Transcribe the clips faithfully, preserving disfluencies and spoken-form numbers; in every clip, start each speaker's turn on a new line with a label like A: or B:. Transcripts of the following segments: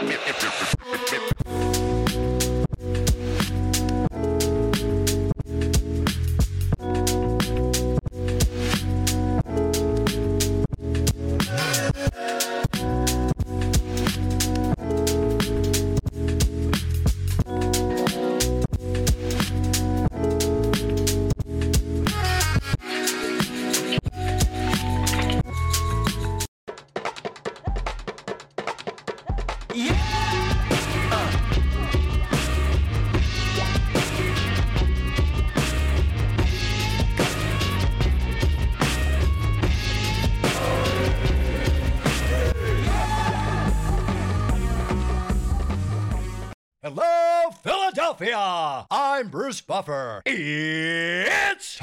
A: Hello, Philadelphia! I'm Bruce Buffer. It's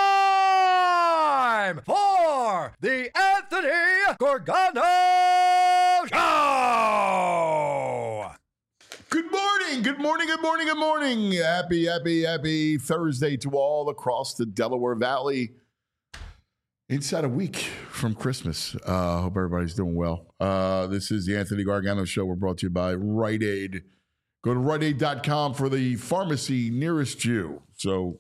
A: time for the Anthony Gorgano Show!
B: Good morning, good morning, good morning, good morning. Happy, happy, happy Thursday to all across the Delaware Valley. Inside a week from Christmas. Uh, hope everybody's doing well. Uh, this is the Anthony Gargano Show. We're brought to you by Rite Aid. Go to Rite Aid dot com for the pharmacy nearest you. So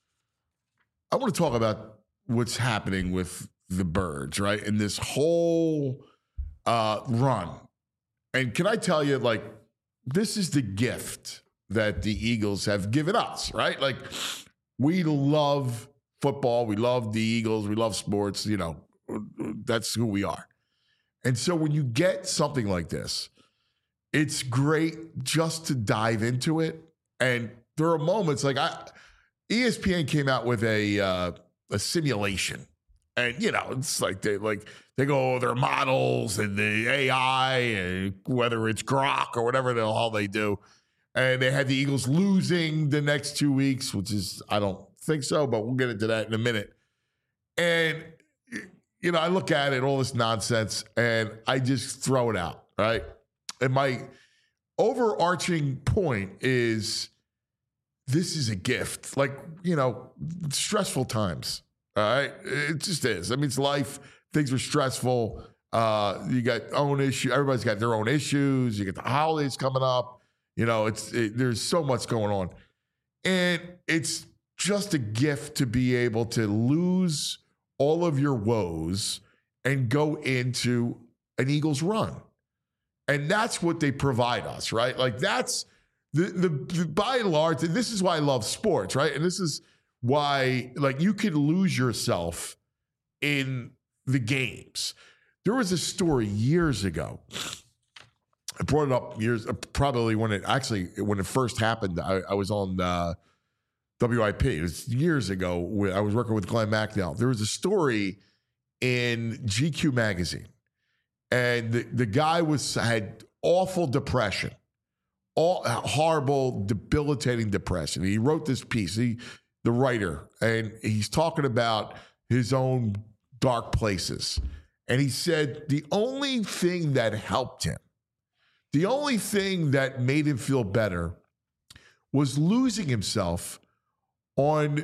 B: I want to talk about what's happening with the Birds, right? And this whole uh, run. And can I tell you, like, this is the gift that the Eagles have given us, right? Like, we love football. We love the Eagles. We love sports. You know, that's who we are. And so when you get something like this, it's great just to dive into it. And there are moments like I, E S P N came out with a uh, a simulation, and you know it's like they like they go over their models and the A I and whether it's Grok or whatever the hell they do, and they had the Eagles losing the next two weeks, which is I don't think so, but we'll get into that in a minute. And you know I look at it, all this nonsense, and I just throw it out, right? And my overarching point is this is a gift. Like, you know, stressful times, all right? It just is. I mean, it's life. Things are stressful. Uh, you got own issue. Everybody's got their own issues. You get the holidays coming up. You know, it's it, there's so much going on. And it's just a gift to be able to lose all of your woes and go into an Eagles run. And that's what they provide us, right? Like that's the, the, the by and large, and this is why I love sports, right? And this is why, like, you could lose yourself in the games. There was a story years ago. I brought it up years, probably when it actually, when it first happened, I, I was on uh, W I P. It was years ago. When I was working with Glenn McNeil. There was a story in G Q magazine. And the, the guy was had awful depression, all horrible, debilitating depression. He wrote this piece, he, the writer, and he's talking about his own dark places. And he said the only thing that helped him, the only thing that made him feel better was losing himself on,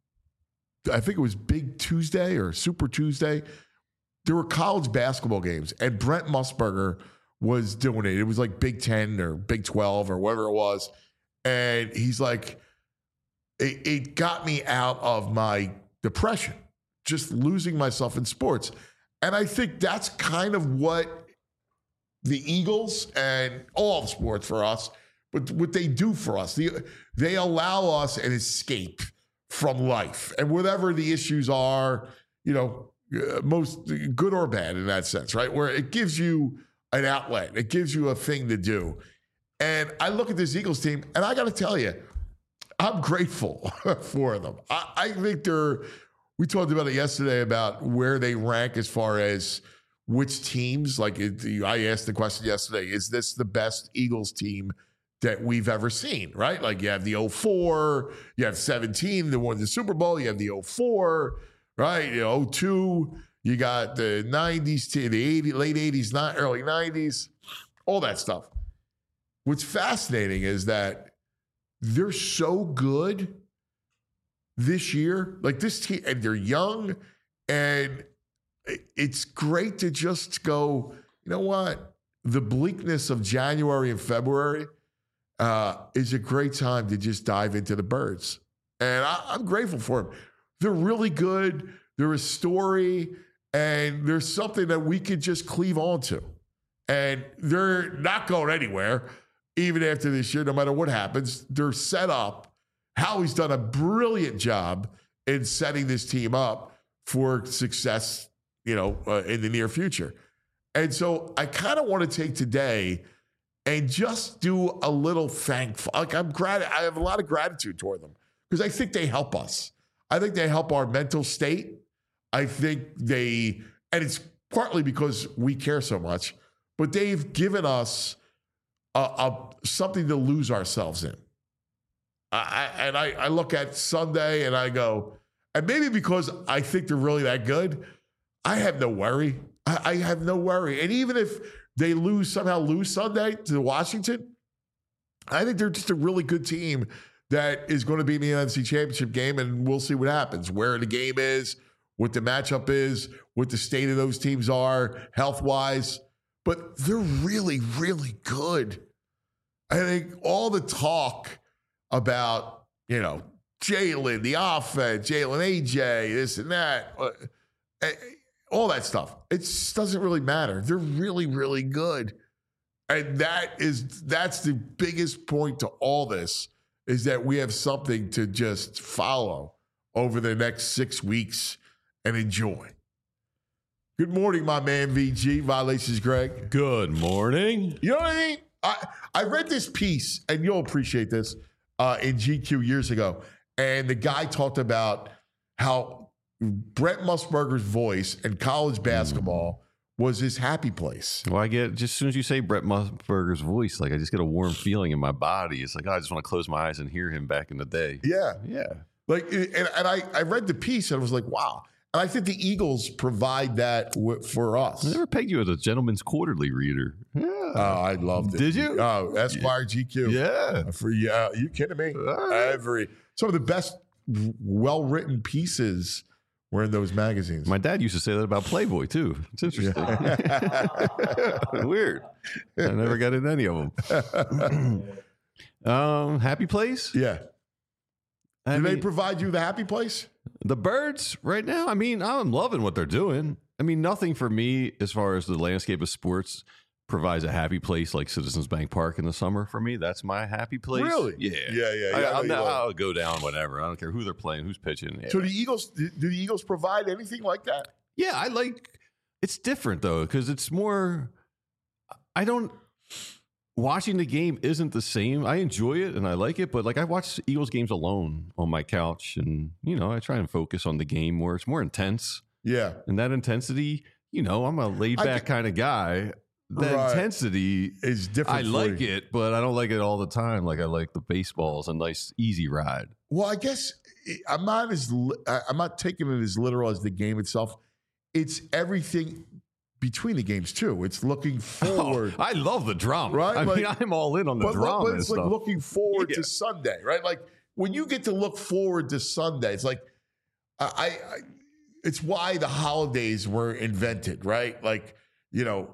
B: I think it was Big Tuesday or Super Tuesday. There were college basketball games, and Brent Musburger was doing it. It was like Big Ten or Big twelve or whatever it was. And he's like, it, it got me out of my depression, just losing myself in sports. And I think that's kind of what the Eagles and all of sports for us, but what they do for us. The, they allow us an escape from life. And whatever the issues are, you know, Uh, most good or bad in that sense, right? Where it gives you an outlet. It gives you a thing to do. And I look at this Eagles team, and I got to tell you, I'm grateful for them. I, I think they're, we talked about it yesterday about where they rank as far as which teams, like it, I asked the question yesterday, is this the best Eagles team that we've ever seen, right? Like you have the oh four, you have seventeen, that won the Super Bowl, you have the oh four, right? You know, oh two, you got the nineties, to the eighties, late eighties, not early nineties, all that stuff. What's fascinating is that they're so good this year. Like this team, and they're young, and it's great to just go, you know what? the bleakness of January and February uh, is a great time to just dive into the Birds. And I, I'm grateful for them. They're really good. They're a story, and there's something that we could just cleave onto. And they're not going anywhere, even after this year, no matter what happens. They're set up. Howie's done a brilliant job in setting this team up for success, you know, uh, in the near future. And so I kind of want to take today and just do a little thankful. Like I'm glad, I have a lot of gratitude toward them because I think they help us. I think they help our mental state. I think they, and it's partly because we care so much, but they've given us a, a something to lose ourselves in. I, and I, I look at Sunday and I go, and maybe because I think they're really that good, I have no worry. I, I have no worry. And even if they lose, somehow lose Sunday to Washington, I think they're just a really good team that is going to be in the N F C Championship game, and we'll see what happens, where the game is, what the matchup is, what the state of those teams are health-wise. But they're really, really good. I think all the talk about, you know, Jalen, the offense, Jalen A J, this and that, uh, all that stuff. It just doesn't really matter. They're really, really good. And that is, that's the biggest point to all this, is that we have something to just follow over the next six weeks and enjoy. Good morning, my man, V G. Violations, Greg.
C: Good morning.
B: You know what I mean? I, I read this piece, and you'll appreciate this, uh, in G Q years ago. And the guy talked about how Brent Musburger's voice in college basketball mm. was his happy place.
C: Well, I get, just as soon as you say Brent Musburger's voice, like I just get a warm feeling in my body. It's like, oh, I just want to close my eyes and hear him back in the day.
B: Yeah.
C: Yeah. Like,
B: and, and I, I read the piece and I was like, wow. And I think the Eagles provide that w- for us.
C: I never pegged you as a Gentleman's Quarterly reader. Yeah.
B: Oh, I loved it.
C: Did you?
B: Oh, Esquire, G Q.
C: Yeah.
B: For you, uh, you kidding me? Right. Every some of the best, well-written pieces were in those magazines.
C: My dad used to say that about Playboy too. It's interesting. Yeah. Weird. I never got in any of them. um, Happy Place?
B: Yeah.
C: I
B: Do
C: mean,
B: they provide you the happy place?
C: The Birds right now, I mean, I'm loving what they're doing. I mean, nothing for me as far as the landscape of sports provides a happy place like Citizens Bank Park in the summer for me. That's my happy place.
B: Really?
C: Yeah.
B: Yeah, yeah.
C: I,
B: yeah
C: I'll, now, I'll go down whatever. I don't care who they're playing, who's pitching. Yeah.
B: So the Eagles, do the Eagles provide anything like that?
C: Yeah, I like, it's different though, because it's more, I don't, watching the game isn't the same. I enjoy it and I like it, but like I watch Eagles games alone on my couch, and you know, I try and focus on the game where it's more intense.
B: Yeah.
C: And that intensity, you know, I'm a laid back kind of guy. That right. intensity
B: is different.
C: I like you. it, but I don't like it all the time. Like I like the baseball. It's a nice, easy ride.
B: Well, I guess I'm not as I'm not taking it as literal as the game itself. It's everything between the games too. It's looking forward.
C: Oh, I love the drama.
B: Right?
C: I
B: like,
C: mean, I'm all in on the
B: but,
C: drama.
B: But it's
C: and
B: like
C: stuff.
B: looking forward
C: yeah.
B: to Sunday, right? Like when you get to look forward to Sunday, it's like I, I it's why the holidays were invented, right? Like, you know,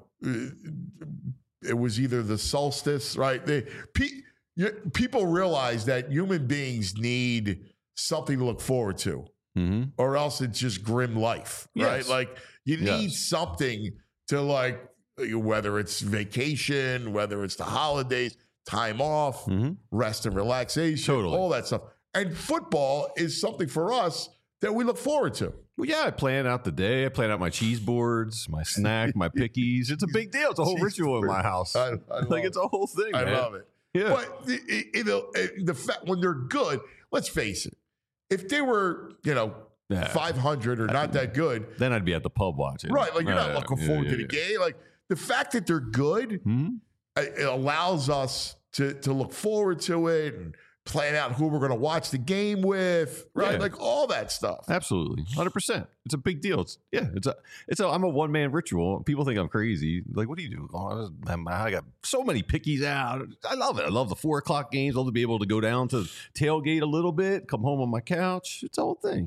B: it was either the solstice, right? They, pe, you, people realize that human beings need something to look forward to,
C: mm-hmm.
B: or else it's just grim life, right?
C: Yes.
B: Like you need
C: yes.
B: something to like, whether it's vacation, whether it's the holidays, time off,
C: mm-hmm.
B: rest and relaxation,
C: totally.
B: all that stuff. And football is something for us that we look forward to.
C: Well, yeah, I plan out the day. I plan out my cheese boards, my snack, my pickies. It's a big deal. It's a whole cheese ritual board. in my house.
B: I, I
C: like it's a whole thing.
B: I
C: man.
B: love it.
C: Yeah.
B: But you know, the fact when they're good, let's face it. If they were, you know, yeah. five hundred or not that good,
C: then I'd be at the pub watching.
B: Right, like you're
C: right,
B: not looking
C: yeah,
B: forward
C: yeah,
B: to the
C: yeah.
B: game. Like the fact that they're good,
C: mm-hmm.
B: it allows us to to look forward to it and plan out who we're going to watch the game with, right? Yeah. Like all that stuff.
C: Absolutely, one hundred percent. It's a big deal. It's yeah. It's a. It's a. I'm a one man ritual. People think I'm crazy. Like, what do you do? Oh, I got so many pickies out. I love it. I love the four o'clock games. I love to be able to go down to tailgate a little bit, come home on my couch. It's the whole thing.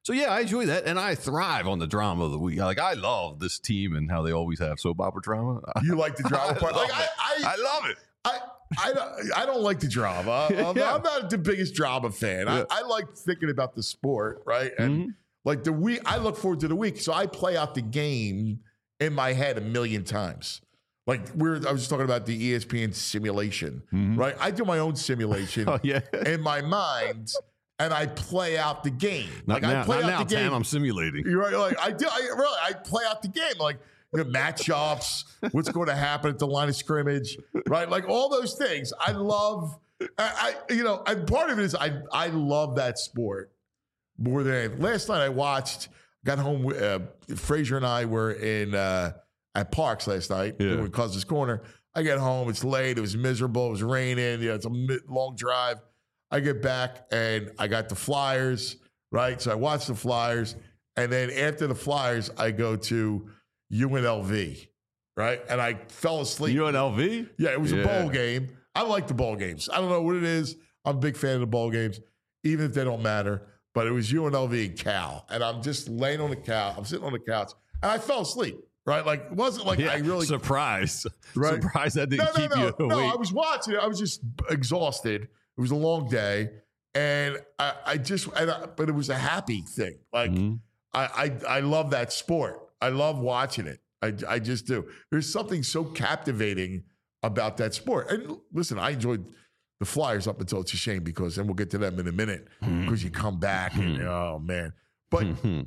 C: So yeah, I enjoy that, and I thrive on the drama of the week. Like I love this team and how they always have soap opera drama.
B: You like the drama part? Like I, I,
C: I love it.
B: I, I don't, I don't like the drama. I'm,
C: Yeah.
B: I'm not the biggest drama fan.
C: Yeah.
B: I, I like thinking about the sport, right? And
C: Mhm.
B: like the week, I look forward to the week. So I play out the game in my head a million times. Like we're, I was just talking about the E S P N simulation,
C: Mhm.
B: right? I do my own simulation
C: Oh yeah.
B: in my mind, and I play out the game.
C: Not
B: like
C: now,
B: I play
C: not
B: out
C: now,
B: the game.
C: Tam, I'm simulating.
B: You're right. Like I do. I really. I play out the game. Like the matchups. What's going to happen at the line of scrimmage? Right. Like all those things. I love. I. I you know. And part of it is I. I love that sport more than anything. Last night I watched. Got home. Uh, Frazier and I were in uh, at Parks last night
C: Yeah.
B: doing Cousins Corner. I get home. It's late. It was miserable. It was raining. You know, it's a mi- long drive. I get back and I got the Flyers, right? So I watch the Flyers. And then after the Flyers, I go to U N L V, right? And I fell asleep.
C: U N L V?
B: Yeah, it was
C: Yeah.
B: a bowl game. I like the bowl games. I don't know what it is. I'm a big fan of the bowl games, even if they don't matter. But it was U N L V and Cal. And I'm just laying on the couch. I'm sitting on the couch. And I fell asleep, right? Like, it wasn't like
C: Yeah.
B: I really...
C: Surprised.
B: Right.
C: Surprised that didn't
B: No, no,
C: keep
B: no,
C: you
B: no.
C: awake.
B: I was watching it. I was just exhausted. It was a long day, and I, I just, and I, but it was a happy thing. Like
C: Mhm.
B: I, I, I love that sport. I love watching it. I, I just do. There's something so captivating about that sport. And listen, I enjoyed the Flyers up until it's a shame because, and we'll get to them in a minute, because you come back and oh man. But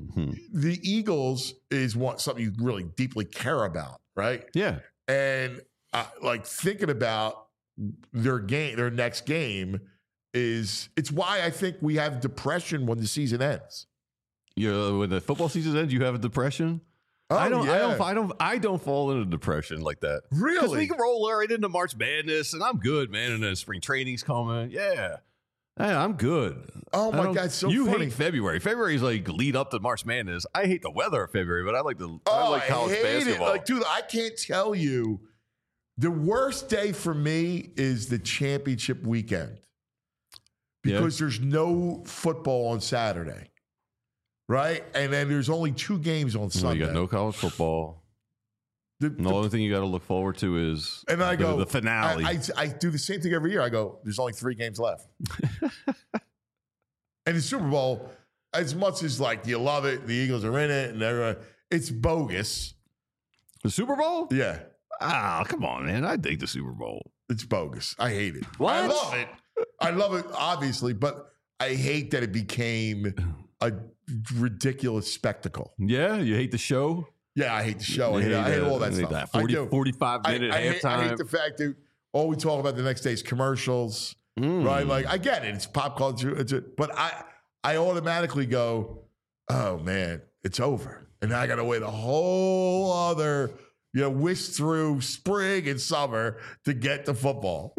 B: the Eagles is what something you really deeply care about, right?
C: Yeah.
B: And uh, like thinking about their game, their next game is it's why I think we have depression when the season ends.
C: You know, when the football season ends, you have a depression.
B: Oh,
C: I don't, I
B: yeah.
C: don't, I don't, I don't fall into depression like that. Because
B: Really?
C: we can roll right into March Madness, and I'm good, man. And then spring training's coming. Yeah, Hey, I'm good.
B: Oh
C: I
B: my
C: don't-
B: God, it's so
C: you
B: funny.
C: hate February. February is like lead up to March Madness. I hate the weather of February, but I like the I
B: Oh,
C: like college
B: I hate
C: basketball.
B: it. Like, dude, I can't tell you. The worst day for me is the championship weekend
C: Yeah.
B: because there's no football on Saturday, right? And then there's only two games on
C: Well,
B: Sunday.
C: you got no college football.
B: The-
C: And the
B: the-
C: only thing you got to look forward to is
B: and I
C: the,
B: go
C: the finale.
B: I, I, I do the same thing every year. I go, there's only three games left. And the Super Bowl, as much as like you love it, the Eagles are in it, and everyone, it's bogus.
C: the Super Bowl?
B: Yeah,
C: Ah, come on, man. I dig the Super Bowl.
B: it's bogus. I hate it.
C: What?
B: I love it. I love it, obviously, but I hate that it became a ridiculous spectacle.
C: Yeah, you hate the show.
B: Yeah, I hate the show. I
C: You
B: hate, I hate
C: the-
B: all that
C: you hate
B: stuff.
C: That
B: I
C: forty,
B: do.
C: forty-five
B: I,
C: minute
B: I hate, I
C: halftime.
B: hate the fact that all we talk about the next day is commercials,
C: Mm.
B: right? Like, I get it. It's pop culture. It's a, but I, I automatically go, oh, man, it's over. And I got to wait a whole other, you know, whisk through spring and summer to get to football.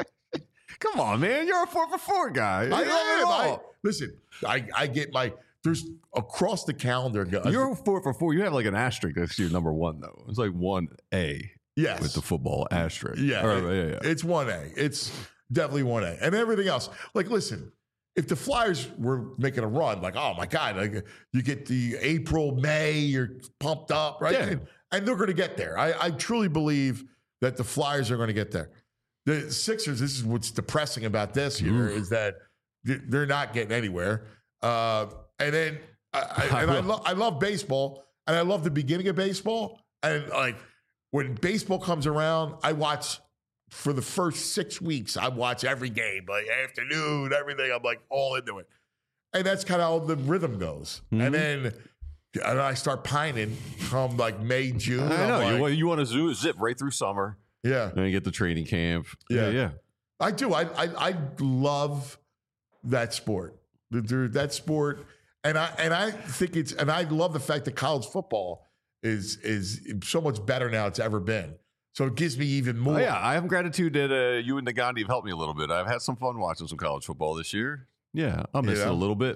C: Come on, man. You're a four for four guy.
B: I
C: You got it
B: am. I,
C: all.
B: listen, I, I get my, there's across the calendar. guys.
C: You're a four for four. You have like an asterisk next to your number one, though. It's like one A
B: yes.
C: with the football asterisk.
B: Yeah,
C: Or,
B: it-
C: yeah, yeah.
B: It's one A. It's definitely one A. And everything else. Like, listen, if the Flyers were making a run, like, oh my God, like you get the April, May, you're pumped up, right?
C: Yeah.
B: And, and they're going to get there. I, I truly believe that the Flyers are going to get there. The Sixers, this is what's depressing about this year,
C: Oof.
B: is that th- they're not getting anywhere. Uh, and then, I, I, and I, lo- I love baseball, and I love the beginning of baseball. And like when baseball comes around, I watch for the first six weeks. I watch every game, like afternoon, everything. I'm like all into it, and that's kind of how the rhythm goes.
C: Mhm.
B: And then, and I start pining come like May, June.
C: I
B: I'm
C: know.
B: like,
C: you, want- you want to zoo, zip right through summer,
B: yeah,
C: then you get the training camp.
B: Yeah.
C: Yeah, yeah.
B: I do. I I, I love that sport. The- the- That sport, and I and I think it's and I love the fact that college football is is so much better now it's ever been. So it gives me even more.
C: Oh, yeah, I have gratitude that uh, you and Nagandi have helped me a little bit. I've had some fun watching some college football this year. Yeah, I'll miss
B: Yeah.
C: it a little bit.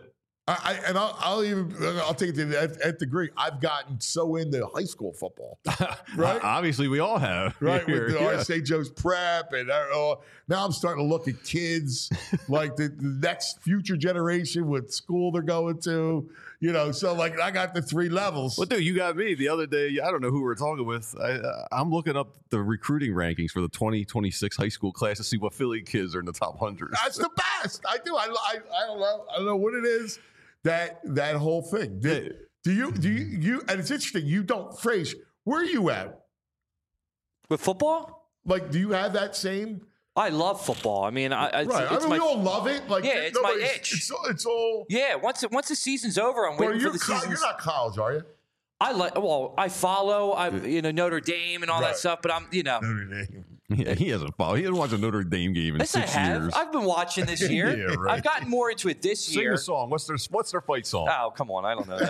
B: I, I and I'll, I'll even I'll take it to the nth degree. I've gotten so into high school football, right?
C: Obviously, we all have,
B: right?
C: here,
B: With the
C: yeah.
B: Saint Joe's prep, and uh, now I'm starting to look at kids like the, the next future generation, what school they're going to, you know. So like, I got the three levels.
C: Well, dude, you got me the other day. I don't know who we were talking with. I, uh, I'm looking up the recruiting rankings for the twenty twenty-six high school class to see what Philly kids are in the top one hundred.
B: That's the best. I do. I, I I don't know. I don't know what it is. That that whole thing. Do, do you do you you? And it's interesting. You don't phrase. Where are you at
D: with football?
B: Like, do you have that same?
D: I love football. I mean, I, it's,
B: right.
D: it's
B: I mean,
D: my,
B: we all love it. Like,
D: yeah, it's my
B: it's,
D: itch.
B: It's, it's all.
D: Yeah, once it, once the season's over, I'm
B: Well,
D: waiting
B: you're,
D: for the
B: co-
D: season.
B: you're not college, are you?
D: I like. Well, I follow. I you know Notre Dame and all
B: Right.
D: that stuff, but I'm you know.
B: Notre Dame.
C: Yeah, he hasn't followed. He hasn't watched a Notre Dame game in
D: Yes, I
C: six
D: have.
C: years.
D: I've been watching this year.
B: Yeah, right.
D: I've gotten more into it this
C: Sing
D: year.
C: the song. What's their What's their fight song?
D: Oh, come on. I don't know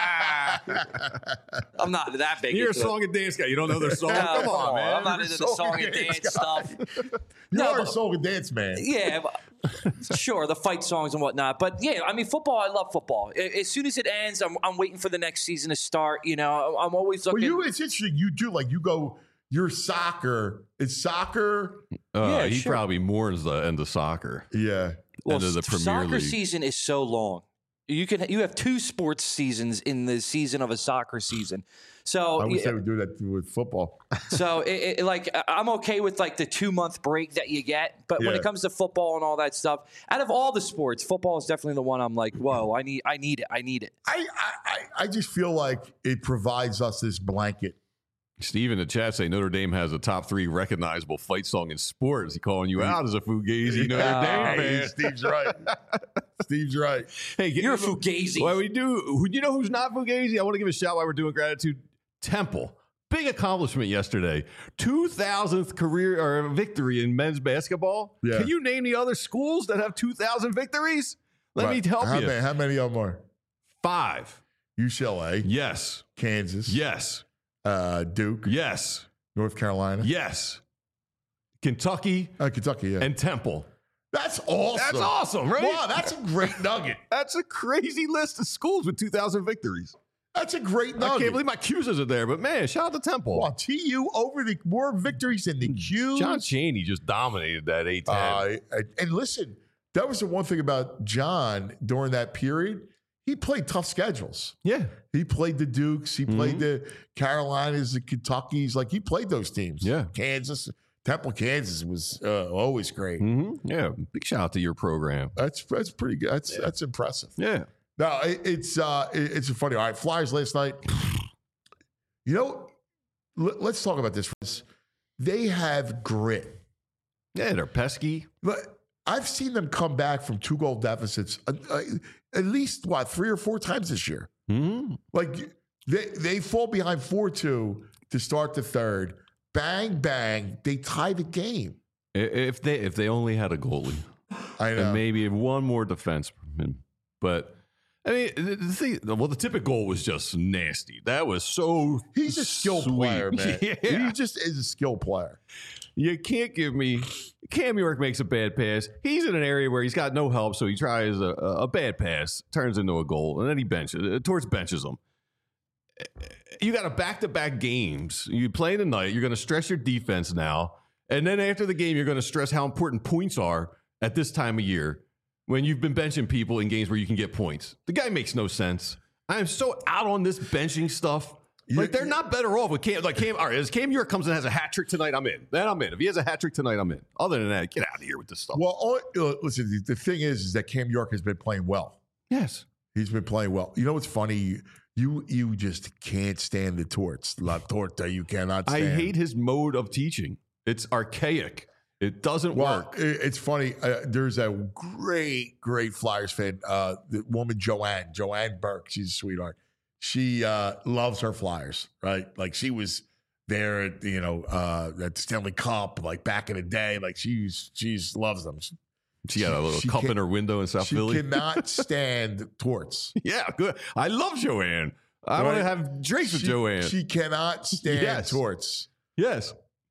D: that. I'm not that big
C: You're a
D: into
C: song and dance guy. You don't know their song?
D: No,
C: come,
D: come
C: on,
D: on.
C: man.
D: I'm not
B: You're
D: into
B: a
D: the
B: song
D: song
B: and
D: and
B: dance
D: dance
B: guy.
D: stuff.
B: You
D: No,
B: are a
D: but-
B: soul and dance man.
D: Yeah, but- sure, the fight songs and whatnot. But yeah, I mean, football, I love football. A- As soon as it ends, I'm, I'm waiting for the next season to start. You know, I'm always
B: Well,
D: looking.
B: you. It's interesting. You do like you go. Your soccer. It's soccer.
C: Uh,
D: Yeah,
C: he
D: sure.
C: probably mourns the end of soccer.
B: Yeah.
D: well,
C: end of the
D: s-
C: Premier
D: soccer
C: League.
D: season is so long. You can you have two sports seasons in the season of a soccer season. So
B: I wish
D: yeah,
B: they would do that with football.
D: So, it, it, like, I- I'm okay with like the two month break that you get, but when
B: Yeah.
D: it comes to football and all that stuff, out of all the sports, football is definitely the one I'm like, whoa, I need, I need it, I need it.
B: I, I, I- I just feel like it provides us this blanket.
C: Steve in the chat say Notre Dame has a top three recognizable fight song in sports. He calling you out as a Fugazi Notre
D: Yeah.
C: Dame
B: Hey,
C: fan.
B: Steve's right. Steve's right.
C: Hey, get-
D: You're a Fugazi.
C: Well, we do. Who, you know who's not Fugazi? I want to give a shout while we're doing gratitude. Temple. Big accomplishment yesterday. two thousandth career or victory in men's basketball.
B: Yeah.
C: Can you name the other schools that have two thousand victories? Let
B: Right.
C: me help
B: how
C: you.
B: Many, how many of them are?
C: Five.
B: U C L A,
C: Yes.
B: Kansas,
C: Yes.
B: uh, Duke,
C: Yes.
B: North Carolina,
C: Yes. Kentucky
B: uh, Kentucky. Yeah.
C: and Temple.
B: That's awesome.
C: That's awesome, right?
B: Wow, that's a great nugget.
C: That's a crazy list of schools with two thousand victories.
B: That's a great
C: I
B: nugget.
C: can't believe my Q's are there, but man, shout out to Temple.
B: Wow, T U over the more victories than the Qs.
C: John Chaney just dominated that A ten.
B: Uh, and listen, that was the one thing about John during that period. He played tough schedules.
C: yeah.
B: He played the Dukes. He played
C: Mhm.
B: the Carolinas, the Kentuckys. Like he played those teams.
C: Yeah.
B: Kansas, Temple, Kansas was uh, always great.
C: hmm Yeah. Big shout out to your program.
B: That's that's pretty good. That's that's impressive.
C: Yeah.
B: No, it, it's uh, it, it's funny. All right, Flyers last night. You know, let, let's talk about this. They have grit.
C: Yeah, they're pesky.
B: But I've seen them come back from two goal deficits uh, uh, at least what three or four times this year.
C: hmm
B: Like they they fall behind four two to start the third. Bang bang, they tie the game.
C: If they if they only had a goalie
B: I know.
C: and maybe one more defenseman, but I mean, the the thing. Well, the typical goal was just nasty. That was so.
B: He's a skill
C: sweet.
B: player, man.
C: Yeah.
B: He just is a skill player.
C: You can't give me Cam York makes a bad pass. He's in an area where he's got no help, so he tries a, a bad pass, turns into a goal, and then he benches uh, towards benches him. You got a back-to-back games. You play tonight. You're going to stress your defense now, and then after the game, you're going to stress how important points are at this time of year when you've been benching people in games where you can get points. The guy makes no sense. I am so out on this benching stuff. Like, they're not better off with Cam. Like, Cam, all right, as Cam York comes and has a hat trick tonight, I'm in. Then I'm in. If he has a hat trick tonight, I'm in. Other than that, get out of here with this stuff.
B: Well, all, uh, listen, the, the thing is, is that Cam York has been playing well.
C: Yes.
B: He's been playing well. You know what's funny? You you just can't stand the torts. La torta, you cannot
C: I
B: stand.
C: hate his mode of teaching. It's archaic. It doesn't
B: Well,
C: work.
B: it- it's funny. Uh, there's a great, great Flyers fan, uh, the woman Joanne, Joanne Burke. She's a sweetheart. She uh, loves her Flyers, right? Like she was there at, you know, uh, at the Stanley Cup, like back in the day. Like she's she's loves them. She,
C: She got a little
B: she
C: cup
B: can't-
C: in her window in South
B: she
C: Philly.
B: cannot stand torts.
C: Yeah, good. I love Joanne. I want to
B: Right.
C: have drinks with
B: She-
C: Joanne.
B: She cannot stand
C: Yes.
B: torts.
C: yes.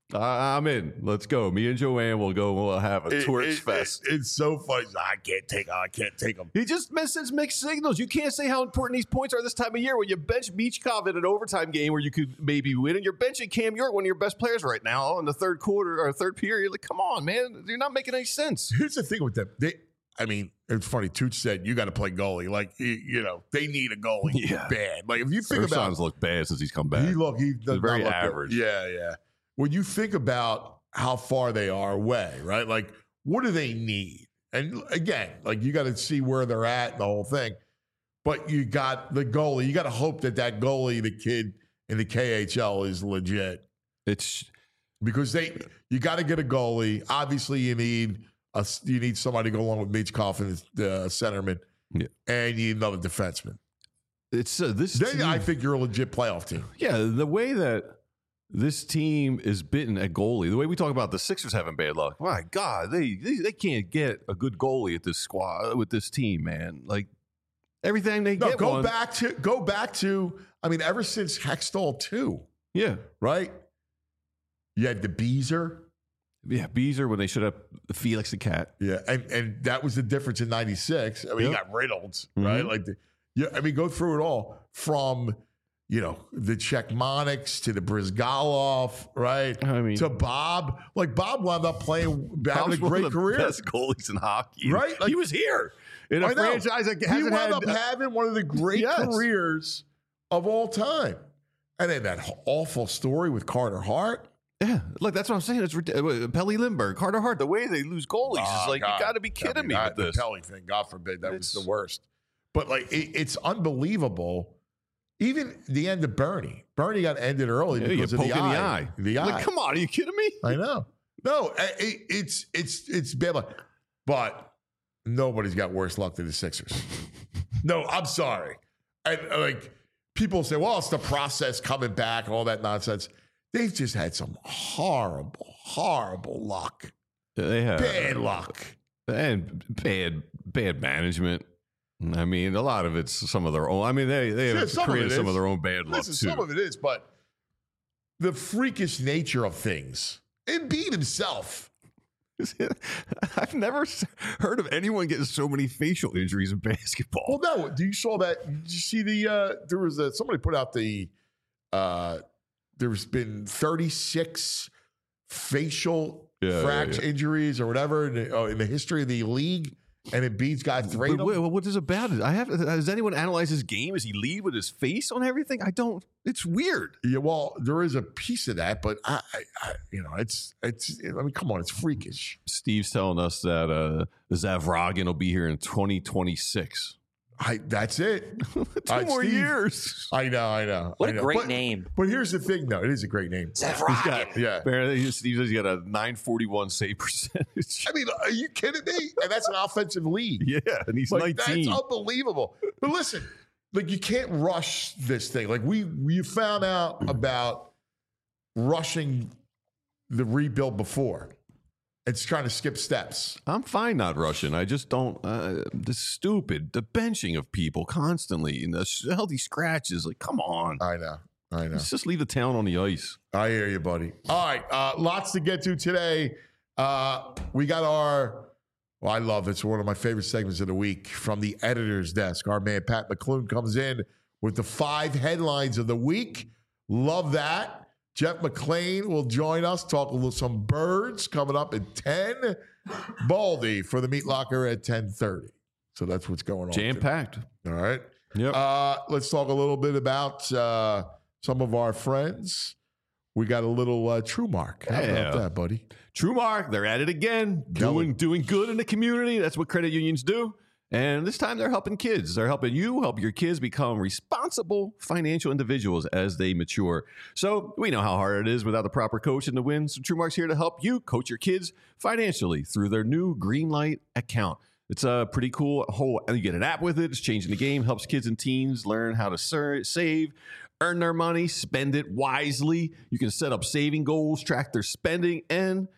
C: Uh, I'm in. Let's go. Me and Joanne will go. We'll have a
B: It-
C: torch
B: it-
C: fest.
B: it- it's so funny. I can't take. I can't take them.
C: He just misses mixed signals. You can't say how important these points are this time of year when you bench Michkov in an overtime game where you could maybe win, and you're benching Cam York, one of your best players right now, in the third quarter or third period. Like, come on, man. You're not making any sense.
B: Here's the thing with them. They, I mean, it's funny. Tooch said you got to play goalie. Like you, you know, they need a goalie
C: Yeah.
B: bad. Like if you think about,
C: Ursan's looked bad since he's come back.
B: he look, he does
C: very
B: not look good.
C: average.
B: Yeah, yeah. When you think about how far they are away, right? Like, what do they need? And again, like you got to see where they're at and the whole thing. But you got the goalie. You got to hope that that goalie, the kid in the K H L, is legit.
C: It's
B: Because they, you got to get a goalie. Obviously, you need a, you need somebody to go along with Michkov and the uh, centerman,
C: Yeah.
B: and you need another defenseman.
C: it's uh, this.
B: Then
C: team-
B: I think you're a legit playoff team.
C: Yeah, the way that this team is bitten at goalie, the way we talk about the Sixers having bad luck. My God, they they, they can't get a good goalie at this squad with this team, man. Like everything they
B: No,
C: get.
B: go
C: one,
B: back to go back to. I mean, ever since Hextall two,
C: Yeah,
B: right? You had the Beezer,
C: yeah. Beezer when they should have Felix the Cat.
B: yeah, and and that was the difference in ninety-six. I mean, you
C: Yep.
B: got Reynolds, right?
C: Mhm.
B: Like, the, yeah, I mean, go through it all from. You know, the Czechmonics to the Brizgalov, right?
C: I mean,
B: to Bob. Like, Bob wound up playing, having
C: Bob's
B: a
C: one
B: great
C: of the
B: career.
C: best goalies in hockey,
B: Right? Like-
C: he was here in a
B: I know.
C: franchise that
B: He
C: hasn't
B: wound
C: had.
B: up having one of the great
C: Yes.
B: careers of all time. And then that awful story with Carter Hart.
C: yeah, look, that's what I'm saying. It's ridiculous. Pelly Lindbergh, Carter Hart. The way they lose goalies
B: Oh,
C: is like
B: God.
C: you got to be
B: I
C: kidding
B: mean,
C: me
B: that-
C: with this.
B: The Pelly thing, God forbid, that was
C: It's-
B: the worst. But, like, it, it's unbelievable. Even the end of Bernie. Bernie got ended early
C: Yeah, you
B: because of
C: poke
B: the
C: in
B: eye.
C: the eye.
B: The eye.
C: Like, come on, are you kidding me?
B: I know. No, I- it, it's it's it's bad luck. But nobody's got worse luck than the Sixers. No, I'm sorry. And uh, like people say, well, it's the process coming back and all that nonsense. They've just had some horrible, horrible luck.
C: They have
B: Bad luck.
C: and bad bad management. I mean, a lot of it's some of their own. I mean, they they
B: Yeah,
C: have
B: some of
C: created
B: it
C: some
B: is.
C: of their own bad luck
B: Listen,
C: too.
B: some of it is, but the freakish nature of things. Embiid himself.
C: I've never s- heard of anyone getting so many facial injuries in basketball.
B: Well, no. Do you saw that? Did you see the? Uh, there was a somebody put out the. Uh, there's been thirty-six facial
C: Yeah, yeah,
B: fracture
C: yeah.
B: injuries or whatever in the, uh, in the history of the league, and Embiid's got three.
C: But
B: of them.
C: wait, what is about it? I have. Has anyone analyzed his game? Does he lead with his face on everything? I don't. It's weird.
B: Yeah, well, there is a piece of that, but I, I, I you know, it's it's. I mean, come on, it's freakish.
C: Steve's telling us that uh, Zavragin will be here in twenty twenty-six.
B: I. That's it.
C: Two
B: Uh,
C: more
B: Steve-
C: years.
B: I know. I know.
D: What
B: I
D: a
B: know.
D: great
B: But-
D: name.
B: But here's the thing, though. It is a great name.
C: He's got,
B: Yeah.
C: apparently, Steve says he got a nine forty-one save percentage.
B: I mean, are you kidding me? And that's an offensive lead.
C: Yeah, and he's
B: Like,
C: nineteen.
B: that's unbelievable. But listen, like you can't rush this thing. Like we we found out about rushing the rebuild before. It's trying to skip steps.
C: I'm fine not rushing. I just don't. Uh, the stupid, the benching of people constantly and the sh- healthy scratches. Like, come on.
B: I know. I know.
C: Let's just leave the town on the ice.
B: I hear you, buddy. All right. Uh, lots to get to today. Uh, we got our, well, I love it. It's one of my favorite segments of the week from the editor's desk. Our man, Pat McClune, comes in with the five headlines of the week. Love that. Jeff McClain will join us, talk a little some birds coming up at ten. Baldy for the Meat Locker at ten thirty. So that's what's going on.
C: Jam
B: today.
C: packed.
B: All right.
C: Yep.
B: Uh, let's talk a little bit about uh, some of our friends. We got a little uh, True Mark. How
C: Yeah.
B: about that, buddy?
C: True Mark, they're at it again,
B: Kelly.
C: doing doing good in the community. That's what credit unions do. And this time they're helping kids. They're helping you help your kids become responsible financial individuals as they mature. So we know how hard it is without the proper coach in the win. So True Mark's here to help you coach your kids financially through their new Greenlight account. It's a pretty cool whole, and you get an app with it. It's changing the game, helps kids and teens learn how to ser- save, earn their money, spend it wisely. You can set up saving goals, track their spending, and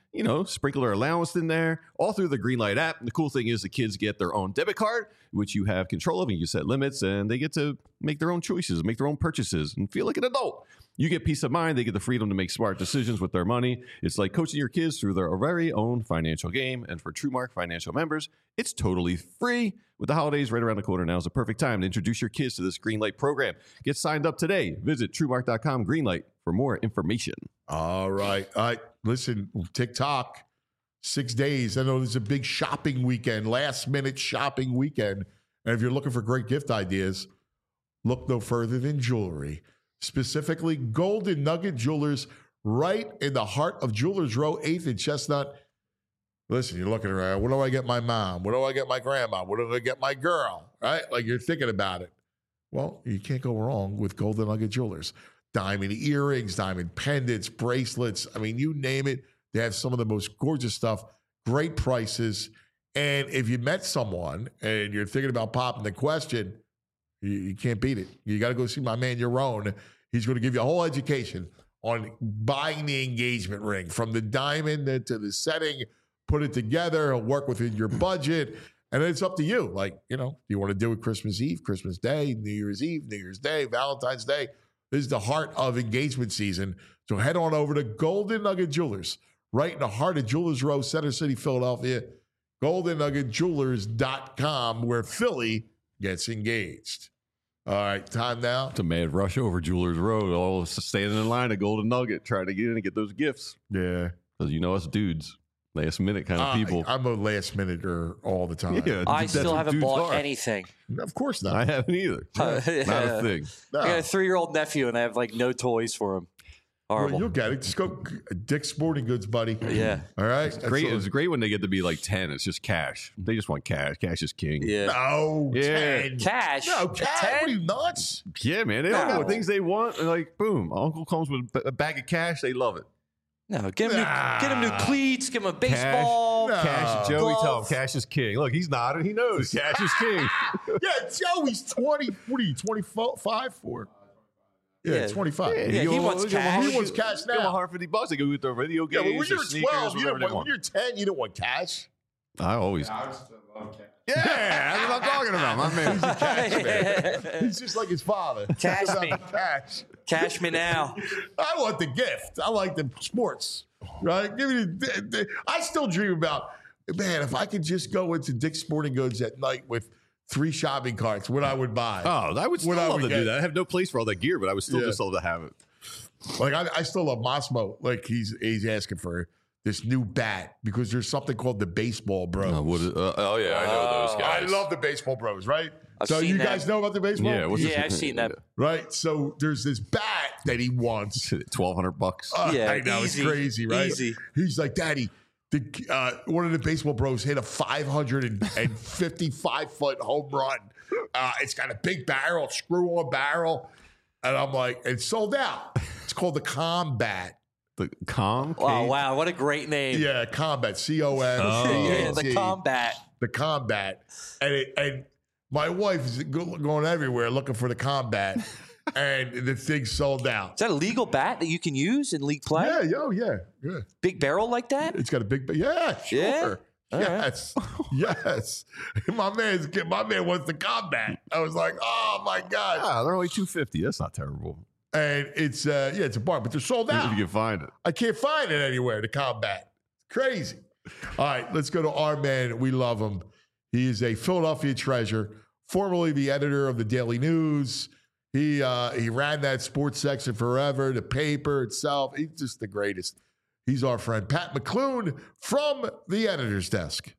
C: you know, sprinkler allowance in there, all through the Greenlight app. And the cool thing is the kids get their own debit card, which you have control of, and you set limits, and they get to make their own choices, make their own purchases, and feel like an adult. You get peace of mind. They get the freedom to make smart decisions with their money. It's like coaching your kids through their very own financial game. And for TrueMark Financial members, it's totally free. With the holidays right around the corner, now is the perfect time to introduce your kids to this Greenlight program. Get signed up today. Visit TrueMark dot com Greenlight for more information.
B: All right. All right. Listen, TikTok, six days. I know there's a big shopping weekend, last minute shopping weekend. And if you're looking for great gift ideas, look no further than jewelry. Specifically, Golden Nugget Jewelers, right in the heart of Jewelers Row, eighth and Chestnut. Listen, you're looking around. What do I get my mom? What do I get my grandma? What do I get my girl? Right? Like you're thinking about it. Well, you can't go wrong with Golden Nugget Jewelers. Diamond earrings, diamond pendants, bracelets. I mean, you name it. They have some of the most gorgeous stuff, great prices. And if you met someone and you're thinking about popping the question, you, you can't beat it. You got to go see my man, Yaron. He's going to give you a whole education on buying the engagement ring from the diamond to the setting, put it together. He'll work within your budget. And then it's up to you. Like, you know, do you want to do it Christmas Eve, Christmas Day, New Year's Eve, New Year's Day, Valentine's Day? This is the heart of engagement season. So head on over to Golden Nugget Jewelers, right in the heart of Jewelers Row, Center City, Philadelphia. golden nugget jewelers dot com, where Philly gets engaged. All right, time now.
C: It's a mad rush over Jewelers Road, all standing in line at Golden Nugget, trying to get in and get those gifts.
B: Yeah.
C: Because you know us dudes, last minute kind of
B: Uh,
C: people.
B: I'm a last minute-er all the time.
C: Yeah,
D: I
C: that's
D: still
C: what
D: haven't
C: dudes
D: bought
C: are.
D: anything.
B: Of course not.
C: I haven't either. Not a thing.
B: No.
D: I got a three-year-old nephew, and I have like no toys for him. Horrible.
B: Well, you'll get it. Just go Dick's Sporting Goods, buddy.
D: Yeah.
B: All right. That's
C: Great.
B: all-
C: It's great when they get to be like ten. It's just cash. They just want cash. Cash is king.
D: Yeah.
B: No.
C: Yeah.
B: ten.
D: Cash.
B: No, cash. What are
D: ten.
B: you nuts?
C: Yeah, man. They don't
D: No.
C: know things they want. And like, boom. Uncle comes with a bag of cash. They love it.
D: No, get him,
B: Nah.
D: new, get him new cleats. Give him a baseball.
B: Nah.
C: Cash, Joey,
D: Glove.
C: tell him cash is king. Look, he's nodding. He knows cash is king.
B: Yeah, Joey's twenty. What are you, twenty-five for? Yeah,
D: Yeah.
B: twenty-five.
D: Yeah,
C: You
D: he
C: give
D: wants
C: him- give him
D: cash.
C: a
B: He wants cash
C: Give him
B: now.
C: one hundred fifty bucks. They go with their video
B: Yeah,
C: games,
B: but when
C: their
B: you're
C: sneakers,
B: twelve, you
C: whatever
B: don't
C: they
B: want, when
C: want.
B: you're ten, you don't want cash.
C: I always.
E: I used to love cash.
C: Yeah, that's what I'm talking about. My man.
B: Cash man. He's just like his father.
D: Cash
B: It's about
D: me.
B: the cash.
D: Cash me now.
B: I want the gift. I like the sports. Right? Give me the, the, the- I still dream about, man, if I could just go into Dick's Sporting Goods at night with three shopping carts, what I would buy.
C: Oh, I would still
B: What I
C: love
B: would
C: to do
B: get.
C: that. I have no place for all that gear, but I would still
B: Yeah.
C: just love to have it.
B: Like I, I still love Mosmo. Like he's he's asking for this new bat because there's something called the Baseball Bros.
C: Uh, what is- uh, oh, yeah, I know those
B: I
C: guys.
B: love the Baseball Bros, right?
D: I've
B: so
D: seen
B: you
D: that.
B: guys know about the baseball?
C: Yeah, what's
D: Yeah,
C: this-
D: I've seen that.
B: Right? So there's this bat that he wants.
C: twelve hundred bucks.
B: Uh,
D: Yeah,
B: I know,
D: easy.
B: it's crazy, right?
D: Easy.
B: He's like, Daddy, the, uh, one of the Baseball Bros hit a five hundred fifty-five foot home run. Uh, it's got a big barrel, screw on barrel. And I'm like, it's sold out. It's called the Combat.
C: The calm.
D: Oh, wow. What a great name.
B: Yeah, Combat, C O M
C: Oh.
D: Yeah, the combat.
B: The Combat. And it, and my wife is go- going everywhere looking for the Combat. And the thing sold out.
D: Is that a legal bat that you can use in league play?
B: Yeah, yo, yeah, yeah.
D: Big barrel like that?
B: It's got a big, yeah, sure.
D: Yeah? All right.
B: Yes, yes. My man's my man wants the Combat. I was like, oh my god!
C: Ah, they're only two fifty. That's not terrible.
B: And it's uh, yeah, it's a bar, but they're sold
C: If
B: out.
C: you can find it.
B: I can't find it anywhere. The Combat, crazy. All right, let's go to our man. We love him. He is a Philadelphia treasure, formerly the editor of the Daily News. He uh, he ran that sports section forever, the paper itself. He's just the greatest. He's our friend Pat McClune from the editor's desk.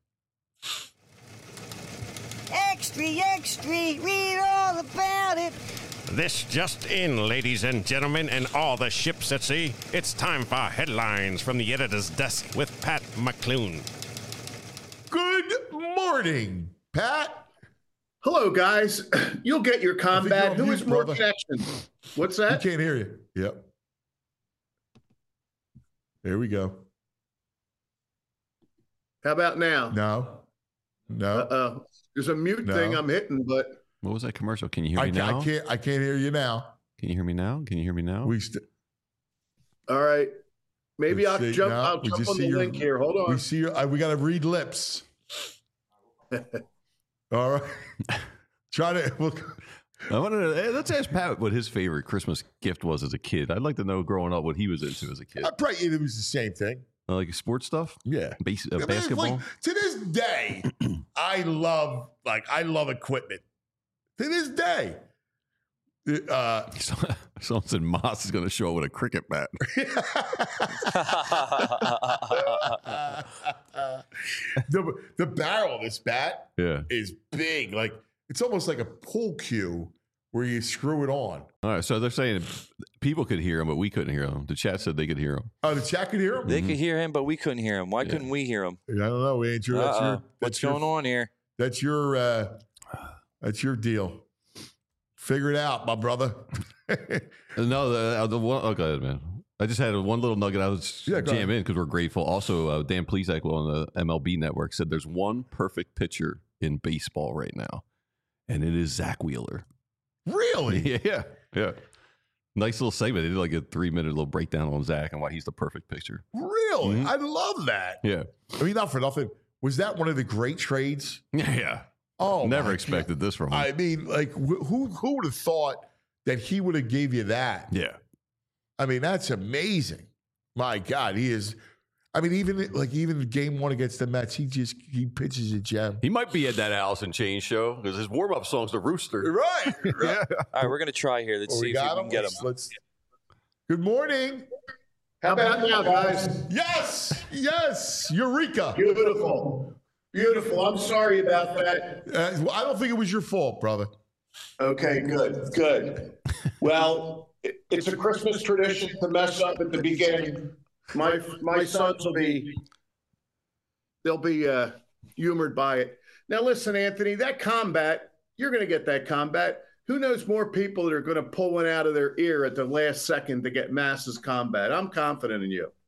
F: Extra, extra, read all about it.
G: This just in, ladies and gentlemen, and all the ships at sea. It's time for headlines from the editor's desk with Pat McClune.
B: Good morning, Pat.
E: Hello, guys. You'll get your combat.
B: you're on
E: Who is
B: mute,
E: more
B: brother.
E: Jackson? What's
B: I
E: that?
B: can't hear you. Yep. There we go.
E: How about now?
B: No. No.
E: Uh-oh. There's a mute
B: No.
E: thing I'm hitting, but
C: What was that commercial? Can you hear
B: I,
C: me
B: ca-
C: now?
B: I can't I can't hear you now.
C: Can you hear me now? Can you hear me now?
B: We st-
E: all right. Maybe
B: Let's
E: I'll
B: see.
E: jump.
B: No,
E: I'll
B: we
E: jump
B: just
E: on
B: see
E: the
B: your-
E: link here. Hold on.
B: We see your, uh, we got to read lips. All right. Try to. We'll,
C: I wanted to, hey, let's ask Pat what his favorite Christmas gift was as a kid. I'd like to know growing up what he was into as a kid.
B: I probably it was the same thing.
C: Uh, like sports stuff,
B: Yeah.
C: Base, uh,
B: I mean,
C: basketball.
B: like, to this day, I love like I love equipment. To this day, uh,
C: Someone said Moss is going to show up with a cricket bat.
B: the the barrel of this bat
C: Yeah.
B: is big. Like it's almost like a pool cue where you screw it on.
C: All right. So they're saying people could hear him, but we couldn't hear him. The chat said they could hear him.
B: Oh, the chat could hear him.
D: They could hear him, but we couldn't hear him. Why
C: Yeah.
D: couldn't we hear him?
B: I don't know, Andrew. That's
D: Uh-uh.
B: your.
D: What's
B: That's your,
D: going on here?
B: That's your. Uh, that's your deal. Figure it out, my brother.
C: No, the, the one. Oh, go ahead, man. I just had one little nugget I was
B: Yeah, go
C: jam
B: ahead.
C: in because we're grateful. Also, uh, Dan Plesac on the M L B Network said there's one perfect pitcher in baseball right now, and it is Zach Wheeler.
B: Really?
C: Yeah, yeah. Nice little segment. They did like a three minute little breakdown on Zach and why he's the perfect pitcher.
B: Really?
C: Mhm.
B: I love that.
C: Yeah,
B: I mean, not for nothing. Was that one of the great trades?
C: yeah, yeah.
B: Oh,
C: Never
B: my
C: expected this from him.
B: God. I mean, like, wh- who who would have thought that he would have gave you that?
C: yeah,
B: I mean, that's amazing. My God, he is. I mean, even like even game one against the Mets, he just he pitches a gem.
C: he might be at that Alice in Chains show because his warm up song's the Rooster.
B: Right. right.
C: Yeah.
D: All right, we're gonna try here. Let's
B: Well,
D: see
B: we
D: if we
B: got
D: can
B: him.
D: get him.
B: Let's, let's. Good morning.
E: How about now, guys?
B: Yes, yes, Eureka.
E: Beautiful. Beautiful. I'm sorry about that.
B: Uh, I don't think it was your fault, brother.
E: Okay, good, good. Well, it- it's a Christmas tradition to mess up at the beginning. My my sons will be they'll be uh, humored by it. Now, listen, Anthony, that combat, you're going to get that combat. Who knows more people that are going to pull one out of their ear at the last second to get Mass's combat? I'm confident in you.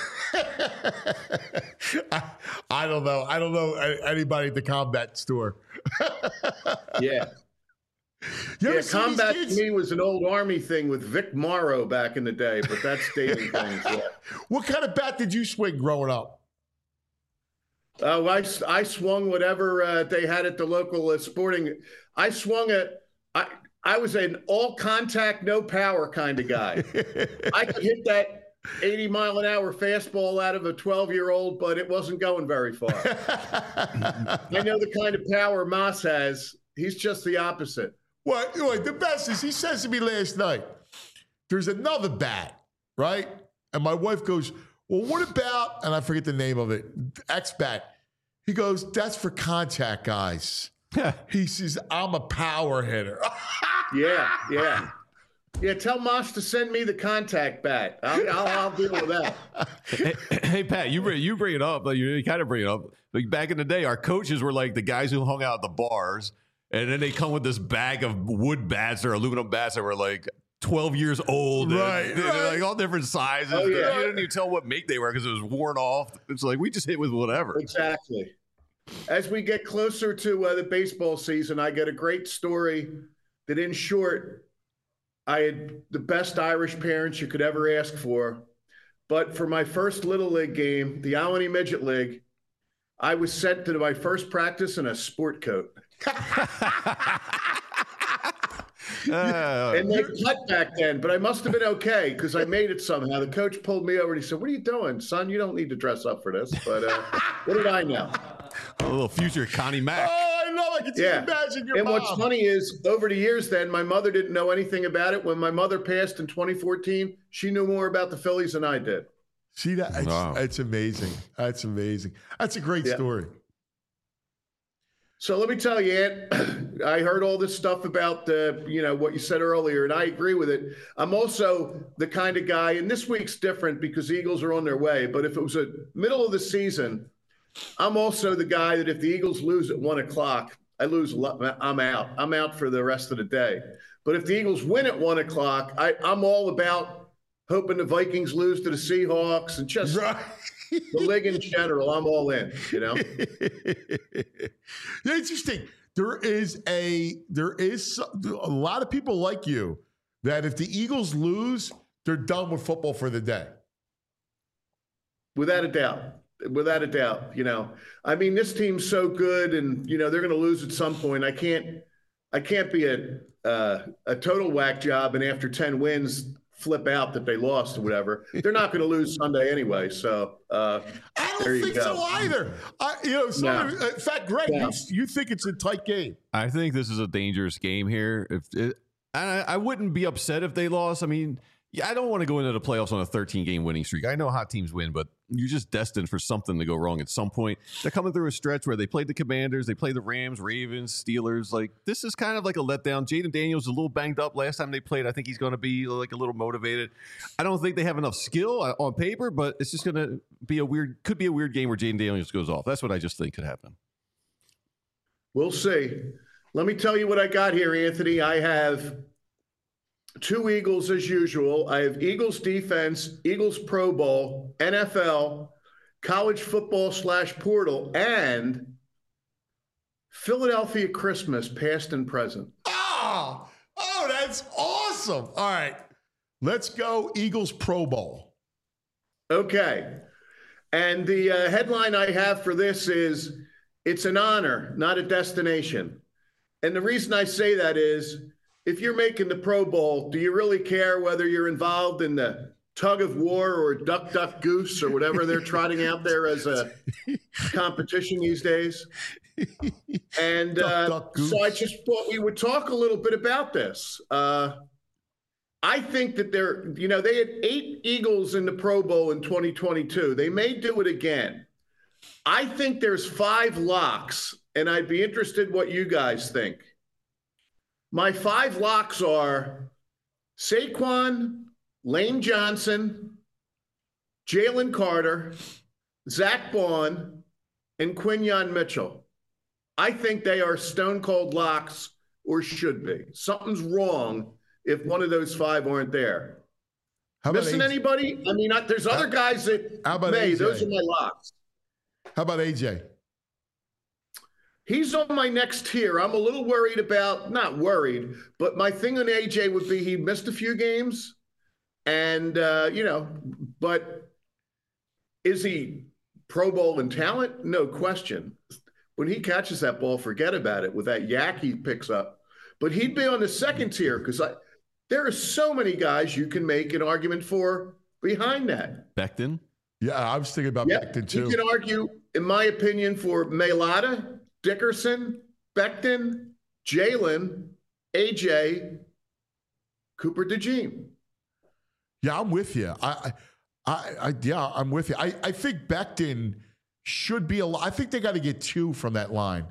B: I, I don't know. I don't know a- anybody at the combat store.
E: Yeah.
B: You ever
E: Yeah,
B: see these
E: combat
B: kids?
E: to me was an old Army thing with Vic Morrow back in the day, but that's dating things. Yeah.
B: What kind of bat did you swing growing up?
E: Oh, I, I swung whatever uh, they had at the local uh, sporting. I swung a. I I was an all contact, no power kind of guy. I could hit that eighty mile an hour fastball out of a twelve year old, but it wasn't going very far. I know the kind of power Moss has. He's just the opposite.
B: What? What? The best is he says to me last night, there's another bat, right? And my wife goes, well, what about, and I forget the name of it, X bat. He goes, that's for contact guys. He says, I'm a power hitter.
E: Yeah, yeah. Yeah, tell Moss to send me the contact bat. I'll, I'll, I'll deal with that.
C: hey, hey, Pat, you bring, you bring it up. Like, you kind of bring it up. Like back in the day, our coaches were like the guys who hung out at the bars, and then they come with this bag of wood bats or aluminum bats that were like twelve years old, and
B: Right,
C: they're,
B: right.
C: like all different sizes.
E: Oh, yeah.
C: You didn't even tell what make they were because it was worn off. It's like we just hit with whatever.
E: Exactly. As we get closer to uh, the baseball season, I get a great story that, in short, I had the best Irish parents you could ever ask for. But for my first Little League game, the Albany Midget League, I was sent to my first practice in a sport coat.
C: Uh,
E: And they cut back then, but I must have been okay because I made it somehow. The coach pulled me over and he said, what are you doing, son? You don't need to dress up for this. But uh, what did I know?
C: a little future Connie Mack.
B: Oh, I know. I can just
E: Yeah.
B: imagine your
E: And
B: mom.
E: what's funny is, over the years then, my mother didn't know anything about it. When my mother passed in twenty fourteen, she knew more about the Phillies than I did.
B: See that? It's,
C: Wow.
B: it's amazing. That's amazing. That's a great
E: Yeah.
B: story.
E: So let me tell you, Ant, I heard all this stuff about the, you know, what you said earlier, and I agree with it. I'm also the kind of guy, and this week's different because the Eagles are on their way, but if it was a middle of the season, I'm also the guy that if the Eagles lose at one o'clock, I lose, a lot- I'm out. I'm out for the rest of the day. But if the Eagles win at one o'clock, I, I'm all about hoping the Vikings lose to the Seahawks and just
B: Right.
E: the league in general. I'm all in, you know?
B: Interesting. There is a there is some- a lot of people like you that if the Eagles lose, they're done with football for the day.
E: without a doubt. Without a doubt, you know. I mean, this team's so good, and you know they're going to lose at some point. I can't, I can't be a uh, a total whack job, and after ten wins, flip out that they lost or whatever. They're not going to lose Sunday anyway. So uh,
B: I don't
E: there you
B: think
E: go.
B: so either. I, you know, so,
E: No.
B: in fact, Greg,
E: No.
B: you, you think it's a tight game?
C: I think this is a dangerous game here. If it, I, I wouldn't be upset if they lost. I mean, yeah, I don't want to go into the playoffs on a thirteen-game winning streak. I know how teams win, but you're just destined for something to go wrong at some point. They're coming through a stretch where they played the Commanders, they played the Rams, Ravens, Steelers. Like, this is kind of like a letdown. Jaden Daniels is a little banged up last time they played. I think he's going to be like a little motivated. I don't think they have enough skill on paper, but it's just going to be a weird, could be a weird game where Jaden Daniels goes off. That's what I just think could happen.
E: We'll see. Let me tell you what I got here, Anthony. I have two Eagles as usual. I have Eagles defense, Eagles Pro Bowl, N F L, college football slash portal, and Philadelphia Christmas, past and present.
B: Oh, oh, that's awesome. All right, let's go Eagles Pro Bowl.
E: Okay. And the uh, headline I have for this is, it's an honor, not a destination. And the reason I say that is, if you're making the Pro Bowl, do you really care whether you're involved in the tug of war or duck, duck, goose or whatever they're trotting out there as a competition these days? And
B: Duck,
E: uh,
B: duck, goose.
E: so I just thought we would talk a little bit about this. Uh, I think that they're, you know, they had eight Eagles in the Pro Bowl in twenty twenty-two. They may do it again. I think there's five locks, and I'd be interested what you guys think. My five locks are Saquon, Lane Johnson, Jalen Carter, Zach Bond, and Quinyon Mitchell. I think they are stone cold locks, or should be. Something's wrong if one of those five aren't there.
B: How about
E: Missing
B: A J?
E: anybody? I mean, I, there's other guys that
B: How about
E: may.
B: A J?
E: Those are my locks.
B: How about A J?
E: He's on my next tier. I'm a little worried about, not worried, but my thing on A J would be he missed a few games. And, uh, you know, but is he Pro Bowl in talent? No question. When he catches that ball, forget about it with that yak he picks up. But he'd be on the second tier because I there are so many guys you can make an argument for behind that.
C: Becton?
B: Yeah, I was thinking about
E: Yeah,
B: Becton
E: you
B: too.
E: can argue, in my opinion, for Mailata, Dickerson, Becton, Jalen, A J, Cooper DeJean.
B: Yeah, I'm with you. I, I, I, yeah, I'm with you. I, I think Becton should be a. I think they got to get two from that line.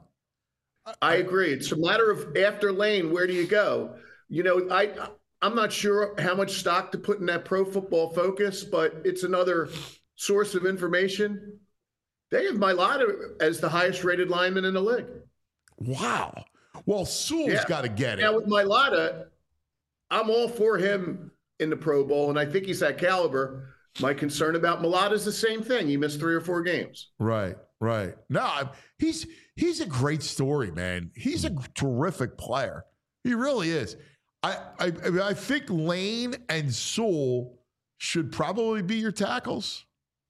E: I agree. It's a matter of after Lane, where do you go? You know, I I'm not sure how much stock to put in that Pro Football Focus, but it's another source of information. They have Mailata as the highest rated lineman in the league.
B: Wow. Well, Sewell's
E: Yeah.
B: got to get it.
E: Now with Mailata, I'm all for him in the Pro Bowl, and I think he's that caliber. My concern about Mailata is the same thing. He missed three or four games.
B: Right, right. No, I'm- he's he's a great story, man. He's a terrific player. He really is. I I, I mean, I think Lane and Sewell should probably be your tackles.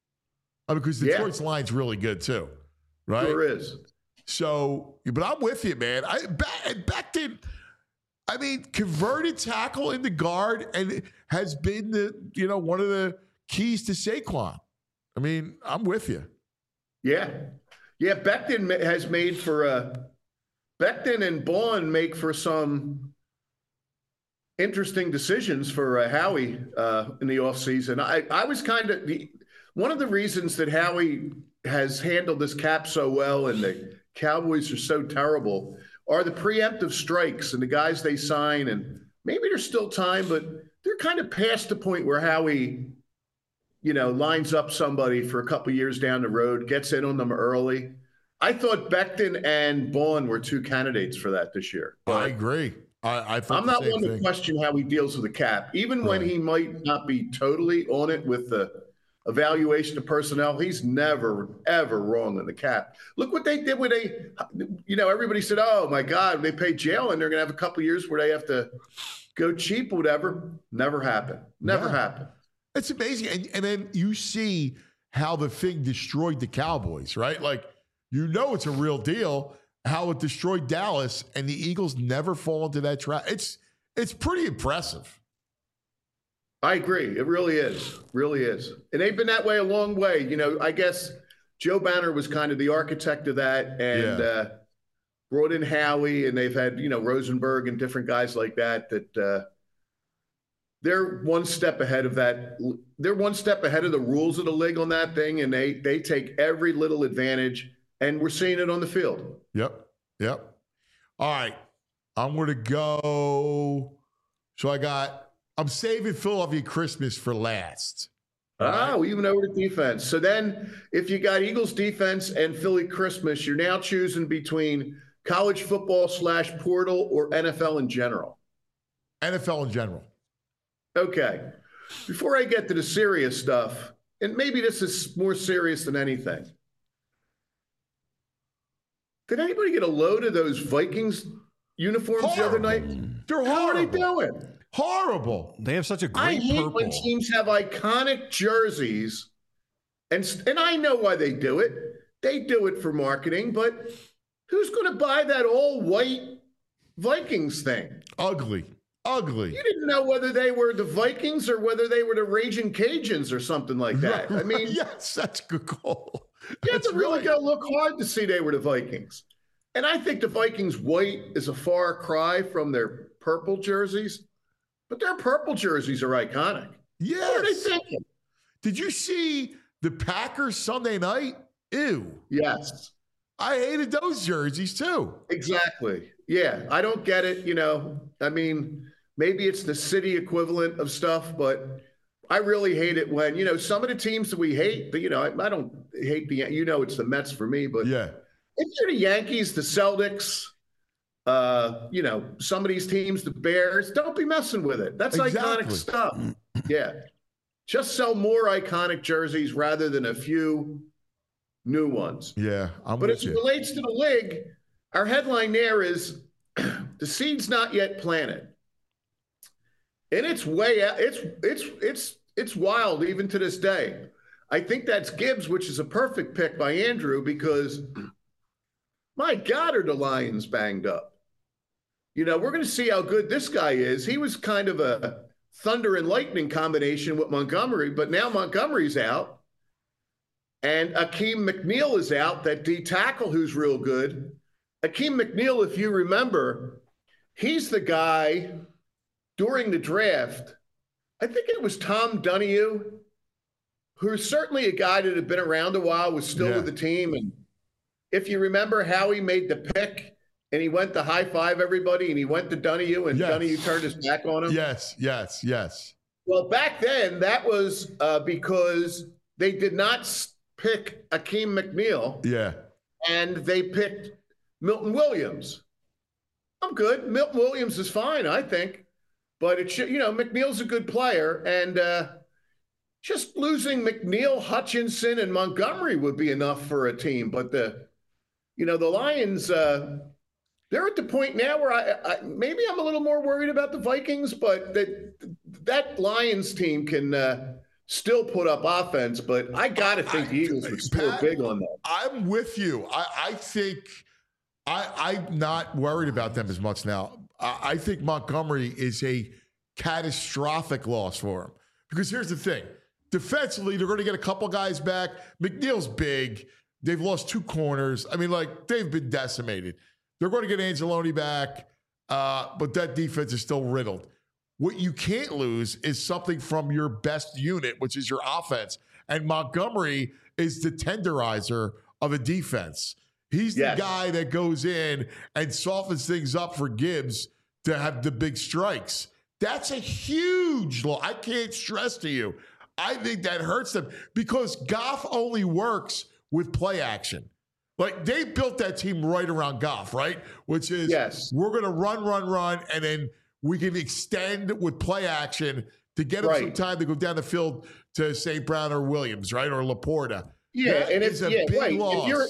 B: I mean, because
E: Yeah.
B: Detroit's line's really good too, right?
E: Sure is.
B: So, but I'm with you, man. I Be- Becton, I mean, converted tackle into guard and has been the you know one of the keys to Saquon. I mean, I'm with you.
E: Yeah. Yeah, Becton ma- has made for uh Becton and Bond make for some interesting decisions for uh, Howie uh, in the offseason. I, I was kind of the one of the reasons that Howie has handled this cap so well and the Cowboys are so terrible are the preemptive strikes and the guys they sign. And maybe there's still time, but they're kind of past the point where Howie, you know, lines up somebody for a couple years down the road, gets in on them early. I thought Becton and Bond were two candidates for that this year.
B: I agree. I, I thought
E: I'm
B: the
E: not
B: same
E: one to
B: thing.
E: question how he deals with the cap. Even when
B: Right.
E: he might not be totally on it with the evaluation of personnel, he's never, ever wrong on the cap. Look what they did when they, you know, everybody said, oh, my God, they paid Jalen, they're going to have a couple years where they have to go cheap or whatever. Never happened. Never
B: Yeah.
E: happened.
B: It's amazing. And, and then you see how the thing destroyed the Cowboys, right? Like, you know it's a real deal, how it destroyed Dallas, and the Eagles never fall into that trap. It's it's pretty impressive.
E: I agree. It really is. Really is. And they've been that way a long way. You know, I guess Joe Banner was kind of the architect of that and
B: Yeah.
E: uh, brought in Howie, and they've had, you know, Rosenberg and different guys like that, that uh, they're one step ahead of that. They're one step ahead of the rules of the league on that thing, and they they take every little advantage, and we're seeing it on the field.
B: Yep. Yep. All right. I'm going to go. So I got, I'm saving Philadelphia Christmas for last.
E: Ah, we even over the defense. So then if you got Eagles defense and Philly Christmas, you're now choosing between college football slash portal or N F L in general.
B: N F L in general.
E: Okay. Before I get to the serious stuff, and maybe this is more serious than anything. Did anybody get a load of those Vikings uniforms
B: Horrible.
E: the other night?
B: They're
E: How are they
B: horrible.
E: doing?
B: Horrible.
C: They have such a great
E: I hate
C: purple.
E: when teams have iconic jerseys, and and I know why they do it. They do it for marketing, but who's going to buy that all white Vikings thing?
B: Ugly. Ugly.
E: You didn't know whether they were the Vikings or whether they were the Raging Cajuns or something like that. I mean,
B: yes, that's a good call.
E: you have
B: That's
E: to really
B: right.
E: go look hard to see they were the Vikings. And I think the Vikings white is a far cry from their purple jerseys, but their purple jerseys are iconic.
B: Yes.
E: What are they thinking?
B: Did you see the Packers Sunday night? Ew.
E: Yes.
B: I hated those jerseys too.
E: Exactly. Yeah, I don't get it. You know, I mean, maybe it's the city equivalent of stuff, but I really hate it when, you know, some of the teams that we hate, but, you know, I, I don't hate the, you know, it's the Mets for me, but
B: Yeah.
E: if you're the Yankees, the Celtics, uh, you know, some of these teams, the Bears, don't be messing with it. That's iconic
B: Exactly.
E: stuff. Yeah. Just sell more iconic jerseys rather than a few new ones.
B: Yeah. I'm
E: But
B: with
E: as it
B: you.
E: relates to the league, our headline there is the seed's not yet planted. And it's way out. It's it's it's it's wild even to this day. I think that's Gibbs, which is a perfect pick by Andrew because my God, are the Lions banged up. You know, we're going to see how good this guy is. He was kind of a thunder and lightning combination with Montgomery, but now Montgomery's out. And Akeem McNeil is out, that D tackle who's real good. Akeem McNeil, if you remember, he's the guy during the draft. I think it was Tom Donahue, who's certainly a guy that had been around a while, was still
B: Yeah.
E: with the team. And if you remember how he made the pick and he went to high five everybody and he went to Donahue and
B: Yes.
E: Donahue turned his back on him.
B: Yes. Yes. Yes.
E: Well, back then, that was uh, because they did not s- pick Akeem McNeil
B: Yeah.
E: and they picked Milton Williams. I'm good. Milton Williams is fine, I think. But it should, you know, McNeil's a good player. And uh, just losing McNeil, Hutchinson, and Montgomery would be enough for a team. But the, you know, the Lions, uh, they're at the point now where I, I maybe I'm a little more worried about the Vikings, but that that Lions team can uh, still put up offense. But I got to think the Eagles would score
B: Pat,
E: big on that.
B: I'm with you. I, I think I, I'm not worried about them as much now. I, I think Montgomery is a catastrophic loss for him. Because here's the thing. Defensively, they're going to get a couple guys back. McNeil's big. They've lost two corners. I mean, like, they've been decimated. They're going to get Angeloni back, uh, but that defense is still riddled. What you can't lose is something from your best unit, which is your offense. And Montgomery is the tenderizer of a defense. He's the
E: Yes.
B: guy that goes in and softens things up for Gibbs to have the big strikes. That's a huge loss. I can't stress to you. I think that hurts them because Goff only works with play action. Like, they built that team right around Goff, right? Which is,
E: Yes.
B: we're going to run, run, run, and then we can extend with play action to get him some
E: Right.
B: time to go down the field to Saint Brown or Williams, right? Or Laporta.
E: Yeah,
B: That
E: and
B: is
E: it's
B: a
E: yeah,
B: big
E: right.
B: loss.
E: If you're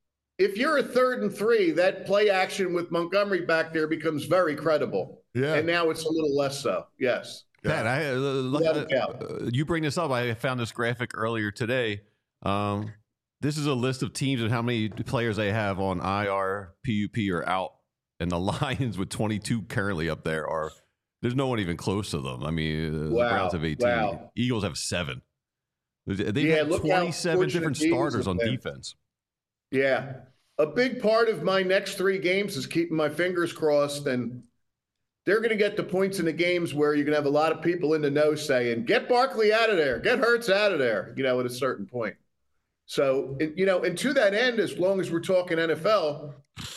E: if you're a third and three, that play action with Montgomery back there becomes very credible.
B: Yeah.
E: And now it's a little less so. Yes.
C: Pat, I, uh, look,
E: Without a
C: uh,
E: doubt.
C: uh, you bring this up. I found this graphic earlier today Um, this is a list of teams and how many players they have on I R, P U P, or out. And the Lions with twenty-two currently up there are there's no one even close to them. I mean,
E: Wow.
C: the Browns have eighteen.
E: Wow.
C: Eagles have seven. They've
E: Yeah,
C: had
E: look how
C: twenty-seven different
E: fortunate the Eagles
C: starters on
E: have been.
C: defense.
E: Yeah. A big part of my next three games is keeping my fingers crossed, and they're going to get to points in the games where you're going to have a lot of people in the know saying, get Barkley out of there, get Hurts out of there, you know, at a certain point. So, you know, and to that end, as long as we're talking N F L,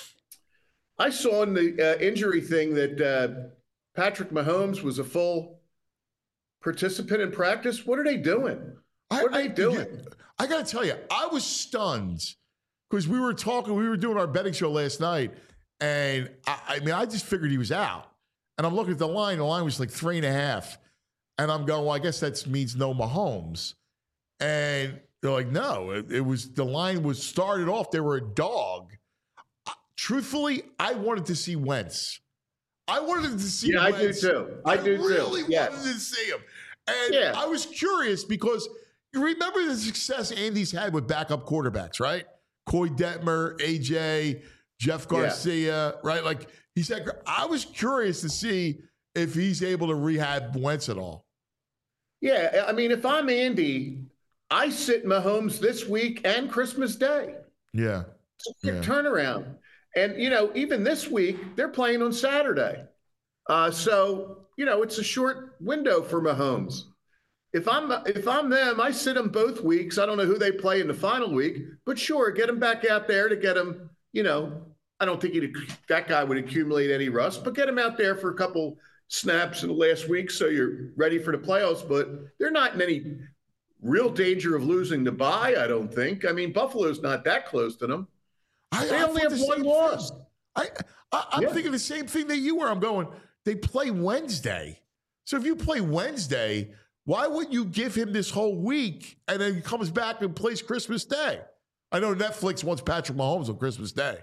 E: I saw in the uh, injury thing that uh, Patrick Mahomes was a full participant in practice. What are they doing? What are
B: I,
E: they doing?
B: I, I got to tell you, I was stunned because we were talking, we were doing our betting show last night, and I, I mean, I just figured he was out. And I'm looking at the line. The line was like three and a half. And I'm going, well, I guess that means no Mahomes. And they're like, no, it, it was the line was started off. They were a dog. Truthfully, I wanted to see Wentz. I wanted to see
E: Yeah,
B: Wentz.
E: I do too. I do too.
B: really
E: Yes.
B: wanted to see him. And
E: Yeah.
B: I was curious because you remember the success Andy's had with backup quarterbacks, right? Coy Detmer, A J, Jeff Garcia, right? Like he said, I was curious to see if he's able to rehab Wentz at all.
E: Yeah, I mean, if I'm Andy, I sit Mahomes this week and Christmas Day.
B: Yeah.
E: It's a quick
B: Yeah.
E: turnaround. And, you know, even this week, they're playing on Saturday. Uh, so, you know, it's a short window for Mahomes. If I'm if I'm them, I sit them both weeks. I don't know who they play in the final week, but sure, get them back out there to get them, you know, I don't think he'd, that guy would accumulate any rust, but get him out there for a couple snaps in the last week so you're ready for the playoffs. But they're not in any real danger of losing the bye, I don't think. I mean, Buffalo's not that close to them.
B: I,
E: They
B: I
E: only
B: thought
E: have
B: the
E: one
B: same
E: loss.
B: thing. I, I, I'm
E: Yeah.
B: thinking the same thing that you were. I'm going, they play Wednesday. So if you play Wednesday, why wouldn't you give him this whole week and then he comes back and plays Christmas Day? I know Netflix wants Patrick Mahomes on Christmas Day.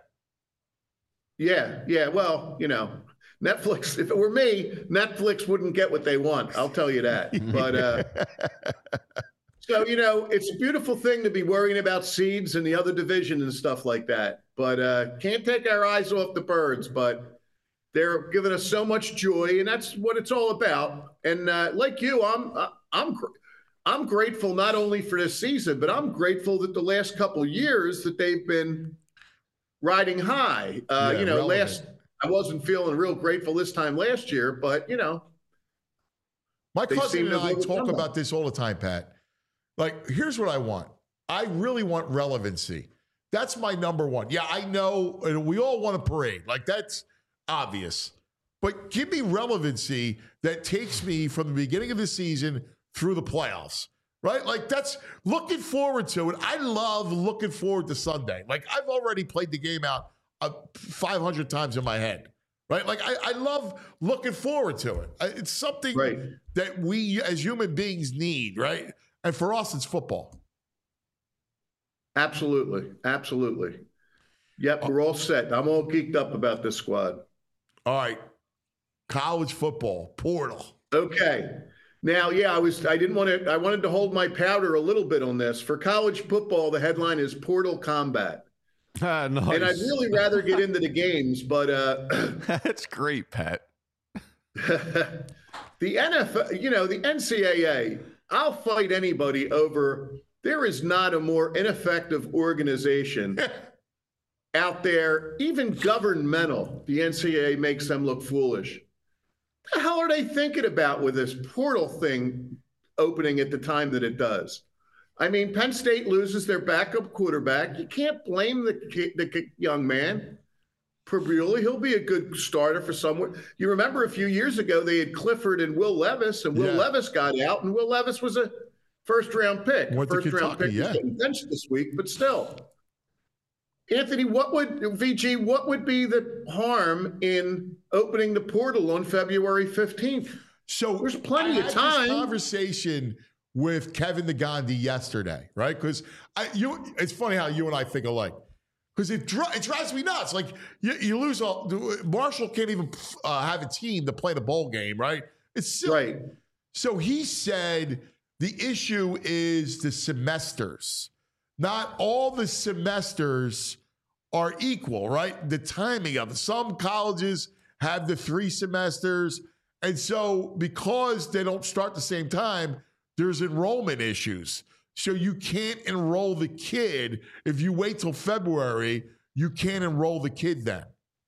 E: Yeah, yeah. Well, you know, Netflix, if it were me, Netflix wouldn't get what they want. I'll tell you that. But uh, so, you know, it's a beautiful thing to be worrying about seeds and the other division and stuff like that. But uh, can't take our eyes off the birds. But they're giving us so much joy, and that's what it's all about. And uh, like you, I'm uh, I'm gr- I'm grateful not only for this season, but I'm grateful that the last couple of years that they've been riding high. Uh,
B: Yeah,
E: you know,
B: relevant.
E: last I wasn't feeling real grateful this time last year, but you know,
B: My
E: They
B: cousin
E: seem
B: and
E: to
B: I
E: have
B: talk
E: overcome
B: about this all the time, Pat. Like, here's what I want. I really want relevancy. That's my number one. Yeah, I know, and we all want a parade. Like, that's obvious. But give me relevancy that takes me from the beginning of the season through the playoffs, right? Like, that's looking forward to it. I love looking forward to Sunday. Like, I've already played the game out uh, five hundred times in my head, right? Like, I, I love looking forward to it. I- It's something
E: Right.
B: that we as human beings need, right? And for us, it's football.
E: absolutely, absolutely. Yep, we're all set. I'm all geeked up about this squad.
B: All right. College football, portal.
E: Okay. Now, yeah, I was I didn't want to I wanted to hold my powder a little bit on this. For college football, the headline is Portal Combat.
C: Ah, nice.
E: And I'd really rather get into the games, but uh
C: That's great, Pat.
E: the N F L, you know, the N C double A, I'll fight anybody over. There is not a more ineffective organization out there, even governmental. The N C double A makes them look foolish. What the hell are they thinking about with this portal thing opening at the time that it does? I mean, Penn State loses their backup quarterback. You can't blame the, ki- the ki- young man. Prabuli, he'll be a good starter for someone. You remember a few years ago, they had Clifford and Will Levis, and Will
B: Yeah.
E: Levis got out, and Will Levis was a first-round pick.
B: Went to
E: First-round
B: Kentucky,
E: pick.
B: yeah.
E: He's getting benched this week, but still. Anthony, what would, V G, what would be the harm in opening the portal on February fifteenth?
B: So
E: There's plenty
B: I
E: of
B: had
E: time.
B: This conversation with Kevin the Gandhi yesterday, right? Because I, you, it's funny how you and I think alike. Because it, dri- it drives me nuts. Like you, you lose all. Marshall can't even uh, have a team to play the bowl game, right? It's silly.
E: Right.
B: So he said the issue is the semesters. not all the semesters are equal, right? The timing of it. Some colleges have the three semesters. And so because they don't start the same time, there's enrollment issues. So you can't enroll the kid. If you wait till February, you can't enroll the kid then.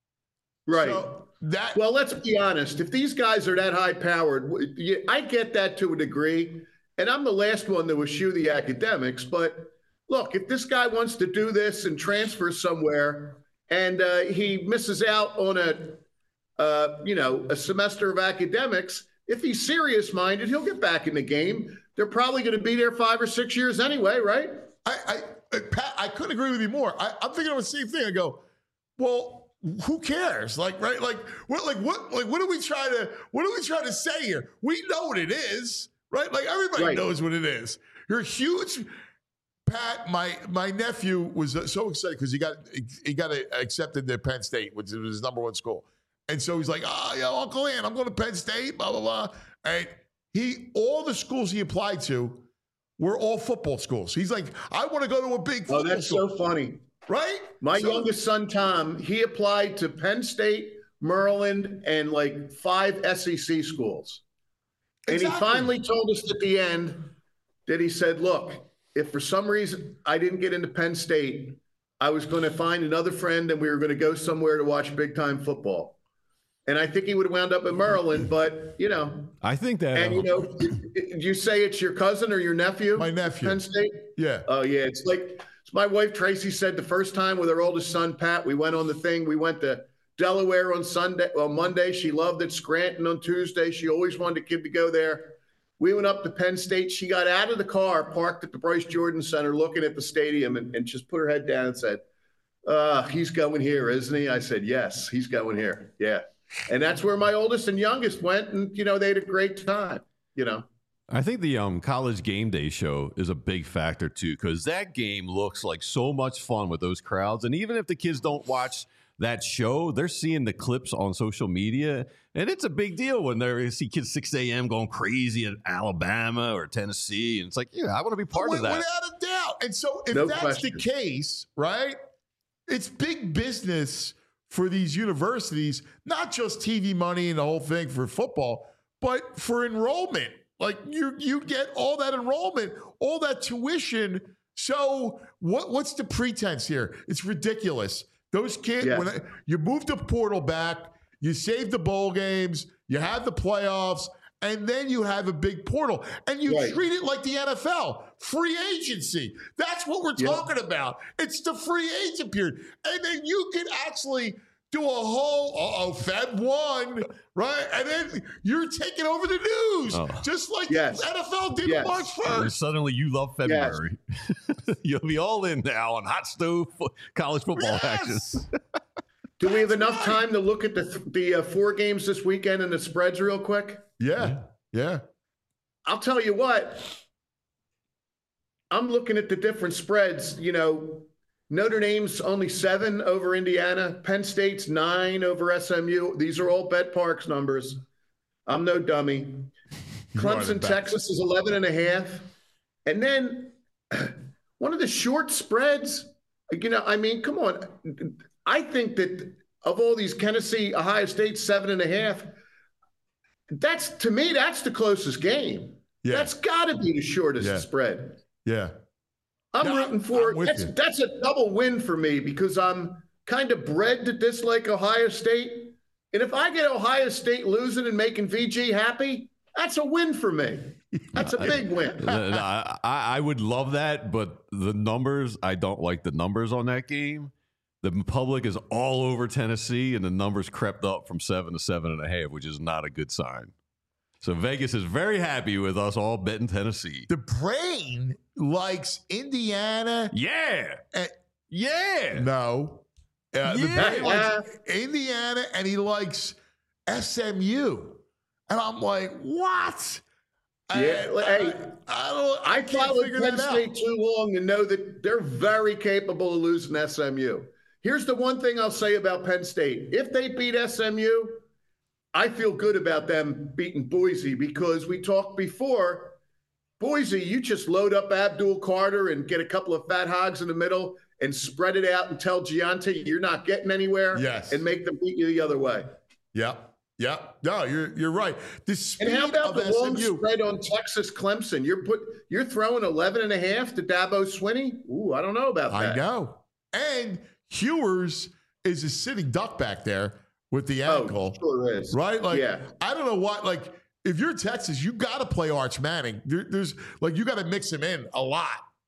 E: Right.
B: So that,
E: well, let's be honest. If these guys are that high powered, I get that to a degree. And I'm the last one to eschew the academics. But look, if this guy wants to do this and transfer somewhere and uh, he misses out on a, uh, you know, a semester of academics, if he's serious minded, he'll get back in the game. They're probably going to be there five or six years anyway, right?
B: I, I, Pat, I couldn't agree with you more. I, I'm thinking of the same thing. I go, well, who cares? Like, right? Like, what? Like, what? Like, what are we trying to? What are we trying to say here? We know what it is, right? Like, everybody
E: right.
B: knows what it is. You're huge. Pat, my my nephew was so excited because he got he got accepted to Penn State, which was his number one school, and so he's like, "Oh, yeah, Uncle Ann, I'm going to Penn State." Blah blah blah. And he, all the schools he applied to were all football schools. He's like, "I want to go to a big football
E: school." Oh, that's
B: school.
E: so funny.
B: Right?
E: My
B: so,
E: youngest son, Tom, he applied to Penn State, Maryland, and like five S E C schools. And exactly. he finally told us at the end that he said, look, if for some reason I didn't get into Penn State, I was going to find another friend and we were going to go somewhere to watch big time football. And I think he would have wound up in Maryland, but, you know.
C: I think that.
E: And, you know, you say it's your cousin or your nephew?
B: My nephew.
E: Penn State?
B: Yeah.
E: Oh, yeah. It's like, my wife, Tracy, said the first time with her oldest son, Pat, we went on the thing. We went to Delaware on Sunday, well, Monday. She loved it. Scranton on Tuesday. She always wanted a kid to go there. We went up to Penn State. She got out of the car, parked at the Bryce Jordan Center, looking at the stadium, and, and just put her head down and said, uh, he's going here, isn't he? I said, yes, he's going here. Yeah. And that's where my oldest and youngest went. And, you know, they had a great time, you know.
C: I think the um, college game day show is a big factor, too, because that game looks like so much fun with those crowds. And even if the kids don't watch that show, they're seeing the clips on social media. And it's a big deal when they see kids six a.m. going crazy in Alabama or Tennessee. And it's like, yeah, I want to be part
B: oh,
C: of that.
B: Without a doubt. And so if
E: no
B: that's
E: question.
B: the case, right, it's big business for these universities, not just T V money and the whole thing for football, but for enrollment. Like you, you get all that enrollment, all that tuition. So what? What's the pretense here? It's ridiculous. Those kids,
E: yes.
B: when I, you move the portal back, you save the bowl games, you have the playoffs, and then you have a big portal, and you
E: right.
B: treat it like the N F L, free agency. That's what we're
E: yep.
B: talking about. It's the free agent period, and then you can actually do a whole, uh-oh, Feb one, right? And then you're taking over the news, oh. just like
E: yes.
B: the N F L did
E: yes.
B: March first.
C: And suddenly you love February. Yes. You'll be all in now on hot stove college football
B: yes.
C: action.
E: Do we have enough
B: right.
E: time to look at the the uh, four games this weekend and the spreads real quick?
B: Yeah, yeah.
E: I'll tell you what. I'm looking at the different spreads, you know, Notre Dame's only seven over Indiana. Penn State's nine over S M U. These are all Bet Parks numbers. I'm no dummy. Clemson, Texas is eleven and a half. And then one of the short spreads, you know, I mean, come on. I think that of all these, Tennessee, Ohio State, seven and a half, that's, to me, that's the closest game. Yeah. That's got to be the shortest yeah. spread.
B: Yeah.
E: I'm
B: no,
E: rooting for
B: I'm
E: it. That's, that's a double win for me because I'm kind of bred to dislike Ohio State. And if I get Ohio State losing and making V G happy, that's a win for me. That's a big win.
C: I, I would love that, but the numbers, I don't like the numbers on that game. The public is all over Tennessee, and the numbers crept up from seven to seven and a half, which is not a good sign. So Vegas is very happy with us all betting Tennessee.
B: The brain likes Indiana.
C: Yeah.
B: And,
C: yeah.
B: No. Uh,
C: yeah.
B: The brain likes Indiana, and he likes S M U. And I'm like, what?
E: Yeah,
B: I,
E: hey,
B: I, I don't. I,
E: I
B: can't
E: followed
B: figure
E: Penn
B: that
E: State
B: out.
E: too long to know that they're very capable of losing S M U. Here's the one thing I'll say about Penn State. If they beat S M U, I feel good about them beating Boise because we talked before. Boise, you just load up Abdul Carter and get a couple of fat hogs in the middle and spread it out and tell Giante you're not getting anywhere.
B: Yes.
E: And make them beat you the other way.
B: Yeah. Yeah. No, you're you're right. The speed
E: And how about
B: of
E: the long
B: S M U,
E: spread on Texas Clemson? You're put you're throwing eleven and a half to Dabo Swinney? Ooh, I don't know about that.
B: I know. And Hewers is a sitting duck back there with the
E: Oh,
B: ankle.
E: sure is.
B: Right? Like,
E: Yeah.
B: I don't know what, like, if you're Texas, you got to play Arch Manning. There, there's, like, you got to mix him in a lot.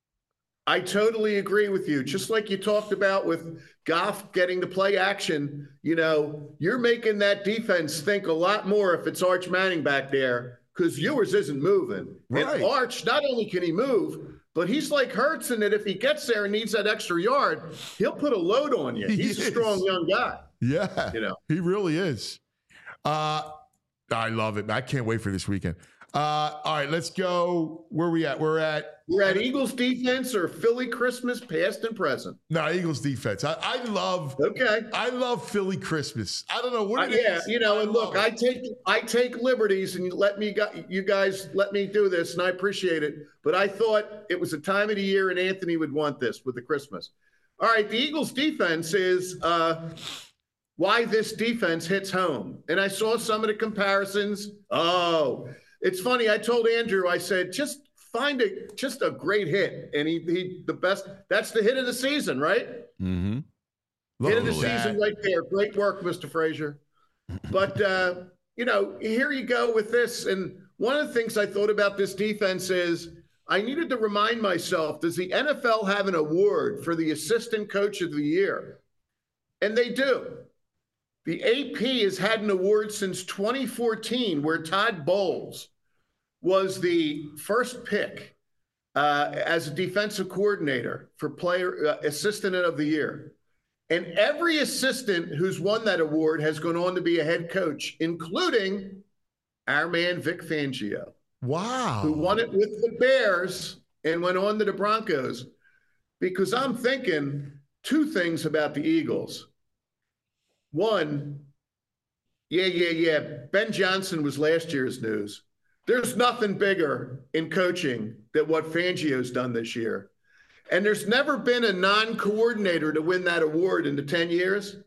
E: I totally agree with you. Just like you talked about with Goff getting to play action, you know, you're making that defense think a lot more if it's Arch Manning back there because Ewers isn't moving.
B: Right.
E: And Arch, not only can he move, but he's like Hurts in that if he gets there and needs that extra yard, he'll put a load on you.
B: He
E: He's
B: is.
E: a strong young guy.
B: Yeah.
E: You know.
B: He really is. Uh, I love it. I can't wait for this weekend. Uh, all right, let's go. Where we at? We're at
E: We're at Eagles defense or Philly Christmas, past and present.
B: no Eagles defense. I, I love
E: Okay.
B: I love Philly Christmas. I don't know what
E: Uh,
B: it
E: yeah,
B: is.
E: you know,
B: I
E: and look,
B: love
E: I
B: it.
E: take I take liberties, and you let me gu- you guys let me do this, and I appreciate it. But I thought it was a time of the year, and Anthony would want this with the Christmas. All right, the Eagles' defense is uh, why this defense hits home, and I saw some of the comparisons. Oh, it's funny. I told Andrew, I said, just find a just a great hit, and he he the best. That's the hit of the season, right?
C: Mm-hmm.
E: Hit of the
B: Love that.
E: season right there. Great work, Mister Frazier. But, uh, you know, here you go with this. And one of the things I thought about this defense is I needed to remind myself, does the N F L have an award for the assistant coach of the year? And they do. The A P has had an award since twenty fourteen where Todd Bowles was the first pick uh, as a defensive coordinator for player uh, assistant of the year. And every assistant who's won that award has gone on to be a head coach, including our man Vic Fangio,
B: Wow.
E: who won it with the Bears and went on to the Broncos. Because I'm thinking two things about the Eagles. One, yeah, yeah, yeah. Ben Johnson was last year's news. There's nothing bigger in coaching than what Fangio's done this year. And there's never been a non-coordinator to win that award in the ten years.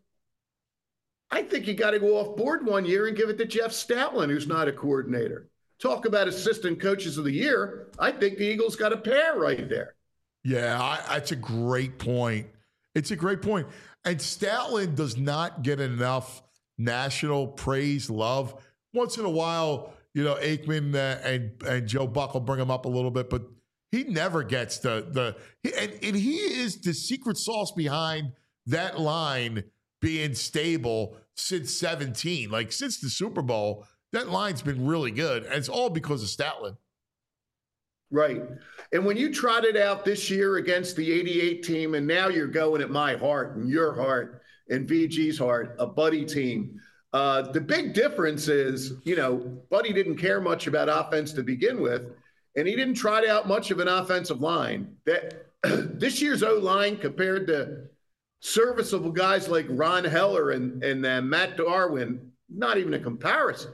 E: I think you got to go off board one year and give it to Jeff Stoutland, who's not a coordinator. Talk about assistant coaches of the year. I think the Eagles got a pair right there.
B: Yeah, I, that's a great point. It's a great point. And Stoutland does not get enough national praise, love. Once in a while, you know, Aikman uh, and and Joe Buck will bring him up a little bit, but he never gets the the he, and, and he is the secret sauce behind that line being stable since seventeen. Like since the Super Bowl, that line's been really good, and it's all because of Stoutland.
E: Right. And when you trotted out this year against the eighty-eight team, and now you're going at my heart and your heart and V G's heart, a Buddy team. Uh, the big difference is, you know, Buddy didn't care much about offense to begin with, and he didn't trot out much of an offensive line. That this year's O-line compared to serviceable guys like Ron Heller and, and uh, Matt Darwin, not even a comparison.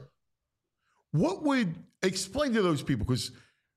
B: What would explain to those people, because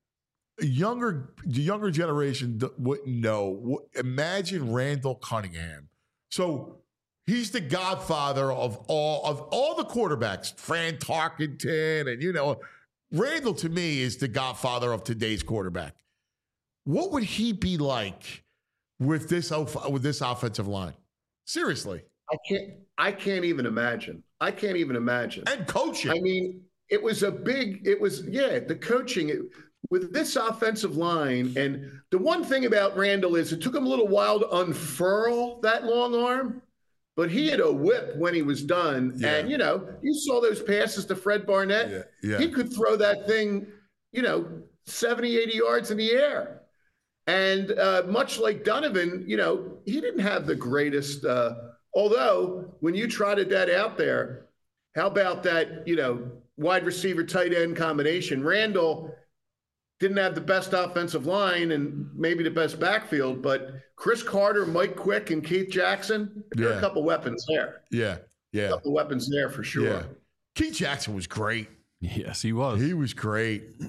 B: younger the younger generation d- wouldn't know. What, imagine Randall Cunningham. So he's the godfather of all of all the quarterbacks, Fran Tarkenton, and you know, Randall to me is the godfather of today's quarterback. What would he be like with this with this offensive line? Seriously,
E: I can't. I can't even imagine. I can't even imagine.
B: and coaching.
E: I mean, it was a big. It was yeah. The coaching it, with this offensive line, and the one thing about Randall is it took him a little while to unfurl that long arm, but he had a whip when he was done.
B: Yeah.
E: And you know, you saw those passes to Fred Barnett.
B: Yeah, yeah.
E: He could throw that thing, you know, seventy, eighty yards in the air. And uh, much like Donovan, you know, he didn't have the greatest. Uh, although when you trotted that out there, how about that, you know, wide receiver tight end combination? Randall didn't have the best offensive line and maybe the best backfield, but Chris Carter, Mike Quick, and Keith Jackson, there are
B: Yeah.
E: a couple weapons there.
B: yeah, yeah,
E: A couple weapons there for sure.
B: yeah. Keith Jackson was great.
C: Yes, he was.
B: He was great.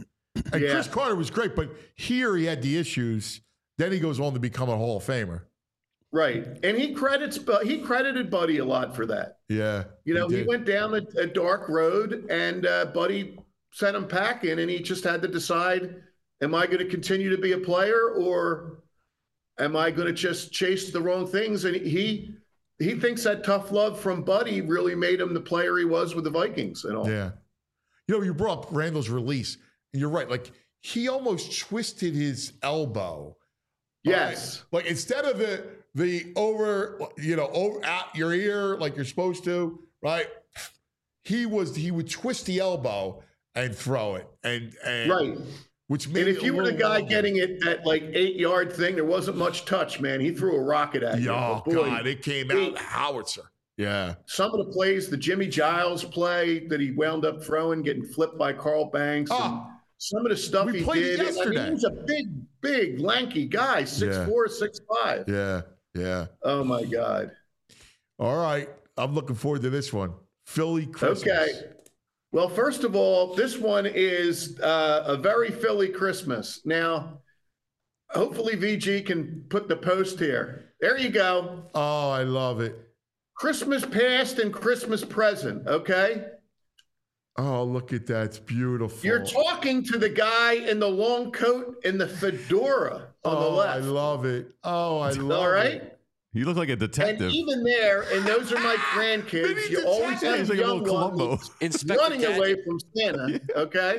B: And
E: Yeah.
B: Chris Carter was great, but here he had the issues. Then he goes on to become a Hall of Famer.
E: Right. And he credits, but he credited Buddy a lot for that.
B: Yeah.
E: You know, he,
B: did.
E: went down a, a dark road, and uh, Buddy sent him packing, and he just had to decide, am I going to continue to be a player, or am I going to just chase the wrong things? And he he thinks that tough love from Buddy really made him the player he was with the Vikings and all.
B: Yeah. You know, you brought up Randall's release, and you're right. Like, he almost twisted his elbow.
E: Yes.
B: Right? Like, instead of the the over, you know, over at your ear like you're supposed to, right? He was he would twist the elbow and throw it, and, and
E: Right.
B: Which made
E: And if
B: it
E: you
B: a
E: were the
B: little
E: guy
B: longer.
E: getting it at like eight yard thing, there wasn't much touch, man. He threw a rocket at you.
B: Oh,
E: But boy,
B: God, it came
E: he-
B: out howitzer. Yeah.
E: some of the plays, the Jimmy Giles play that he wound up throwing, getting flipped by Carl Banks,
B: Oh.
E: and some of the stuff
B: We
E: he
B: played it
E: did. I mean,
B: yesterday.
E: he was a big, big, lanky guy, six
B: Yeah.
E: four, six five.
B: Yeah. Yeah.
E: Oh my God.
B: All right. I'm looking forward to this one. Philly Christmas.
E: Okay. Well, first of all, this one is uh, a very Philly Christmas. Now, hopefully V G can put the post here. There you go.
B: Oh, I love it.
E: Christmas past and Christmas present, okay?
B: Oh, look at that. It's beautiful.
E: You're talking to the guy in the long coat and the fedora on
B: oh,
E: the left.
B: I love it. Oh, I love
E: All right?
B: it.
C: You look like a
E: And
C: detective.
E: even there, and those are my grandkids,
B: Mini
E: you always
B: detective.
E: have
C: He's like a
E: young
C: little Columbo.
E: ones
D: Inspector
E: running
D: Gadget.
E: away from Santa, okay?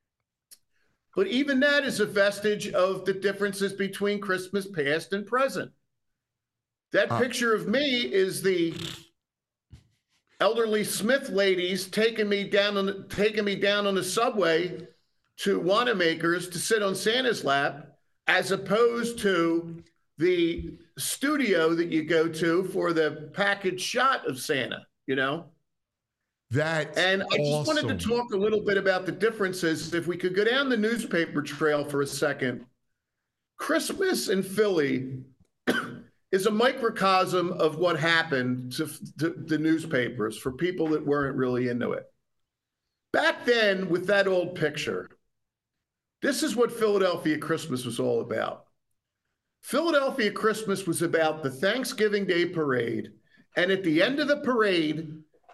E: But even that is a vestige of the differences between Christmas past and present. That
B: Uh.
E: picture of me is the elderly Smith ladies taking me down on the, taking me down on the subway to Wanamaker's to sit on Santa's lap, as opposed to the studio that you go to for the package shot of Santa, you know?
B: That's
E: And I just
B: awesome.
E: wanted to talk a little bit about the differences. If we could go down the newspaper trail for a second, Christmas in Philly is a microcosm of what happened to, to the newspapers for people that weren't really into it. Back then, with that old picture, this is what Philadelphia Christmas was all about. Philadelphia Christmas was about the Thanksgiving Day parade, and at the end of the parade,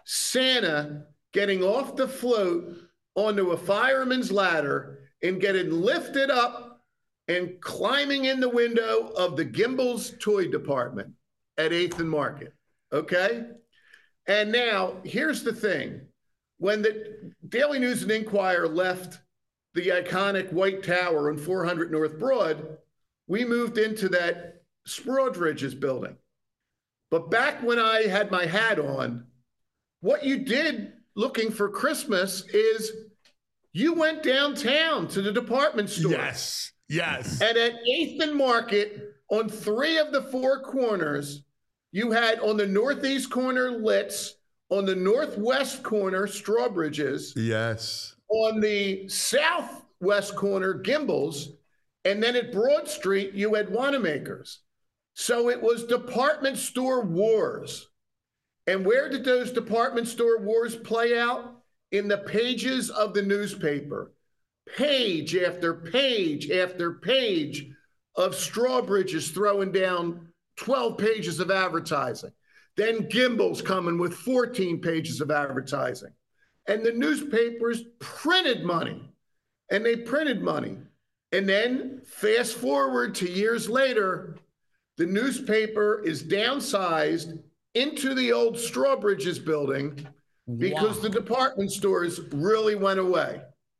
E: Santa getting off the float onto a fireman's ladder and getting lifted up and climbing in the window of the Gimbel's toy department at eighth and Market. Okay? And now, here's the thing. When the Daily News and Inquirer left the iconic White Tower on four hundred North Broad, we moved into that Sprodridge's building. But back when I had my hat on, what you did looking for Christmas is you went downtown to the department store.
B: Yes. Yes.
E: And at eighth and Market, on three of the four corners, you had on the northeast corner Litz, on the northwest corner Strawbridge's,
B: yes.
E: on the southwest corner Gimbel's, and then at Broad Street, you had Wanamaker's. So it was department store wars. And where did those department store wars play out? In the pages of the newspaper. Page after page after page of Strawbridge's throwing down twelve pages of advertising. Then Gimbel's coming with fourteen pages of advertising. And the newspapers printed money. And they printed money. And then fast forward to years later, the newspaper is downsized into the old Strawbridge's building because
B: Wow.
E: the department stores really went away.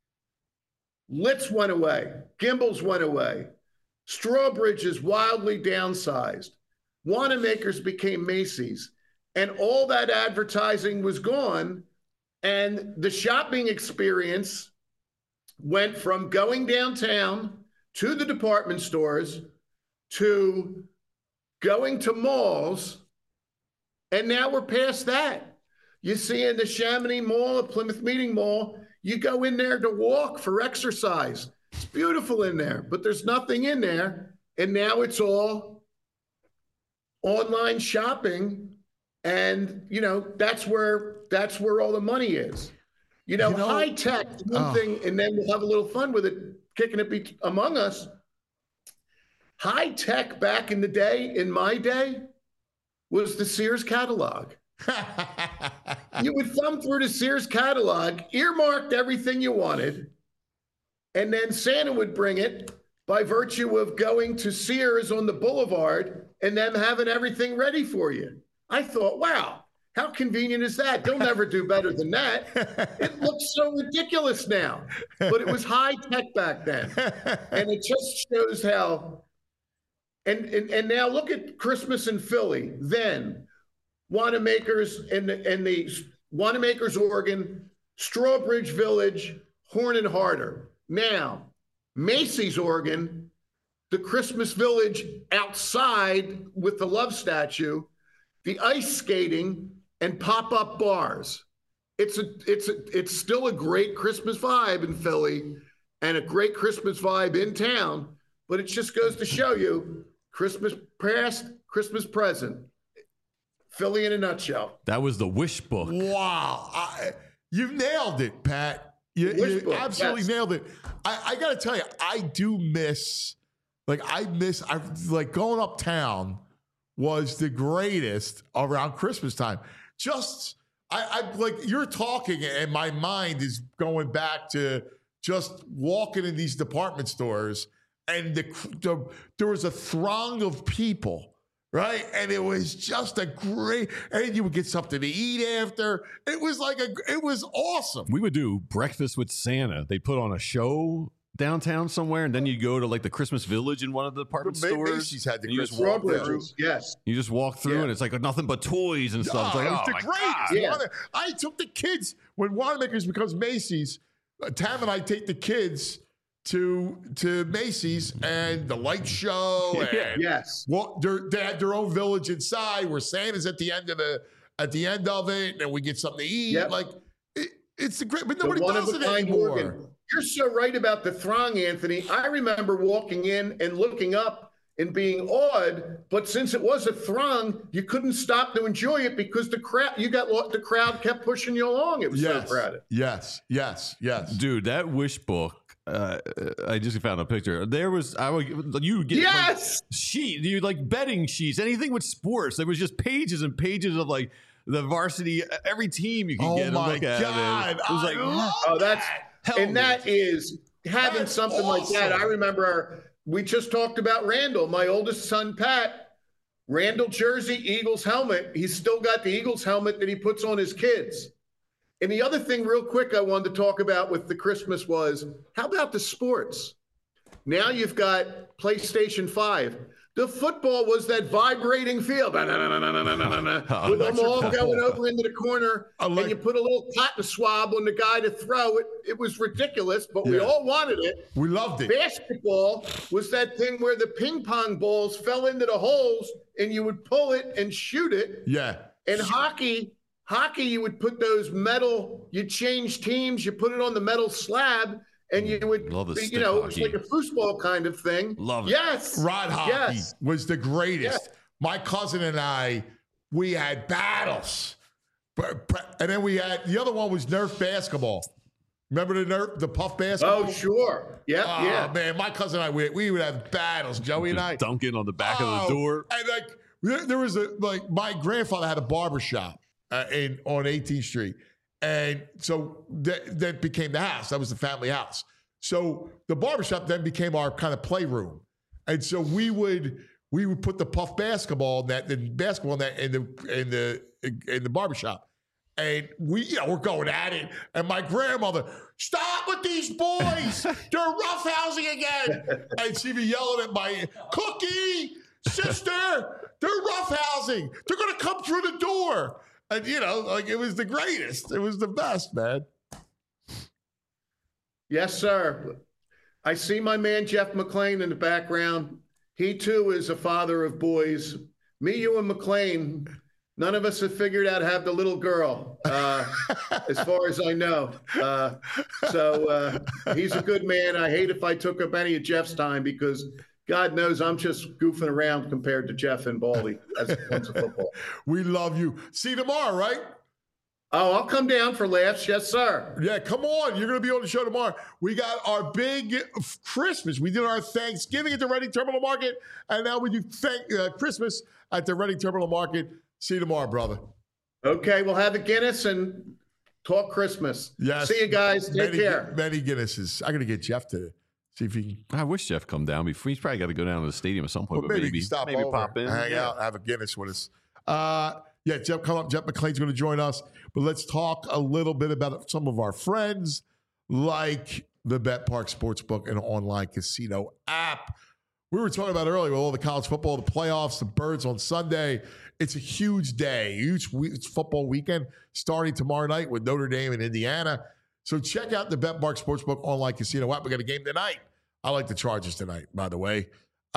E: Litz went away. Gimbel's went away. Strawbridge's wildly downsized. Wanamaker's became Macy's. And all that advertising was gone. And the shopping experience went from going downtown to the department stores to going to malls. And now we're past that. You see in the Chamonix Mall, at Plymouth Meeting Mall, you go in there to walk for exercise. It's beautiful in there, but there's nothing in there. And now it's all online shopping. And, you know, that's where that's where all the money is. You know,
B: You know-
E: high tech, one
B: Oh.
E: thing, and then we'll have a little fun with it. kicking it be- among us. High tech back in the day, in my day, was the Sears catalog. You would thumb through the Sears catalog, earmarked everything you wanted, and then Santa would bring it by virtue of going to Sears on the boulevard and them having everything ready for you. I thought, wow, how convenient is that? They'll never do better than that. It looks so ridiculous now, but it was high tech back then. And it just shows how, and, and, and now look at Christmas in Philly, then Wanamaker's and the, and the Wanamaker's Oregon, Strawbridge Village, Horn and Harder. Now, Macy's Oregon, the Christmas Village outside with the love statue, the ice skating, and pop-up bars. It's a, it's a, it's still a great Christmas vibe in Philly and a great Christmas vibe in town, but it just goes to show you Christmas past, Christmas present. Philly in a nutshell.
C: That was the wish book.
B: Wow. I, you nailed it, Pat. You, you
E: book,
B: absolutely
E: yes.
B: nailed it. I, I got to tell you, I do miss, like, I miss, I like going uptown was the greatest around Christmas time. Just, I, I like, you're talking and my mind is going back to just walking in these department stores and the, the there was a throng of people. Right. And it was just a great, and you would get something to eat after. It was like a, it was awesome.
C: We would do breakfast with Santa. They put on a show downtown somewhere, and then you go to like the Christmas Village in one of the department
B: Ma-
C: stores.
B: Macy's had the
C: and you just
B: Christmas
C: walk
B: Village.
C: through.
E: Yes.
C: You just walk through,
E: Yeah.
C: and it's like nothing but toys and stuff. It's
B: Oh,
C: like,
B: it was
C: oh
B: the
C: my
B: greatest.
C: God.
E: Yeah.
B: Wanna- I took the kids when Wanamaker's becomes Macy's. uh, Tam and I take the kids to to Macy's and the light show. And
E: Yes.
B: Well, they had their own village inside where Santa's at the end of the at the end of it, and we get something to eat.
E: Yep.
B: Like it, it's a great, but
E: The
B: nobody
E: one
B: does
E: of
B: it
E: a kind
B: anymore.
E: organ. You're so right about the throng, Anthony. I remember walking in and looking up and being awed, but since it was a throng, you couldn't stop to enjoy it because the crowd, you got the crowd kept pushing you along. It was
B: Yes,
E: so crowded.
B: yes, yes, yes.
C: Dude, that wish book. Uh, I just found a picture. There was I would you would get
E: Yes.
C: like, sheet, you like betting sheets, anything with sports. There was just pages and pages of like the varsity, every team you could
B: Oh
C: get and
B: my
C: look at.
B: God,
C: It, it was
B: I
C: like
B: love
E: Oh, that's
C: Hell
E: and that is having
B: That's
E: something like that.
B: awesome.
E: I remember we just talked about Randall, my oldest son, Pat. Randall jersey, Eagles helmet. He's still got the Eagles helmet that he puts on his kids. And the other thing, real quick, I wanted to talk about with the Christmas was how about the sports? Now you've got PlayStation five. The football was that vibrating field with them all going over into the corner, and you put a little cotton swab on the guy to throw it. It was ridiculous, but we
B: Yeah.
E: all wanted it.
B: We loved it.
E: Basketball was that thing where the ping pong balls fell into the holes, and you would pull it and shoot it.
B: Yeah.
E: And hockey, hockey, you would put those metal, you change teams, you put it on the metal slab, and you would,
C: Love the
E: you
C: stick
E: know, it was
C: hockey.
E: like a foosball kind of thing.
C: Love it.
E: Yes.
B: Rod hockey
E: Yes.
B: was the greatest.
E: Yes.
B: My cousin and I, we had battles. But- but- And then we had, the other one was Nerf basketball. Remember the Nerf, the puff basketball?
E: Oh, sure. Yep,
B: Oh,
E: yeah.
B: man, my cousin and I, we, we would have battles, Joey and I.
C: just dunking on the back of
B: Oh,
C: the door.
B: And like, there, there was a, like, my grandfather had a barber shop uh, in, on eighteenth Street. And so that, that became the house. That was the family house. So the barbershop then became our kind of playroom. And so we would we would put the puff basketball net, the basketball net in the in the in the barbershop. And we, you know, we're going at it. And my grandmother, stop with these boys. They're roughhousing again. And she'd be yelling at my Cookie, sister, they're roughhousing. They're gonna come through the door. And you know, like it was the greatest. It was the best, man.
E: Yes, sir. I see my man Jeff McClain in the background. He too is a father of boys. Me, you, and McClain, none of us have figured out how to have the little girl, uh, as far as I know. Uh, so uh, he's a good man. I hate if I took up any of Jeff's time because God knows I'm just goofing around compared to Jeff and Baldy as it comes to football.
B: We love you. See you tomorrow, right?
E: Oh, I'll come down for laughs. Yes, sir.
B: Yeah, come on. You're going to be on the show tomorrow. We got our big Christmas. We did our Thanksgiving at the Reading Terminal Market, and now we do thank, uh, Christmas at the Reading Terminal Market. See you tomorrow, brother.
E: Okay, we'll have a Guinness and talk Christmas.
B: Yes.
E: See you guys. Take
B: many,
E: care.
B: Many Guinnesses. I'm going to get Jeff to see if he can.
C: I wish Jeff come down before. He's probably got to go down to the stadium at some point.
B: Well,
C: but
B: maybe,
C: maybe
B: he can stop
C: maybe
B: over,
C: pop in,
B: hang
C: yeah.
B: out, have a Guinness with us. Uh, yeah, Jeff, come up. Jeff McClain's going to join us. But let's talk a little bit about some of our friends, like the Bet Park Sportsbook and online casino app. We were talking about earlier with all the college football, the playoffs, the Birds on Sunday. It's a huge day, huge it's football weekend starting tomorrow night with Notre Dame and Indiana. So check out the Bet Park Sportsbook online casino app. We got a game tonight. I like the Chargers tonight, by the way.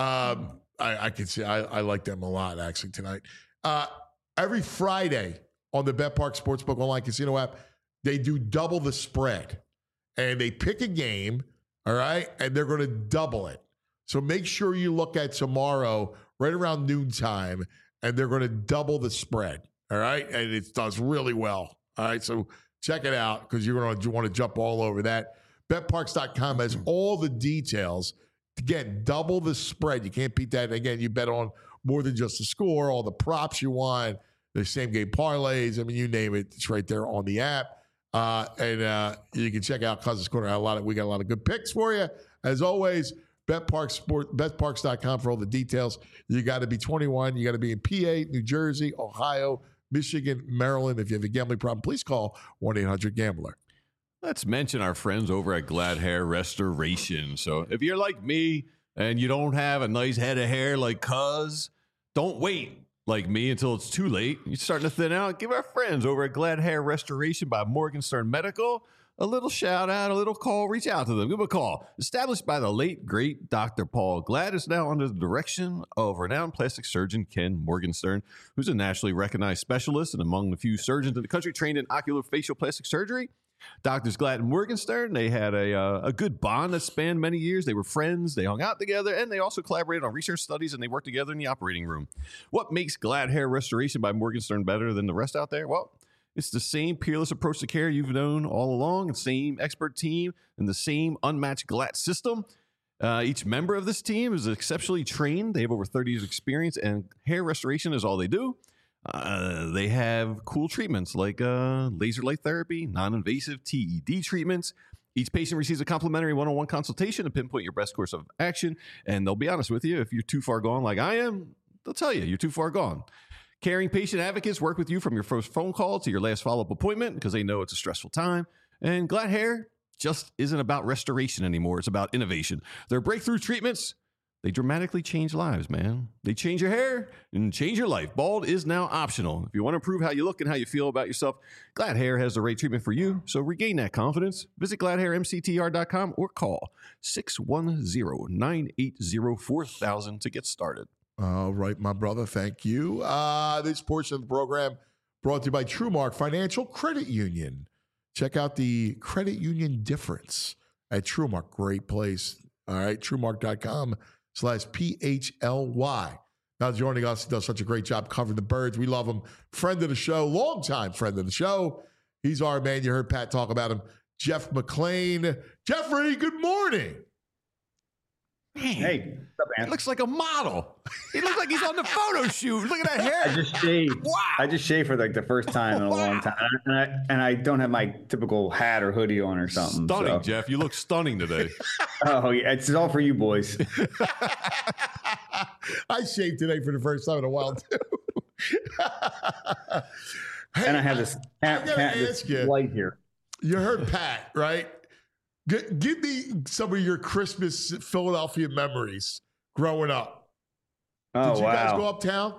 B: Um, I, I can see I, I like them a lot actually tonight. Uh, every Friday on the Bet Park Sportsbook online casino app, they do double the spread, and they pick a game, all right, and they're going to double it. So make sure you look at tomorrow right around noontime, and they're going to double the spread, all right? And it does really well, all right? So check it out because you're going to want to jump all over that. Bet Parks dot com has all the details. Again, double the spread. You can't beat that. And again, you bet on more than just the score, all the props you want, the same game parlays. I mean, you name it. It's right there on the app. Uh, and uh, you can check out Cousins Corner. A lot of, we got a lot of good picks for you. As always, Bet Parks Sport, Bet Parks dot com for all the details. You got to be twenty-one. You got to be in P A, New Jersey, Ohio, Michigan, Maryland. If you have a gambling problem, please call one eight hundred gambler.
C: Let's mention our friends over at Glad Hair Restoration. So if you're like me and you don't have a nice head of hair like Cuz, don't wait like me until it's too late. You're starting to thin out. Give our friends over at Glad Hair Restoration by Morgenstern Medical a little shout out, a little call. Reach out to them. Give them a call. Established by the late, great Doctor Paul Glad, is now under the direction of renowned plastic surgeon Ken Morgenstern, who's a nationally recognized specialist and among the few surgeons in the country trained in oculofacial plastic surgery. Doctors Glad and Morgenstern, they had a uh, a good bond that spanned many years. They were friends, they hung out together, and they also collaborated on research studies, and they worked together in the operating room. What makes Glad Hair Restoration by Morgenstern better than the rest out there? Well, it's the same peerless approach to care you've known all along, the same expert team, and the same unmatched Glad system. Uh, each member of this team is exceptionally trained. They have over thirty years of experience, and hair restoration is all they do. Uh, they have cool treatments like uh, laser light therapy, non-invasive T E D treatments. Each patient receives a complimentary one-on-one consultation to pinpoint your best course of action. And they'll be honest with you, if you're too far gone like I am, they'll tell you you're too far gone. Caring patient advocates work with you from your first phone call to your last follow-up appointment because they know it's a stressful time. And Glad Hair just isn't about restoration anymore. It's about innovation. Their breakthrough treatments, they dramatically change lives, man. They change your hair and change your life. Bald is now optional. If you want to improve how you look and how you feel about yourself, Glad Hair has the right treatment for you. So regain that confidence. Visit glad hair m c t r dot com or call six one zero, nine eight zero, four thousand to get started.
B: All right, my brother. Thank you. Uh, this portion of the program brought to you by TrueMark Financial Credit Union. Check out the credit union difference at TrueMark. Great place. All right, TrueMark dot com. slash P H L Y. Now joining us, he does such a great job covering the Birds. We love him. Friend of the show, longtime friend of the show. He's our man. You heard Pat talk about him. Jeff McClain. Jeffrey, good morning.
H: Hey, what's up, man?
C: He looks like a model. He looks like he's on the photo shoot. Look at that hair.
H: I just shaved.
C: Wow.
H: I just shaved for like the first time in a
C: Wow.
H: long time, and I, and I don't have my typical hat or hoodie on or something.
C: Stunning,
H: so.
C: Jeff. You look stunning today.
H: Oh yeah, it's all for you boys.
B: I shaved today for the first time in a while, too. Hey,
H: And I have this
B: I
H: hat,
B: gotta
H: hat this
B: ask you.
H: light here.
B: You heard Pat, right? G- give me some of your Christmas Philadelphia memories growing up.
H: Oh
B: Did you
H: wow.
B: guys go uptown?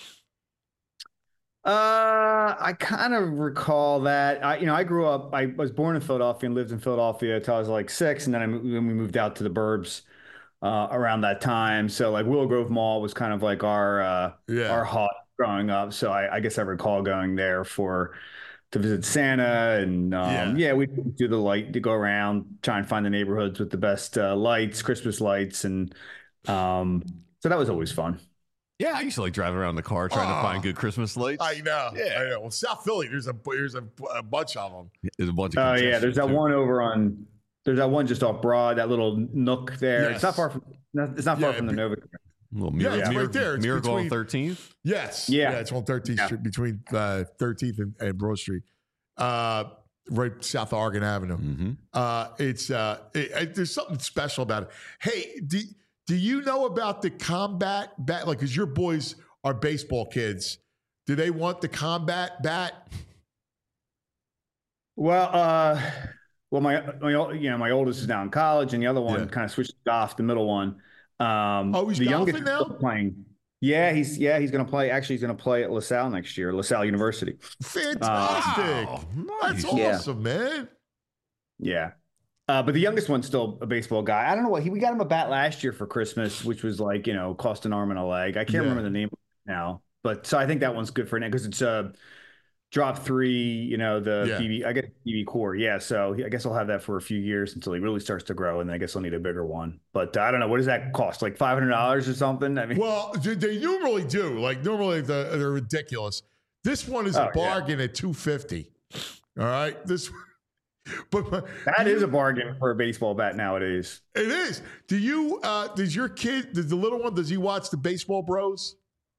H: Uh, I kind of recall that. I, you know, I grew up. I was born in Philadelphia and lived in Philadelphia until I was like six, and then I mo- then we moved out to the burbs uh, around that time. So like Willow Grove Mall was kind of like our uh,
B: Yeah.
H: our haunt growing up. So I, I guess I recall going there for to visit Santa, and um,
B: Yeah.
H: yeah. we do the light to go around, try and find the neighborhoods with the best uh, lights, Christmas lights, and um, so that was always fun.
C: Yeah, I used to like driving around in the car trying
B: Oh.
C: to find good Christmas lights.
B: I know.
C: Yeah.
B: I know. Well, South Philly, there's a there's a, a bunch of them.
C: There's a bunch of.
H: Oh yeah,
C: congestion,
H: there's that
C: too.
H: one over on. There's that one just off Broad, that little nook there.
B: Yes.
H: It's not far from. It's not far
B: Yeah,
H: from the
B: be-
H: Nova.
C: Little
B: Yeah,
C: Mir-
B: it's
C: Mir-
B: right there. It's
C: Miracle on
B: between-
C: thirteenth.
B: Yes.
H: Yeah.
B: it's on thirteenth
H: Yeah.
B: Street between uh, thirteenth and, and Broad Street, uh, right south of Oregon Avenue.
C: Mm-hmm.
B: Uh, it's uh, it, it- there's something special about it. Hey, do do you know about the combat bat? Like, because your boys are baseball kids. Do they want the combat bat?
H: Well, uh, well, my, my ol- you know my oldest is now in college, and the other one
B: Yeah.
H: kind of switched off. The middle one. Um,
B: Oh, he's
H: the youngest
B: golfing
H: is
B: now?
H: still playing. Yeah, he's yeah he's going to play. Actually, he's going to play at LaSalle next year, LaSalle University.
B: Fantastic!
C: Wow,
B: That's
C: nice.
H: Yeah.
B: awesome, man.
H: Yeah. Uh, but the youngest one's still a baseball guy. I don't know what he, we got him a bat last year for Christmas, which was like, you know, cost an arm and a leg. I can't
B: Yeah.
H: remember the name now, but so I think that one's good for now because it's a drop three, you know, the
B: Yeah.
H: B B, I guess B B core. Yeah. So he, I guess I'll have that for a few years until he really starts to grow. And then I guess I'll need a bigger one, but uh, I don't know. What does that cost? Like five hundred dollars or something? I mean,
B: Well, they they normally do. Like normally they're, they're ridiculous. This one is
H: Oh,
B: a
H: yeah.
B: bargain at two fifty. All right, this. But but
H: that
B: do
H: is
B: you-
H: a bargain for a baseball bat nowadays.
B: It is. Do you? Uh, does your kid? Does the little one? Does he watch the Baseball Bros?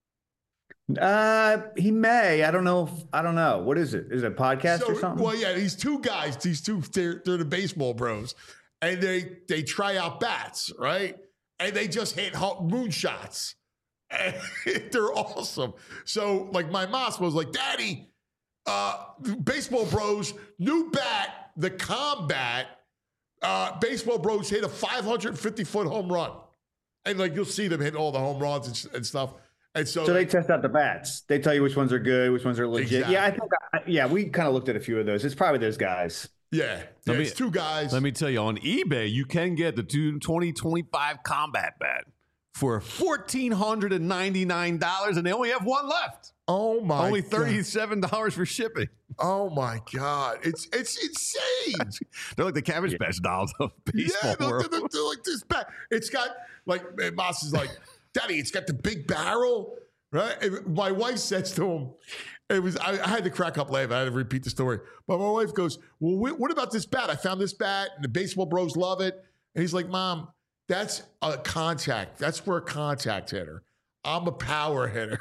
H: Uh, he may. I don't know. If, I don't know. What is it? Is it a podcast
B: So-
H: or something?
B: Well, yeah, these two guys, these two, they're, they're the Baseball Bros, and they they try out bats, right? And they just hit ho- moonshots. And they're awesome. So, like, my mom was like, "Daddy, uh, Baseball Bros, new bat, the Combat, uh, Baseball Bros hit a five hundred fifty foot home run," and like you'll see them hit all the home runs and, and stuff. And so,
H: So they test out the bats. They tell you which ones are good, which ones are legit. Yeah, I think. I, yeah, we kind of looked at a few of those. It's probably those guys.
B: yeah, yeah
C: Let me-
B: it's two guys.
C: Let me tell you, on eBay, you can get the twenty twenty-five Combat Bat for one thousand four hundred ninety-nine dollars, and they only have one left.
B: oh my,
C: only
B: God.
C: thirty-seven dollars for shipping.
B: Oh my God, it's it's insane.
C: They're like the Cabbage Patch dolls of baseball
B: Yeah, they're,
C: world.
B: they're- they're like this bat. It's got like and Moss is like, "Daddy, it's got the big barrel, right?" And my wife says to him, "It was." I, I had to crack up laughing. I had to repeat the story, but my wife goes, "Well, wh- what about this bat? I found this bat, and the Baseball Bros love it." And he's like, "Mom, that's a contact. That's for a contact hitter. I'm a power hitter."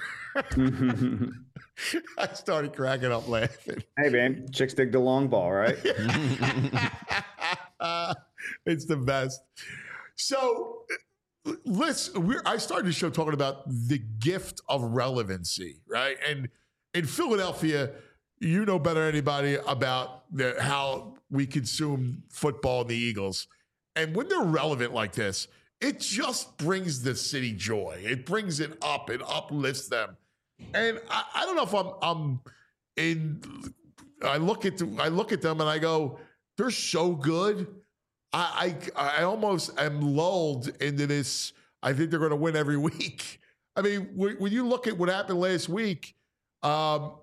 B: I started cracking up laughing.
H: Hey, man, chicks dig the long ball, right?
B: It's the best. So let's. We're, I started the show talking about the gift of relevancy, right? And in Philadelphia, you know better than anybody about the, how we consume football and the Eagles. And when they're relevant like this, it just brings the city joy. It brings it up. It uplifts them. And I, I don't know if I'm I'm in. I look at the, I look at them and I go, they're so good. I I, I almost am lulled into this. I think they're going to win every week. I mean, when, when you look at what happened last week, um,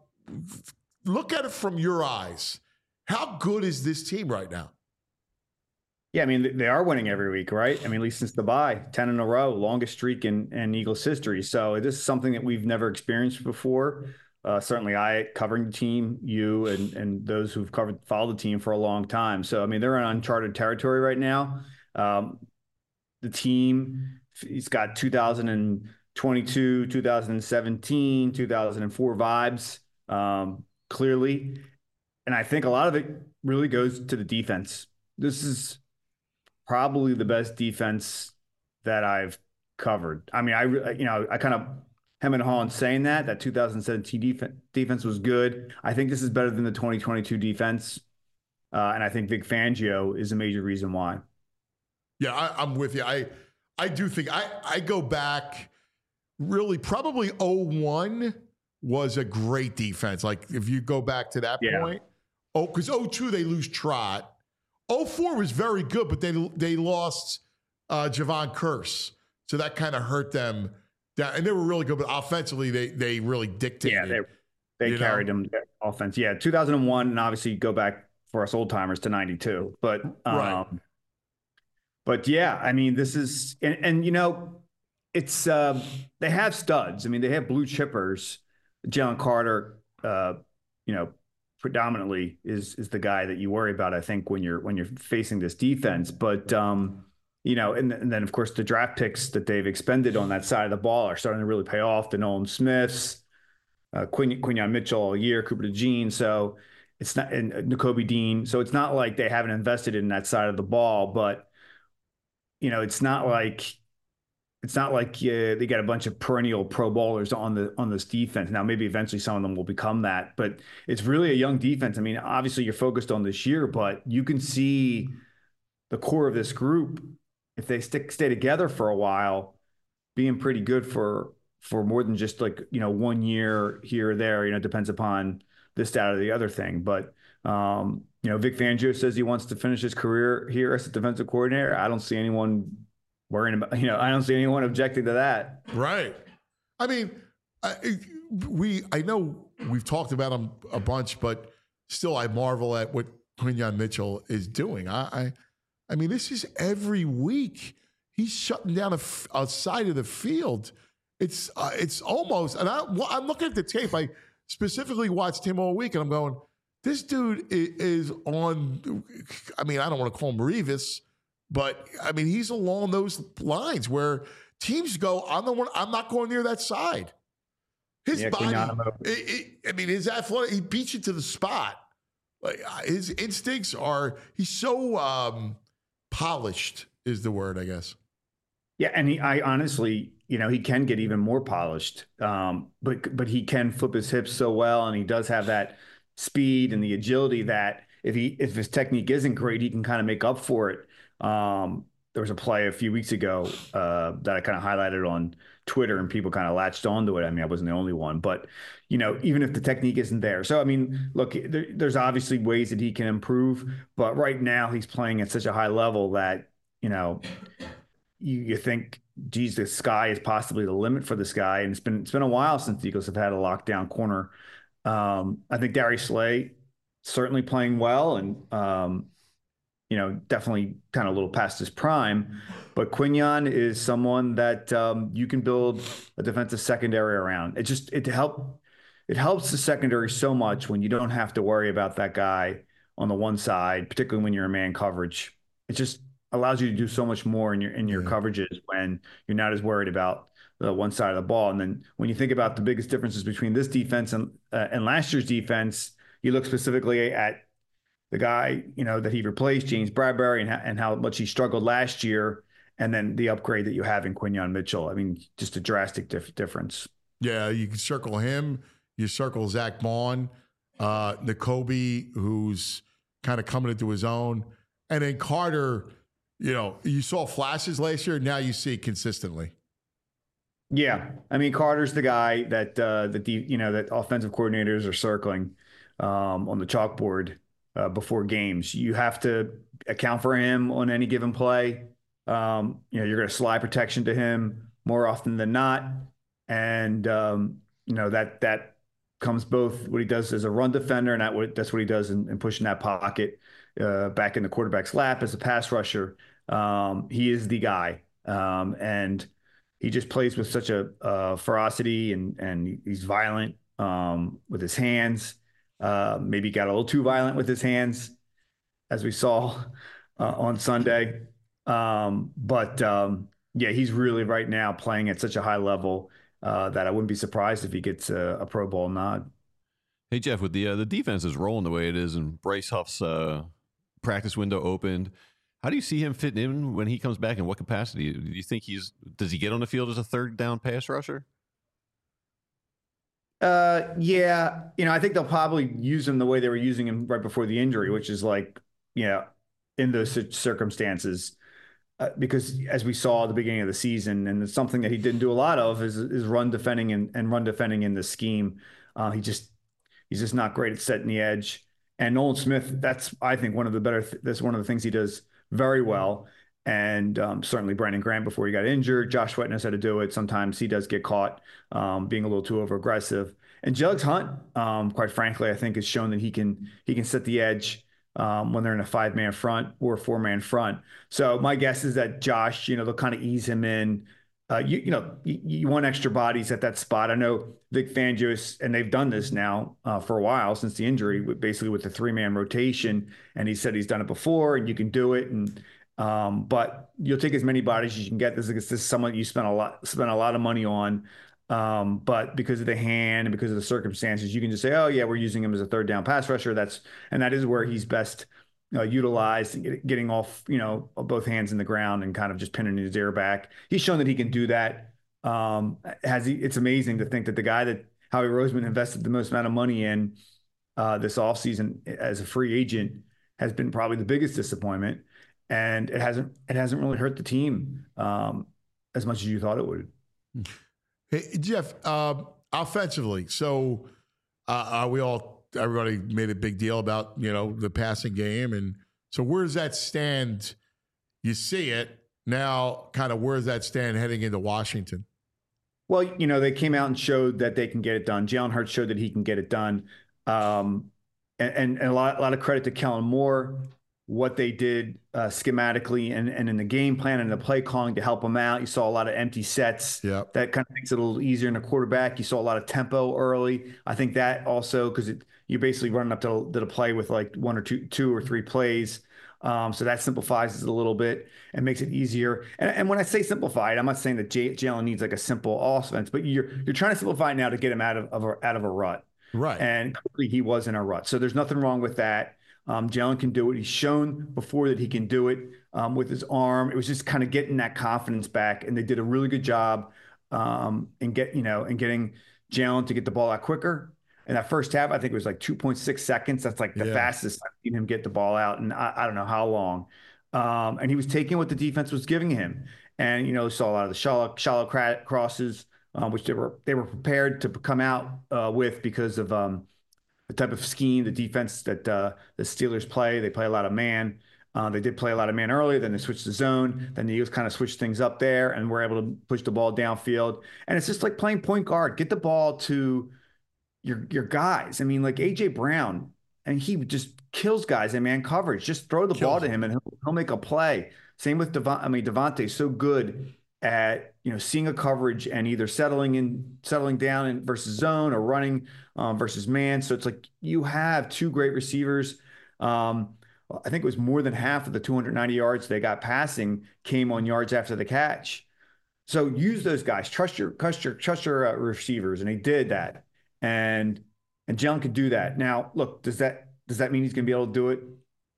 B: look at it from your eyes. How good is this team right now?
H: Yeah, I mean, they are winning every week, right? I mean, at least since the bye, ten in a row, longest streak in, in Eagles history. So this is something that we've never experienced before. Uh, certainly I covering the team, you and, and those who've covered, followed the team for a long time. So, I mean, they're in uncharted territory right now. Um, the team, it's got two thousand twenty-two, two thousand seventeen, two thousand four vibes, um, clearly. And I think a lot of it really goes to the defense. This is probably the best defense that I've covered. I mean, I, you know, I kind of hem and haw in saying that, that two thousand seventeen defense, defense was good. I think this is better than the twenty twenty-two defense. Uh, and I think Vic Fangio is a major reason why.
B: Yeah, I, I'm with you. I I do think I, I go back really probably oh one was a great defense. Like if you go back to that
H: Yeah.
B: point. Oh, because oh two they lose Trot. oh four was very good, but they they lost uh, Javon Curse. So that kind of hurt them. That, and they were really good, but offensively they they really dictated.
H: Yeah, they they
B: You
H: carried
B: know?
H: them offense. Yeah, two thousand one, and obviously go back for us old timers to ninety-two. But um,
B: Right.
H: but yeah, I mean, this is and, and you know, it's um, they have studs. I mean, they have blue chippers. Jalen Carter, uh, you know, predominantly is is the guy that you worry about, I think, when you're when you're facing this defense. But um, you know, and, and then of course the draft picks that they've expended on that side of the ball are starting to really pay off. The Nolan Smiths, uh, Quin- Quinyon Mitchell all year, Cooper DeJean. So it's not, and Nakobe Dean. So it's not like they haven't invested in that side of the ball, but you know, it's not like it's not like uh, they got a bunch of perennial Pro Bowlers on the on this defense. Now, maybe eventually some of them will become that, but it's really a young defense. I mean, obviously you're focused on this year, but you can see the core of this group, if they stick stay together for a while, being pretty good for for more than just like, you know, one year here or there. You know, it depends upon this, that, or the other thing. But um, you know, Vic Fangio says he wants to finish his career here as a defensive coordinator. I don't see anyone worrying about, you know, I don't see anyone objecting to that.
B: Right. I mean, I, we, I know we've talked about him a bunch, but still I marvel at what Quinyon Mitchell is doing. I, I, I mean, this is every week. He's shutting down a, a side of the field. It's, uh, it's almost, and I, I'm looking at the tape. I specifically watched him all week and I'm going, this dude is, is on, I mean, I don't want to call him Revis, but I mean, he's along those lines where teams go, I'm the one, I'm not going near that side. His
H: yeah,
B: body, it, it, I mean, his athletic, he beats you to the spot. Like his instincts are, he's so um, polished is the word, I guess.
H: Yeah, and he, I honestly, you know, he can get even more polished, um, but but he can flip his hips so well, and he does have that speed and the agility that if he if his technique isn't great, he can kind of make up for it. Um, there was a play a few weeks ago uh, that I kind of highlighted on Twitter, and people kind of latched onto it. I mean, I wasn't the only one, but you know, even if the technique isn't there, so I mean, look, there, there's obviously ways that he can improve, but right now he's playing at such a high level that you know, you, you think, geez, the sky is possibly the limit for this guy, and it's been it's been a while since the Eagles have had a lockdown corner. Um, I think Darius Slay certainly playing well, and um, you know, definitely kind of a little past his prime. But Quinyon is someone that um, you can build a defensive secondary around. It just it help it helps the secondary so much when you don't have to worry about that guy on the one side, particularly when you're in man coverage. It just allows you to do so much more in your in your yeah. coverages when you're not as worried about the one side of the ball. And then when you think about the biggest differences between this defense and uh, and last year's defense, you look specifically at the guy, you know, that he replaced, James Bradbury, and, ha- and how much he struggled last year, and then the upgrade that you have in Quinyon Mitchell. I mean, just a drastic dif- difference.
B: Yeah, you can circle him. You circle Zach Bond, uh, Nakobe, who's kind of coming into his own. And then Carter, you know, you saw flashes last year. Now you see it consistently.
H: Yeah, I mean, Carter's the guy that uh, that the you know that offensive coordinators are circling um, on the chalkboard uh, before games. You have to account for him on any given play. Um, you know, you're going to slide protection to him more often than not, and um, you know that that comes both what he does as a run defender, and that what that's what he does in, in pushing that pocket uh, back in the quarterback's lap as a pass rusher. Um, he is the guy, um, and he just plays with such a uh, ferocity, and and he's violent um, with his hands. Uh, maybe got a little too violent with his hands, as we saw uh, on Sunday. Um, but um, yeah, he's really right now playing at such a high level uh, that I wouldn't be surprised if he gets a, a Pro Bowl nod.
C: Hey Jeff, with the uh, the defense is rolling the way it is, and Bryce Huff's uh, practice window opened. How do you see him fitting in when he comes back? In what capacity? Do you think he's does he get on the field as a third down pass rusher?
H: Uh, yeah, you know, I think they'll probably use him the way they were using him right before the injury, which is like, you know, in those circumstances, uh, because as we saw at the beginning of the season, and it's something that he didn't do a lot of is is run defending and, and run defending in the scheme. Uh, he just he's just not great at setting the edge. And Nolan Smith, that's I think one of the better. Th- that's one of the things he does very well. And um, certainly Brandon Grant before he got injured. Josh Sweat knows how to do it. Sometimes he does get caught um, being a little too over aggressive. And Jugs Hunt, um, quite frankly, I think has shown that he can he can set the edge um, when they're in a five man front or a four man front. So my guess is that Josh, you know, they'll kind of ease him in uh, you you know you, you want extra bodies at that spot. I know Vic Fangio, and they've done this now uh, for a while since the injury, with, basically with the three man rotation. And he said he's done it before, and you can do it. And um, but you'll take as many bodies as you can get. This is this is someone you spent a lot spent a lot of money on. Um, but because of the hand and because of the circumstances, you can just say, oh yeah, we're using him as a third down pass rusher. That's and that is where he's best uh, utilized, and get, getting off, you know, both hands in the ground and kind of just pinning his ear back. He's shown that he can do that. Um, has he? It's amazing to think that the guy that Howie Roseman invested the most amount of money in uh, this offseason as a free agent has been probably the biggest disappointment, and it hasn't it hasn't really hurt the team um, as much as you thought it would.
B: Hey, Jeff, um, offensively, so uh, uh, we all, everybody made a big deal about, you know, the passing game. And so where does that stand? You see it now, kind of where does that stand heading into Washington?
H: Well, you know, they came out and showed that they can get it done. Jalen Hurts showed that he can get it done. Um, and, and, and a lot, a lot of credit to Kellen Moore, what they did uh, schematically and, and in the game plan and the play calling to help them out. You saw a lot of empty sets.
B: Yep.
H: That kind of makes it a little easier in a quarterback. You saw a lot of tempo early. I think that also, because you're basically running up to, to the play with like one or two, two or three plays. Um, so that simplifies it a little bit and makes it easier. And, and when I say simplified, I'm not saying that J- Jalen needs like a simple offense, but you're you're trying to simplify it now to get him out of, of a, out of a rut.
B: Right.
H: And clearly he was in a rut. So there's nothing wrong with that. Um, Jalen can do it. He's shown before that he can do it um, with his arm. It was just kind of getting that confidence back, and they did a really good job um, in get you know in getting Jalen to get the ball out quicker. And that first half, I think it was like two point six seconds. That's like the
B: Yeah.
H: fastest I've seen him get the ball out, and I, I don't know how long. Um, and he was taking what the defense was giving him, and you know saw a lot of the shallow shallow cra- crosses, um, which they were they were prepared to come out uh, with because of. Um, the type of scheme, the defense that uh, the Steelers play. They play a lot of man. Uh, they did play a lot of man earlier. Then they switched to zone. Then the Eagles kind of switched things up there and were able to push the ball downfield. And it's just like playing point guard. Get the ball to your your guys. I mean, like A J Brown, and he just kills guys in man coverage. Just throw the
B: Kills
H: ball to
B: him.
H: him, and he'll, he'll make a play. Same with Devon. I mean, Devontae's so good at you know seeing a coverage and either settling in, settling down in versus zone or running um, versus man. So it's like you have two great receivers. Um, I think it was more than half of the two hundred ninety yards they got passing came on yards after the catch. So use those guys. Trust your trust your trust your uh, receivers, and he did that. And and Jalen could do that. Now, look, does that does that mean he's going to be able to do it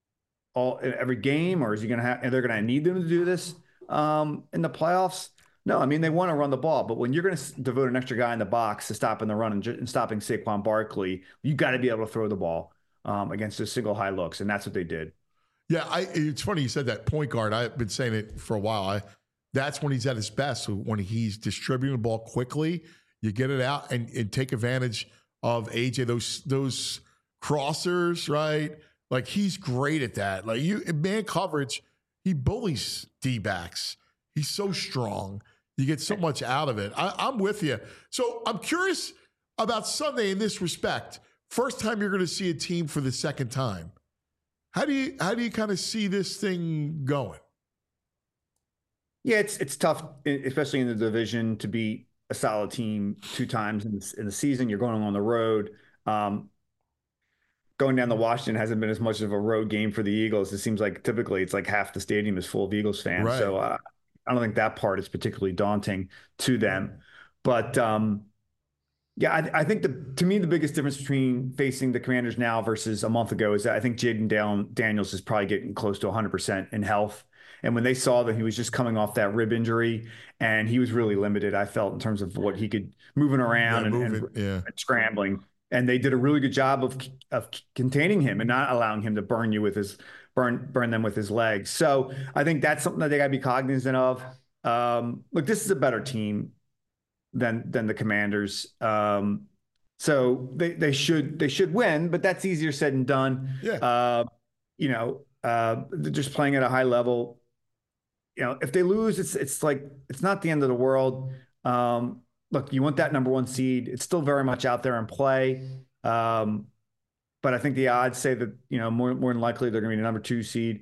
H: all every game, or is he going to have? And they're going to need them to do this um, in the playoffs? No, I mean they want to run the ball, but when you're going to devote an extra guy in the box to stopping the run and, and stopping Saquon Barkley, you got to be able to throw the ball um, against those single high looks, and that's what they did.
B: Yeah, I, it's funny you said that point guard. I've been saying it for a while. I, that's when he's at his best, when he's distributing the ball quickly. You get it out and, and take advantage of A J, those those crossers, right? Like he's great at that. Like you, man coverage, he bullies D-backs. He's so strong. You get so much out of it. I, I'm with you. So I'm curious about Sunday in this respect. First time you're going to see a team for the second time. How do you how do you kind of see this thing going?
H: Yeah, it's it's tough, especially in the division, to beat a solid team two times in the, in the season. You're going on the road. Um, going down to Washington hasn't been as much of a road game for the Eagles. It seems like typically it's like half the stadium is full of Eagles fans.
B: Right.
H: So uh, I don't think that part is particularly daunting to them. But um, yeah, I, I think the to me the biggest difference between facing the Commanders now versus a month ago is that I think Jaden Dan- Daniels is probably getting close to one hundred percent in health. And when they saw that he was just coming off that rib injury and he was really limited, I felt in terms of what he could moving around
B: Yeah,
H: and,
B: move
H: and,
B: it, yeah.
H: and scrambling. And they did a really good job of of containing him and not allowing him to burn you with his burn burn them with his legs. So I think that's something that they got to be cognizant of. Um, look, this is a better team than than the Commanders. Um, so they they should they should win, but that's easier said than done.
B: Yeah.
H: Uh, you know, uh, they're just playing at a high level. You know, if they lose, it's it's like it's not the end of the world. Um, look, you want that number one seed. It's still very much out there in play. Um, but I think the odds say that, you know, more more than likely they're going to be the number two seed.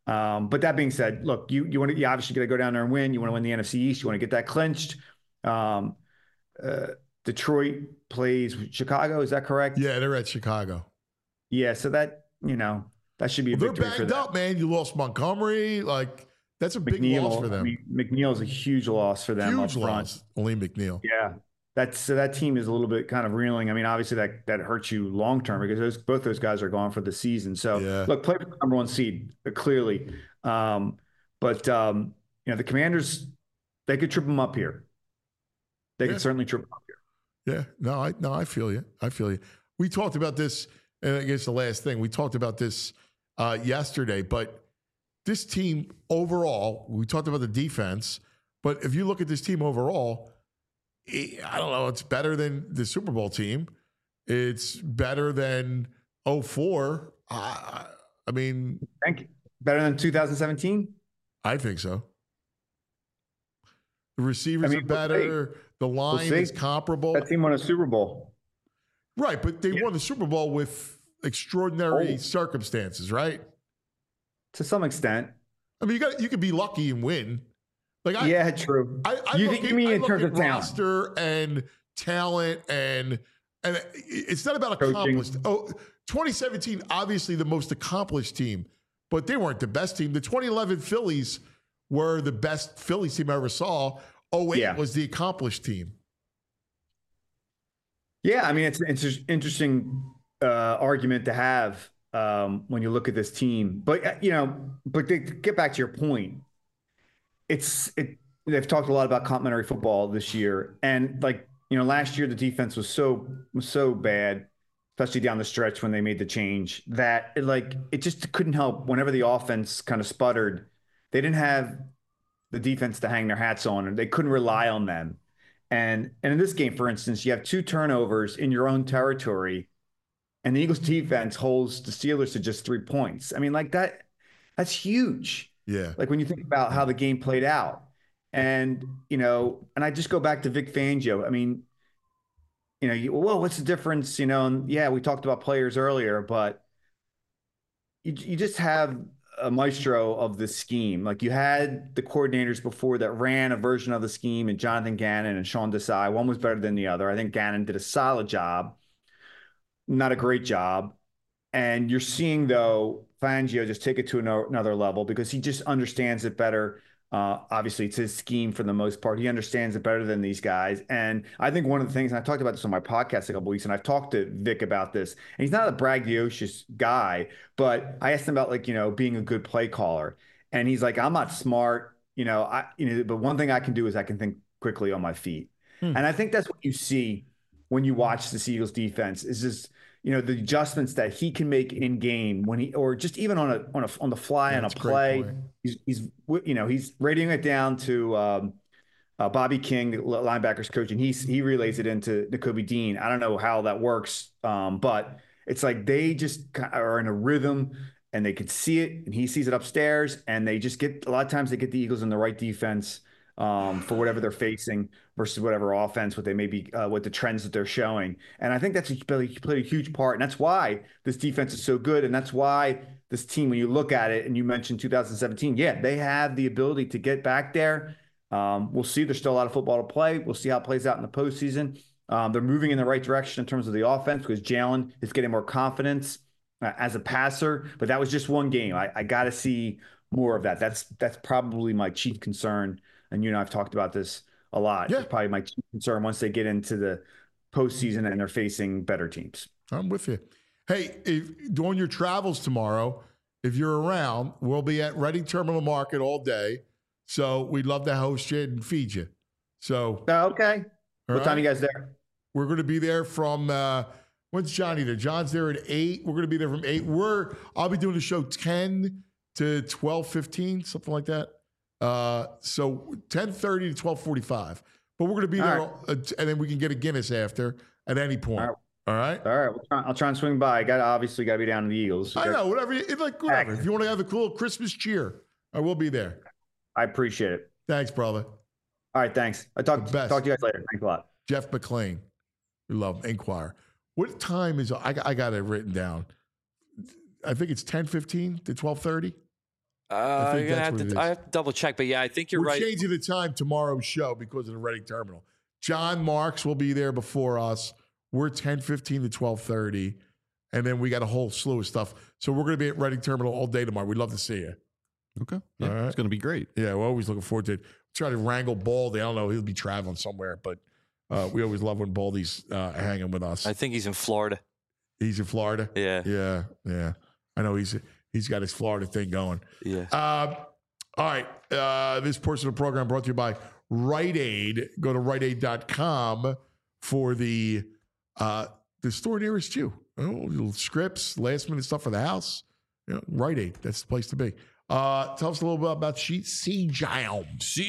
H: Um, but that being said, look, you you want to you obviously got to go down there and win. You want to win the N F C East. You want to get that clinched. Um, uh, Detroit plays Chicago. Is that correct?
B: Yeah, they're at Chicago.
H: Yeah, so that you know that should be a
B: Well,
H: victory
B: they're
H: for
B: banged
H: them.
B: up, man. You lost Montgomery. Like that's a big
H: McNeil,
B: loss for them.
H: I mean, McNeil is a huge loss for them.
B: Huge
H: up front.
B: loss. Only McNeil.
H: Yeah, that's so that team is a little bit kind of reeling. I mean, obviously that that hurts you long term because those both those guys are gone for the season. So
B: Yeah.
H: look, play for the number one seed uh, clearly, um, but um, you know the Commanders, they could trip them up here. They
B: Yeah.
H: could certainly trip them up here.
B: Yeah, no, I no, I feel you. I feel you. We talked about this, and I guess the last thing we talked about this uh, yesterday. But this team overall, we talked about the defense. But if you look at this team overall, it, I don't know. It's better than the Super Bowl team. It's better than oh four. I, I mean,
H: Thank you. Better than two thousand seventeen.
B: I think so. The receivers
H: I mean,
B: are
H: we'll
B: better. The line
H: see.
B: is comparable.
H: That team won a Super Bowl.
B: Right, but they
H: Yeah.
B: won the Super Bowl with extraordinary
H: Oh.
B: circumstances, right?
H: To some extent.
B: I mean, you got you could be lucky and win. Like, I,
H: Yeah, true.
B: I, I
H: You
B: look
H: think-
B: at,
H: you mean
B: I
H: in
B: look
H: terms
B: at
H: of talent?
B: roster and talent, and and it's not about
H: Coaching.
B: accomplished. Oh, twenty seventeen, obviously the most accomplished team, but they weren't the best team. The twenty eleven Phillies were the best Phillies team I ever saw. oh eight
H: Yeah.
B: was the accomplished team.
H: Yeah, I mean, it's it's an interesting uh, argument to have um, when you look at this team. But uh, you know, but to get back to your point, it's it. They've talked a lot about complementary football this year, and like you know, last year the defense was so was so bad, especially down the stretch when they made the change that it, like it just couldn't help. Whenever the offense kind of sputtered, they didn't have the defense to hang their hats on, and they couldn't rely on them. And and in this game, for instance, you have two turnovers in your own territory, and the Eagles defense holds the Steelers to just three points. I mean, like that, that's huge.
B: Yeah.
H: Like when you think about how the game played out. And, you know, and I just go back to Vic Fangio. I mean, you know, you, well, what's the difference? You know, and yeah, we talked about players earlier, but you you just have a maestro of the scheme. Like you had the coordinators before that ran a version of the scheme, and Jonathan Gannon and Sean Desai. One was better than the other. I think Gannon did a solid job, not a great job. And you're seeing, though, Fangio just take it to another level because he just understands it better. Uh, obviously, it's his scheme for the most part. He understands it better than these guys. And I think one of the things, and I talked about this on my podcast a couple weeks, and I've talked to Vic about this, and he's not a braggadocious guy, but I asked him about, like, you know, being a good play caller. And he's like, I'm not smart, you know, I, you know, but one thing I can do is I can think quickly on my feet. Hmm. And I think that's what you see when you watch the Eagles defense is just, you know, the adjustments that he can make in game when he, or just even on a, on a, on the fly on a play, he's, he's, you know, he's radioing it down to um, uh, Bobby King, the linebackers coach, and he's, he relays it into Nakobe Dean. I don't know how that works, um, but it's like they just are in a rhythm and they can see it and he sees it upstairs and they just get, a lot of times they get the Eagles in the right defense um, for whatever they're facing versus whatever offense, what they may be, uh, what the trends that they're showing. And I think that's a, played a huge part. And that's why this defense is so good. And that's why this team, when you look at it and you mentioned two thousand seventeen, yeah, they have the ability to get back there. Um, we'll see. There's still a lot of football to play. We'll see how it plays out in the postseason. Um, they're moving in the right direction in terms of the offense because Jalen is getting more confidence uh, as a passer. But that was just one game. I, I got to see more of that. That's that's probably my chief concern. And you and I have talked about this a lot.
B: Yeah.
H: It's probably my chief concern once they get into the postseason and they're facing better teams.
B: I'm with you. Hey, if, during your travels tomorrow, if you're around, we'll be at Reading Terminal Market all day. So we'd love to host you and feed you. So
H: uh, okay. What
B: right?
H: time are you guys there?
B: We're going to be there from uh, when's Johnny there? John's there at eight. We're going to be there from eight. We're I'll be doing the show ten to twelve fifteen, something like that. Uh, so ten thirty to twelve forty-five. But we're going to be
H: all
B: there,
H: right.
B: uh, and then we can get a Guinness after at any point. All right. All right.
H: All right. We'll try, I'll try and swing by. I got obviously got to be down in the Eagles.
B: I know. Whatever. You, like whatever. If you want to have a cool Christmas cheer, I will be there.
H: I appreciate it.
B: Thanks, brother.
H: All right. Thanks. I talk talk to you guys later. Thanks a lot.
B: Jeff McClain. We love him. Inquire. What time is I, I got it written down. I think it's ten fifteen to twelve thirty.
D: Uh,
B: I think
D: you're gonna
B: that's
D: have
B: what it
D: to,
B: is.
D: I have to double check, but yeah, I think you're
B: We're
D: right.
B: changing the time tomorrow's show because of the Reading Terminal. John Marks will be there before us. We're ten fifteen to twelve thirty, and then we got a whole slew of stuff. So we're going to be at Reading Terminal all day tomorrow. We'd love to see you.
C: Okay. Yeah,
B: All right.
C: It's going to be great.
B: Yeah, we're always looking forward to it. Try to wrangle Baldy. I don't know. He'll be traveling somewhere, but uh, we always love when Baldy's uh, hanging with us.
D: I think he's in Florida.
B: He's in Florida?
D: Yeah.
B: Yeah, yeah. I know he's he's got his Florida thing going.
D: Yeah.
B: Uh, all right. Uh, this portion of the program brought to you by Rite Aid. Go to rite aid dot com for the uh, the store nearest you. Oh, little scripts, last minute stuff for the house. You know, Rite Aid. That's the place to be. Uh, tell us a little bit about C-Jam.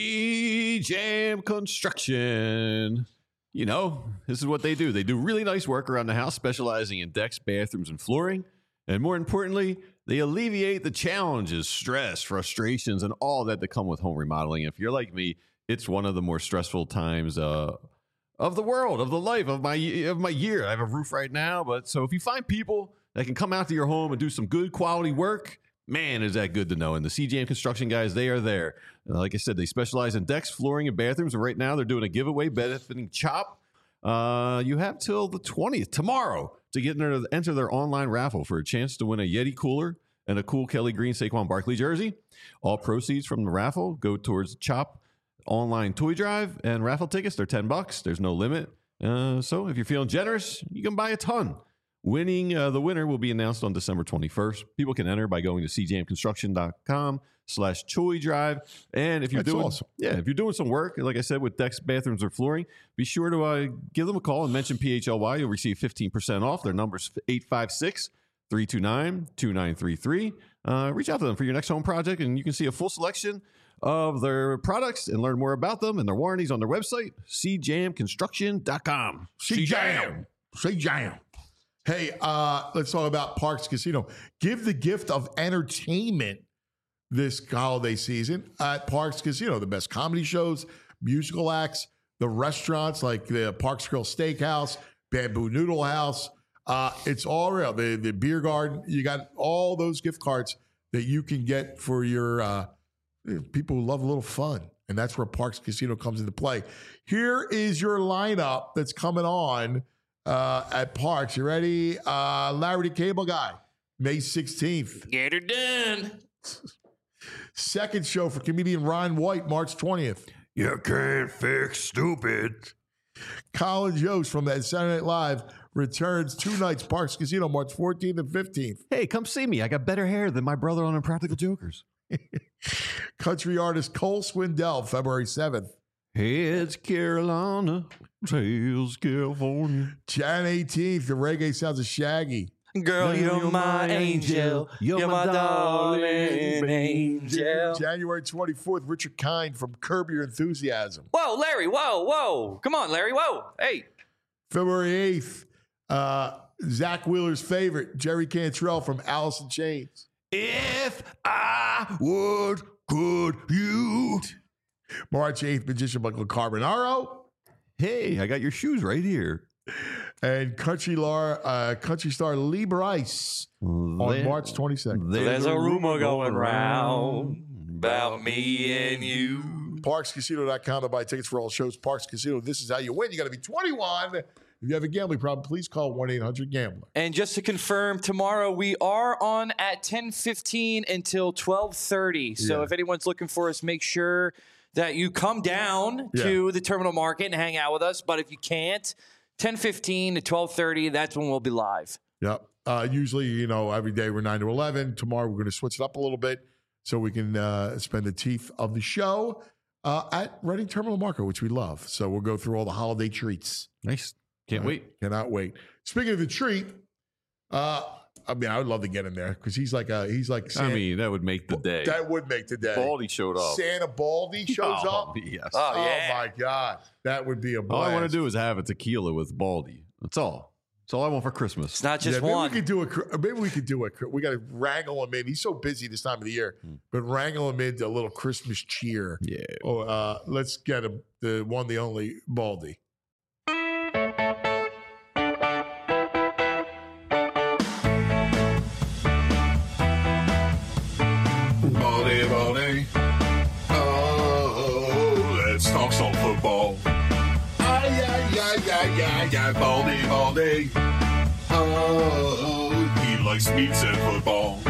C: C-Jam Construction. You know, this is what they do. They do really nice work around the house, specializing in decks, bathrooms, and flooring. And more importantly, they alleviate the challenges, stress, frustrations, and all that that come with home remodeling. If you're like me, it's one of the more stressful times uh, of the world, of the life, of my of my year. I have a roof right now, but so if you find people that can come out to your home and do some good quality work, man, is that good to know. And the C-Jam Construction guys, they are there. Uh, like I said, they specialize in decks, flooring, and bathrooms. And right now, they're doing a giveaway benefiting CHOP. Uh, you have till the twentieth, tomorrow, to get enter, enter their online raffle for a chance to win a Yeti cooler and a cool Kelly Green Saquon Barkley jersey. All proceeds from the raffle go towards CHOP online toy drive, and raffle tickets, they're ten bucks. There's no limit. Uh, so if you're feeling generous, you can buy a ton. Winning uh, the winner will be announced on December twenty-first. People can enter by going to c jam construction dot com slash toy drive. And if you're
B: That's
C: doing,
B: awesome.
C: yeah, if you're doing some work, like I said, with decks, bathrooms, or flooring, be sure to uh, give them a call and mention P H L Y. You'll receive fifteen percent off. Their number's eight five six, three two nine, two nine three three. Uh, reach out to them for your next home project, and you can see a full selection of their products and learn more about them and their warranties on their website, c jam construction dot com.
B: C-Jam. C-Jam. Hey, uh, let's talk about Parks Casino. Give the gift of entertainment this holiday season at Parks Casino. The best comedy shows, musical acts, the restaurants like the Parks Grill Steakhouse, Bamboo Noodle House. Uh, it's all real. The, the beer garden. You got all those gift cards that you can get for your uh, people who love a little fun. And that's where Parks Casino comes into play. Here is your lineup that's coming on Uh, at Parks. You ready? Uh, Larry the Cable Guy, May sixteenth.
D: Get her done.
B: Second show for comedian Ron White, March twentieth.
A: You can't fix stupid.
B: Colin Jost from that Saturday Night Live returns two nights, Parks Casino, March fourteenth and fifteenth.
C: Hey, come see me. I got better hair than my brother on Impractical Jokers.
B: Country artist Cole Swindell, February seventh.
C: Heads Carolina, tails California.
B: Jan eighteenth, the reggae sounds of Shaggy.
D: Girl, you're, you're my angel. You're, you're my, my darling angel.
B: January twenty-fourth, Richard Kind from Curb Your Enthusiasm.
D: Whoa, Larry, whoa, whoa. Come on, Larry, whoa. Hey.
B: February eighth, uh, Zach Wheeler's favorite, Jerry Cantrell from Alice in Chains.
A: If I would, could you?
B: March eighth, Magician Michael Carbonaro.
C: Hey, I got your shoes right here.
B: And country, lar, uh, country star Lee Bryce on
C: There-
B: March twenty-second.
D: There's a rumor going round about me and you.
B: Parks Casino dot com to buy tickets for all shows. Parks Casino, this is how you win. You got to be twenty-one. If you have a gambling problem, please call one eight hundred gambler.
D: And just to confirm, tomorrow we are on at ten fifteen until twelve thirty. So
B: Yeah.
D: if anyone's looking for us, make sure that you come down
B: Yeah.
D: to the Terminal Market and hang out with us. But if you can't, ten fifteen to twelve thirty, that's when we'll be live.
B: Yep. Uh, usually, you know, every day we're nine to eleven. Tomorrow we're going to switch it up a little bit so we can uh, spend the teeth of the show uh, at Reading Terminal Market, which we love. So we'll go through all the holiday treats.
C: Nice. Can't
B: Uh,
C: wait.
B: Cannot wait. Speaking of the treat, uh, I mean, I would love to get him there because he's like a he's like
C: I
B: Santa,
C: mean, that would make the day.
B: that would make the day.
C: Baldy showed up.
B: Santa Baldy shows
C: Oh,
B: up.
C: Yes.
D: Oh,
B: Oh
D: yeah.
B: my God, that would be a blast.
C: All I want to do is have a tequila with Baldy. That's all. That's all I want for Christmas.
D: It's not just
B: yeah, maybe
D: one.
B: we could do a. cr- Maybe we could do a. cr- We got to wrangle him in. He's so busy this time of the year, but wrangle him into a little Christmas cheer.
C: Yeah.
B: Oh, uh, let's get him the one, the only Baldy.
A: Baldy
B: right, Baldy, Baldy. Oh, he likes pizza and football.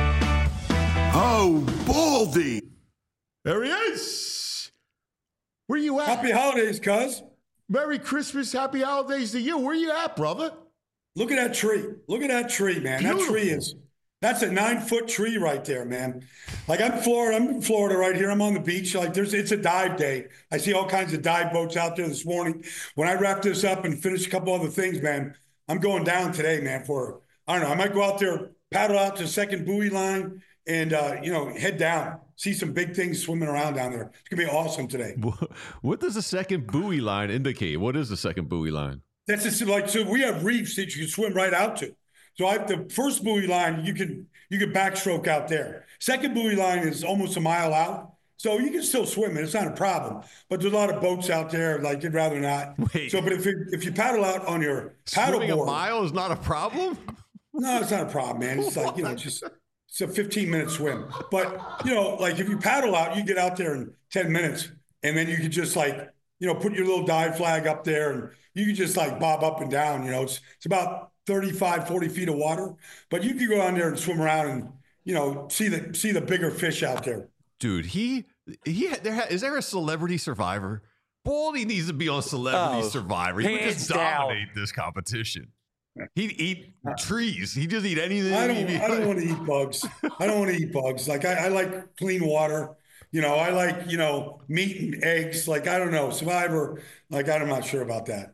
B: Oh, Baldy. There he is. Where you at?
I: Happy holidays, cuz.
B: Merry Christmas, happy holidays to you. Where you at, brother?
I: Look at that tree. Look at that tree, man.
B: Beautiful.
I: That tree is, that's a nine foot tree right there, man. Like I'm Florida, I'm in Florida right here. I'm on the beach. Like there's, it's a dive day. I see all kinds of dive boats out there this morning. When I wrap this up and finish a couple other things, man, I'm going down today, man, for, I don't know, I might go out there, paddle out to the second buoy line and, uh, you know, head down, see some big things swimming around down there. It's going to be awesome today.
C: What does the second buoy line indicate? What is the second buoy line?
I: That's just like, so we have reefs that you can swim right out to. So I the first buoy line, you can you can backstroke out there. Second buoy line is almost a mile out. So you can still swim it. It's not a problem. But there's a lot of boats out there, like you'd rather not.
C: Wait.
I: So, but if you, if you paddle out on your paddle
C: Swimming
I: board.
C: a mile is not a problem?
I: No, it's not a problem, man. It's like, you know, just it's a fifteen minute swim. But, you know, like if you paddle out, you get out there in ten minutes and then you could just like, you know, put your little dive flag up there and you can just like bob up and down, you know, it's, it's about thirty-five, forty feet of water, but you can go down there and swim around and, you know, see the, see the bigger fish out there.
C: Dude, he, he, there, is there a celebrity survivor? Baldy needs to be on Celebrity
D: Oh,
C: Survivor. He would
D: hands
C: just
D: down.
C: dominate this competition. He'd eat trees. He'd just eat anything.
I: I don't,
C: He'd be
I: I don't
C: like-
I: want to eat bugs. I don't want to eat bugs. Like I, I like clean water. You know, I like, you know, meat and eggs. Like, I don't know, Survivor. Like, I'm not sure about that.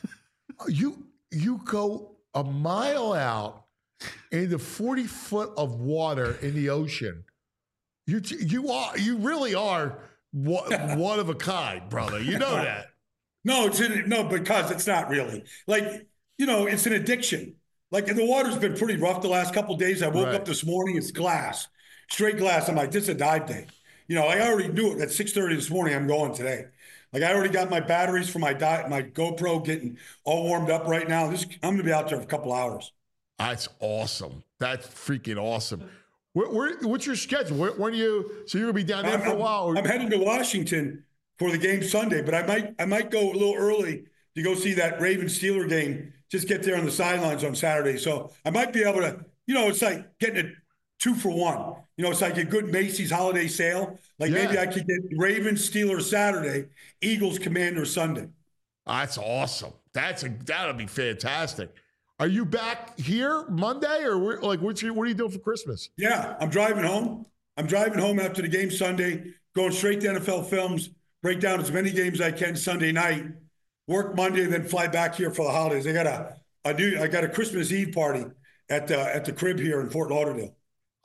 B: You you go a mile out into forty foot of water in the ocean. You you are you really are one, one of a kind, brother. You know that.
I: No, it's in, no, because it's not really. Like, you know, it's an addiction. Like the water's been pretty rough the last couple of days. I woke
B: Right.
I: up this morning, it's glass, straight glass. I'm like, this is a dive day. You know, I already knew it at six thirty this morning. I'm going today. Like I already got my batteries for my di- my GoPro getting all warmed up right now. This I'm gonna be out there for a couple hours.
B: That's awesome. That's freaking awesome. Where, where, what's your schedule? Where, when do you? So you're gonna be down there for a while? Or,
I: I'm heading to Washington for the game Sunday, but I might I might go a little early to go see that Ravens Steeler game. Just get there on the sidelines on Saturday. So I might be able to, you know, it's like getting a two for one. You know, it's like a good Macy's holiday sale. Like
B: Yeah.
I: maybe I could get Ravens Steelers Saturday, Eagles Commander Sunday.
B: That's awesome. That's a that'll be fantastic. Are you back here Monday or where, like what's your, what are you doing for Christmas?
I: Yeah, I'm driving home. I'm driving home after the game Sunday, going straight to N F L Films, break down as many games as I can Sunday night, work Monday, and then fly back here for the holidays. I got a, a new, I got a Christmas Eve party at the at the crib here in Fort Lauderdale.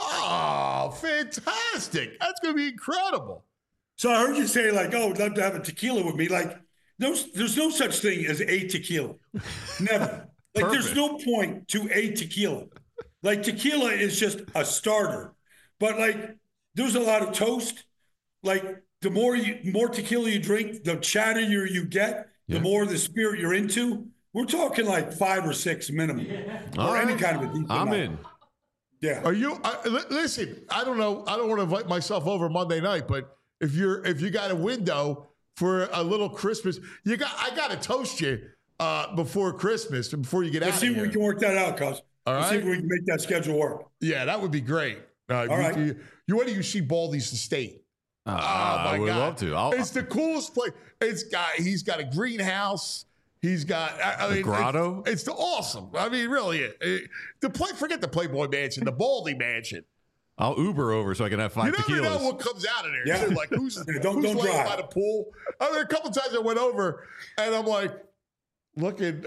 B: Oh, fantastic! That's gonna be incredible.
I: So I heard you say like, "Oh, I'd love to have a tequila with me." Like, no, there's no such thing as a tequila. Never. Like, there's no point to a tequila. Like, tequila is just a starter. But like, there's a lot of toast. Like, the more you more tequila you drink, the chattier you get, the
C: Yeah.
I: more the spirit you're into. We're talking like five or six minimum,
C: All
I: or any
C: right.
I: kind of a decent
C: I'm
I: amount.
C: in.
I: Yeah.
B: Are you? I, li- listen, I don't know. I don't want to invite myself over Monday night, but if you're if you got a window for a little Christmas, you got I got to toast you uh, before Christmas before you get
I: Let's
B: out
I: see
B: of
I: if
B: here.
I: we can work that out, cuz.
B: All
I: Let's see
B: right.
I: if we can make that schedule work.
B: Yeah, that would be great. Uh,
I: All
B: you,
I: right.
B: you, you wait till you see Baldy's estate.
C: Uh,
B: Oh my
C: I would
B: God.
C: love to. I'll,
B: It's the coolest place. It's got he's got a greenhouse. He's got I, I
C: The
B: mean,
C: grotto?
B: It's, it's the awesome. I mean, really, it, it- the play. Forget the Playboy Mansion, the Baldy Mansion.
C: I'll Uber over so I can have five
B: You never
C: tequilas.
B: know what comes out of there.
I: Yeah.
B: Too. Like who's,
I: Yeah, don't-
B: who's
I: don't
B: laying
I: drive.
B: by the pool? I mean, a couple times I went over and I'm like, looking,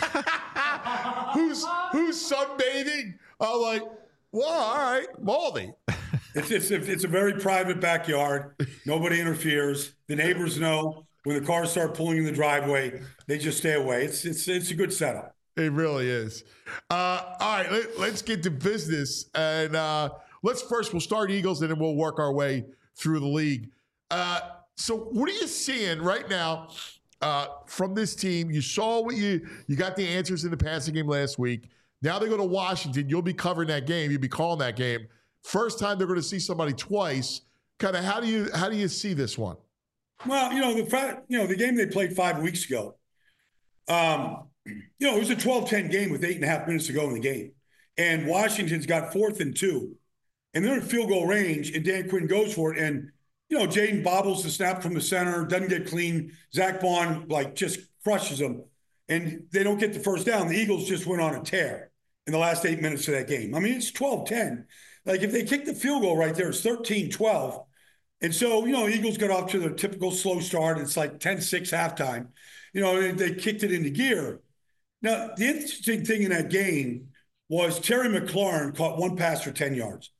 B: who's who's sunbathing? I'm like, well, all right, Baldy.
I: It's, it's, it's a very private backyard. Nobody interferes. The neighbors know when the cars start pulling in the driveway, they just stay away. It's it's it's a good setup.
B: It really is. Uh, all right, let, let's get to business. And uh, let's first, we'll start Eagles and then we'll work our way through the league. Uh, so what are you seeing right now uh, from this team? You saw what you, you got the answers in the passing game last week. Now they go to Washington. You'll be covering that game. You'll be calling that game. First time they're going to see somebody twice. Kind of how do you how do you see this one?
I: Well, you know the fact, you know the game they played five weeks ago. Um, you know, it was a twelve ten game with eight and a half minutes to go in the game. And Washington's got fourth and two. And they're in field goal range, and Dan Quinn goes for it. And, you know, Jaden bobbles the snap from the center, doesn't get clean. Zach Bond, like, just crushes them. And they don't get the first down. The Eagles just went on a tear in the last eight minutes of that game. I mean, it's twelve ten. Like, if they kick the field goal right there, it's thirteen twelve. And so, you know, Eagles got off to their typical slow start. It's like ten six halftime. You know, they, they kicked it into gear. Now, the interesting thing in that game was Terry McLaurin caught one pass for ten yards.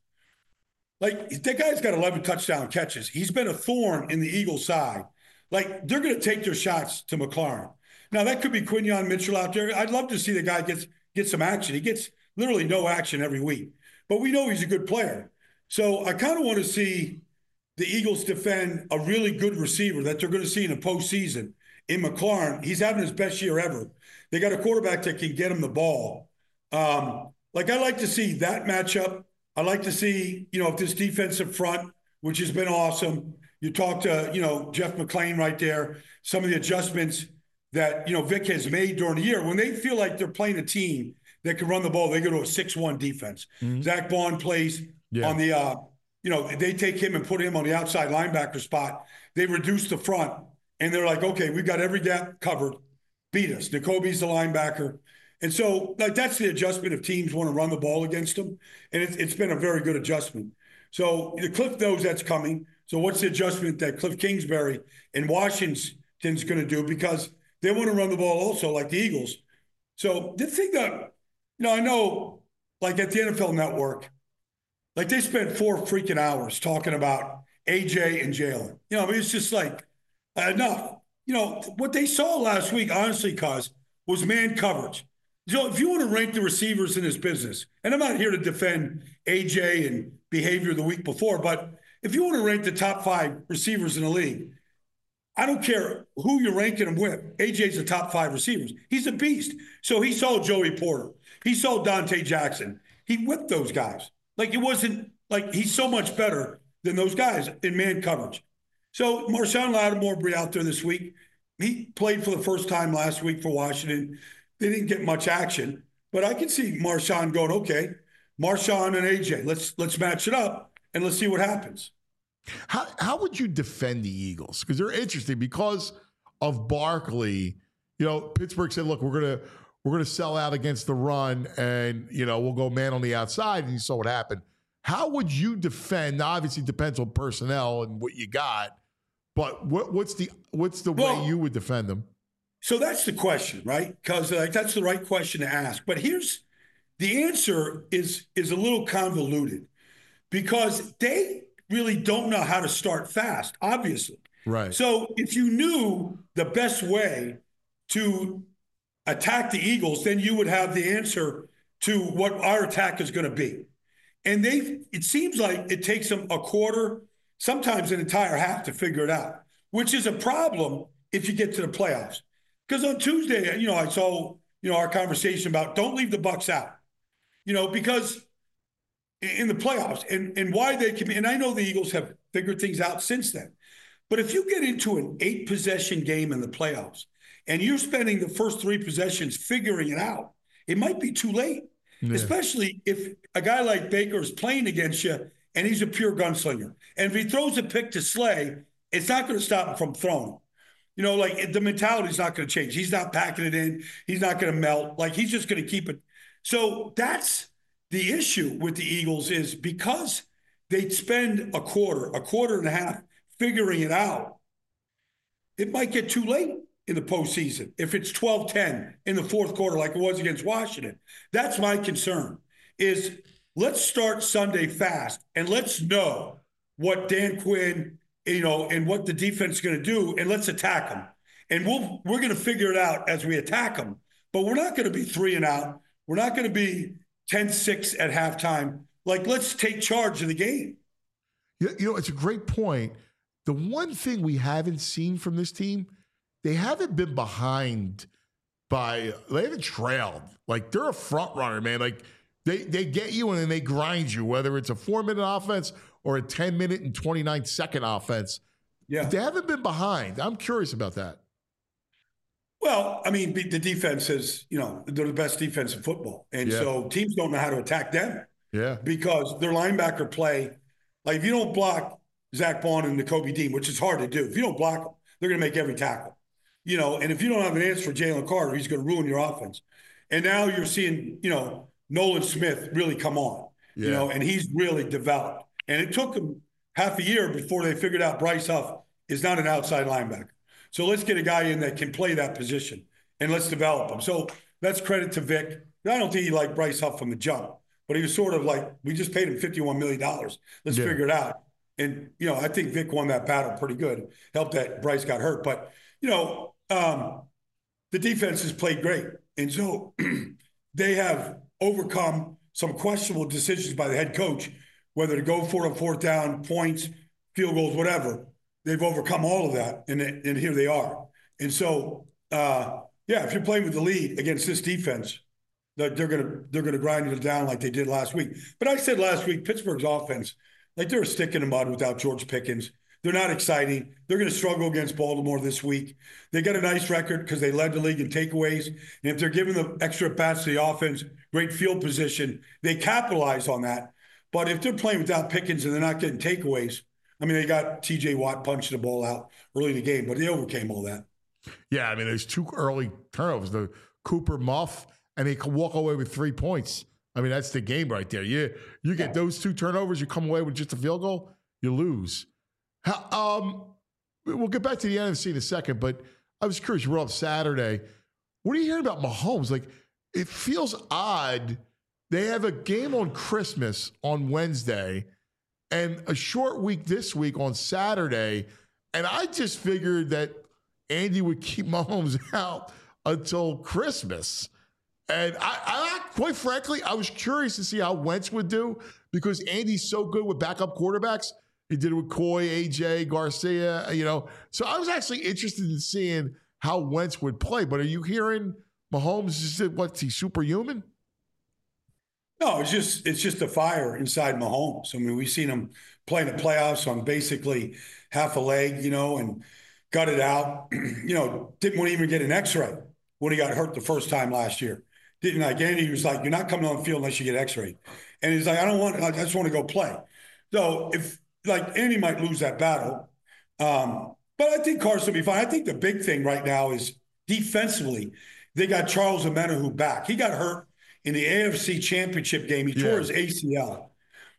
I: Like, that guy's got eleven touchdown catches. He's been a thorn in the Eagles' side. Like, they're going to take their shots to McLaurin. Now, that could be Quinyon Mitchell out there. I'd love to see the guy gets get some action. He gets literally no action every week. But we know he's a good player. So I kind of want to see the Eagles defend a really good receiver that they're going to see in the postseason in McLaurin. He's having his best year ever. They got a quarterback that can get him the ball. Um, like, I like to see that matchup. I like to see, you know, if this defensive front, which has been awesome. You talk to, you know, Jeff McClain right there, some of the adjustments that, you know, Vic has made during the year. When they feel like they're playing a team that can run the ball, they go to a six one defense. Mm-hmm. Zach Bond plays yeah. on the, uh, you know, they take him and put him on the outside linebacker spot. They reduce the front, and they're like, okay, we've got every gap covered. Beat us. N'Kobe's the linebacker. And so, like, that's the adjustment if teams want to run the ball against them. And it's, it's been a very good adjustment. So the Cliff knows that's coming. So what's the adjustment that Cliff Kingsbury and Washington's going to do? Because they want to run the ball also, like the Eagles. So the thing that, you know, I know, like at the N F L Network, like they spent four freaking hours talking about A J and Jalen. You know, I mean, it's just like enough. You know, what they saw last week, honestly, cuz, was man coverage. So if you want to rank the receivers in this business, and I'm not here to defend A J and behavior the week before, but if you want to rank the top five receivers in the league, I don't care who you're ranking them with. A J's the top five receivers. He's a beast. So he saw Joey Porter. He saw Dante Jackson. He whipped those guys. Like, it wasn't like he's so much better than those guys in man coverage. So Marshawn Lattimore will be out there this week. He played for the first time last week for Washington. They didn't get much action, but I can see Marshawn going, okay, Marshawn and A J, let's let's match it up and let's see what happens.
B: How how would you defend the Eagles? Because they're interesting because of Barkley. You know, Pittsburgh said, look, we're gonna we're gonna sell out against the run, and you know, we'll go man on the outside, and you saw what happened. How would you defend? Now, obviously, it depends on personnel and what you got, but what, what's the what's the
I: well,
B: way you would defend them?
I: So that's the question, right? Because like, that's the right question to ask. But here's the answer is is a little convoluted because they really don't know how to start fast, obviously.
B: Right.
I: So if you knew the best way to attack the Eagles, then you would have the answer to what our attack is going to be. And they, it seems like it takes them a quarter, sometimes an entire half to figure it out, which is a problem if you get to the playoffs. Because on Tuesday, you know, I saw, you know, our conversation about don't leave the Bucs out, you know, because in the playoffs and, and why they can, and I know the Eagles have figured things out since then. But if you get into an eight possession game in the playoffs and you're spending the first three possessions figuring it out, it might be too late, yeah. Especially if a guy like Baker is playing against you and he's a pure gunslinger. And if he throws a pick to Slay, it's not going to stop him from throwing. You know, like the mentality is not going to change. He's not packing it in. He's not going to melt. Like he's just going to keep it. So that's the issue with the Eagles is because they spend a quarter, a quarter and a half figuring it out, it might get too late in the postseason if it's twelve ten in the fourth quarter like it was against Washington. That's my concern is let's start Sunday fast and let's know what Dan Quinn, you know, and what the defense is going to do, and let's attack them. And we'll, we're going to figure it out as we attack them. But we're not going to be three and out. We're not going to be ten six at halftime. Like, let's take charge of the game.
B: You know, it's a great point. The one thing we haven't seen from this team, they haven't been behind by, they haven't trailed. Like, they're a front runner, man. Like, they, they get you and then they grind you, whether it's a four-minute offense or a ten-minute and twenty-nine second offense.
I: Yeah.
B: They haven't been behind. I'm curious about that.
I: Well, I mean, the defense is, you know, they're the best defense in football. And
B: Yeah.
I: so teams don't know how to attack them
B: Yeah.
I: because their linebacker play, like if you don't block Zach Bond and Nakobe Dean, which is hard to do, if you don't block them, they're going to make every tackle. You know, and if you don't have an answer for Jalen Carter, he's going to ruin your offense. And now you're seeing, you know, Nolan Smith really come on,
B: Yeah.
I: you know, and he's really developed. And it took them half a year before they figured out Bryce Huff is not an outside linebacker. So let's get a guy in that can play that position and let's develop him. So that's credit to Vic. I don't think he liked Bryce Huff from the jump, but he was sort of like, we just paid him fifty-one million dollars. Let's
B: Yeah.
I: figure it out. And, you know, I think Vic won that battle pretty good. Helped that Bryce got hurt. But, you know, um, the defense has played great. And so they have overcome some questionable decisions by the head coach, whether to go for it on fourth down, points, field goals, whatever. They've overcome all of that, and, and here they are. And so, uh, yeah, if you're playing with the lead against this defense, they're, they're gonna they're gonna grind it down like they did last week. But I said last week, Pittsburgh's offense, like they're a stick in the mud without George Pickens. They're not exciting. They're going to struggle against Baltimore this week. They got a nice record because they led the league in takeaways. And if they're giving the extra bats to the offense, great field position, they capitalize on that. But if they're playing without Pickens and they're not getting takeaways, I mean, they got T J Watt punching the ball out early in the game, but they overcame all that.
B: Yeah, I mean, there's two early turnovers, the Cooper muff, and they can walk away with three points. I mean, that's the game right there. You, you get those two turnovers, you come away with just a field goal, you lose. How, um, we'll get back to the N F C in a second, but I was curious. You were up Saturday. What are you hearing about Mahomes? Like, it feels odd. They have a game on Christmas on Wednesday and a short week this week on Saturday. And I just figured that Andy would keep Mahomes out until Christmas. And I, I, quite frankly, I was curious to see how Wentz would do because Andy's so good with backup quarterbacks. He did it with Coy, A J, Garcia, you know. So I was actually interested in seeing how Wentz would play. But are you hearing Mahomes is what's he superhuman?
I: No, it's just it's just a fire inside Mahomes. I mean, we've seen him play in the playoffs on basically half a leg, you know, and got it out. you know, didn't want to even get an X-ray when he got hurt the first time last year. Didn't like Andy was like, "You're not coming on the field unless you get X-rayed," and he's like, "I don't want. I just want to go play." So if like Andy might lose that battle, um, but I think Carson will be fine. I think the big thing right now is defensively, they got Charles Omenihu back. He got hurt in the A F C Championship game. He
B: Yeah.
I: tore his A C L.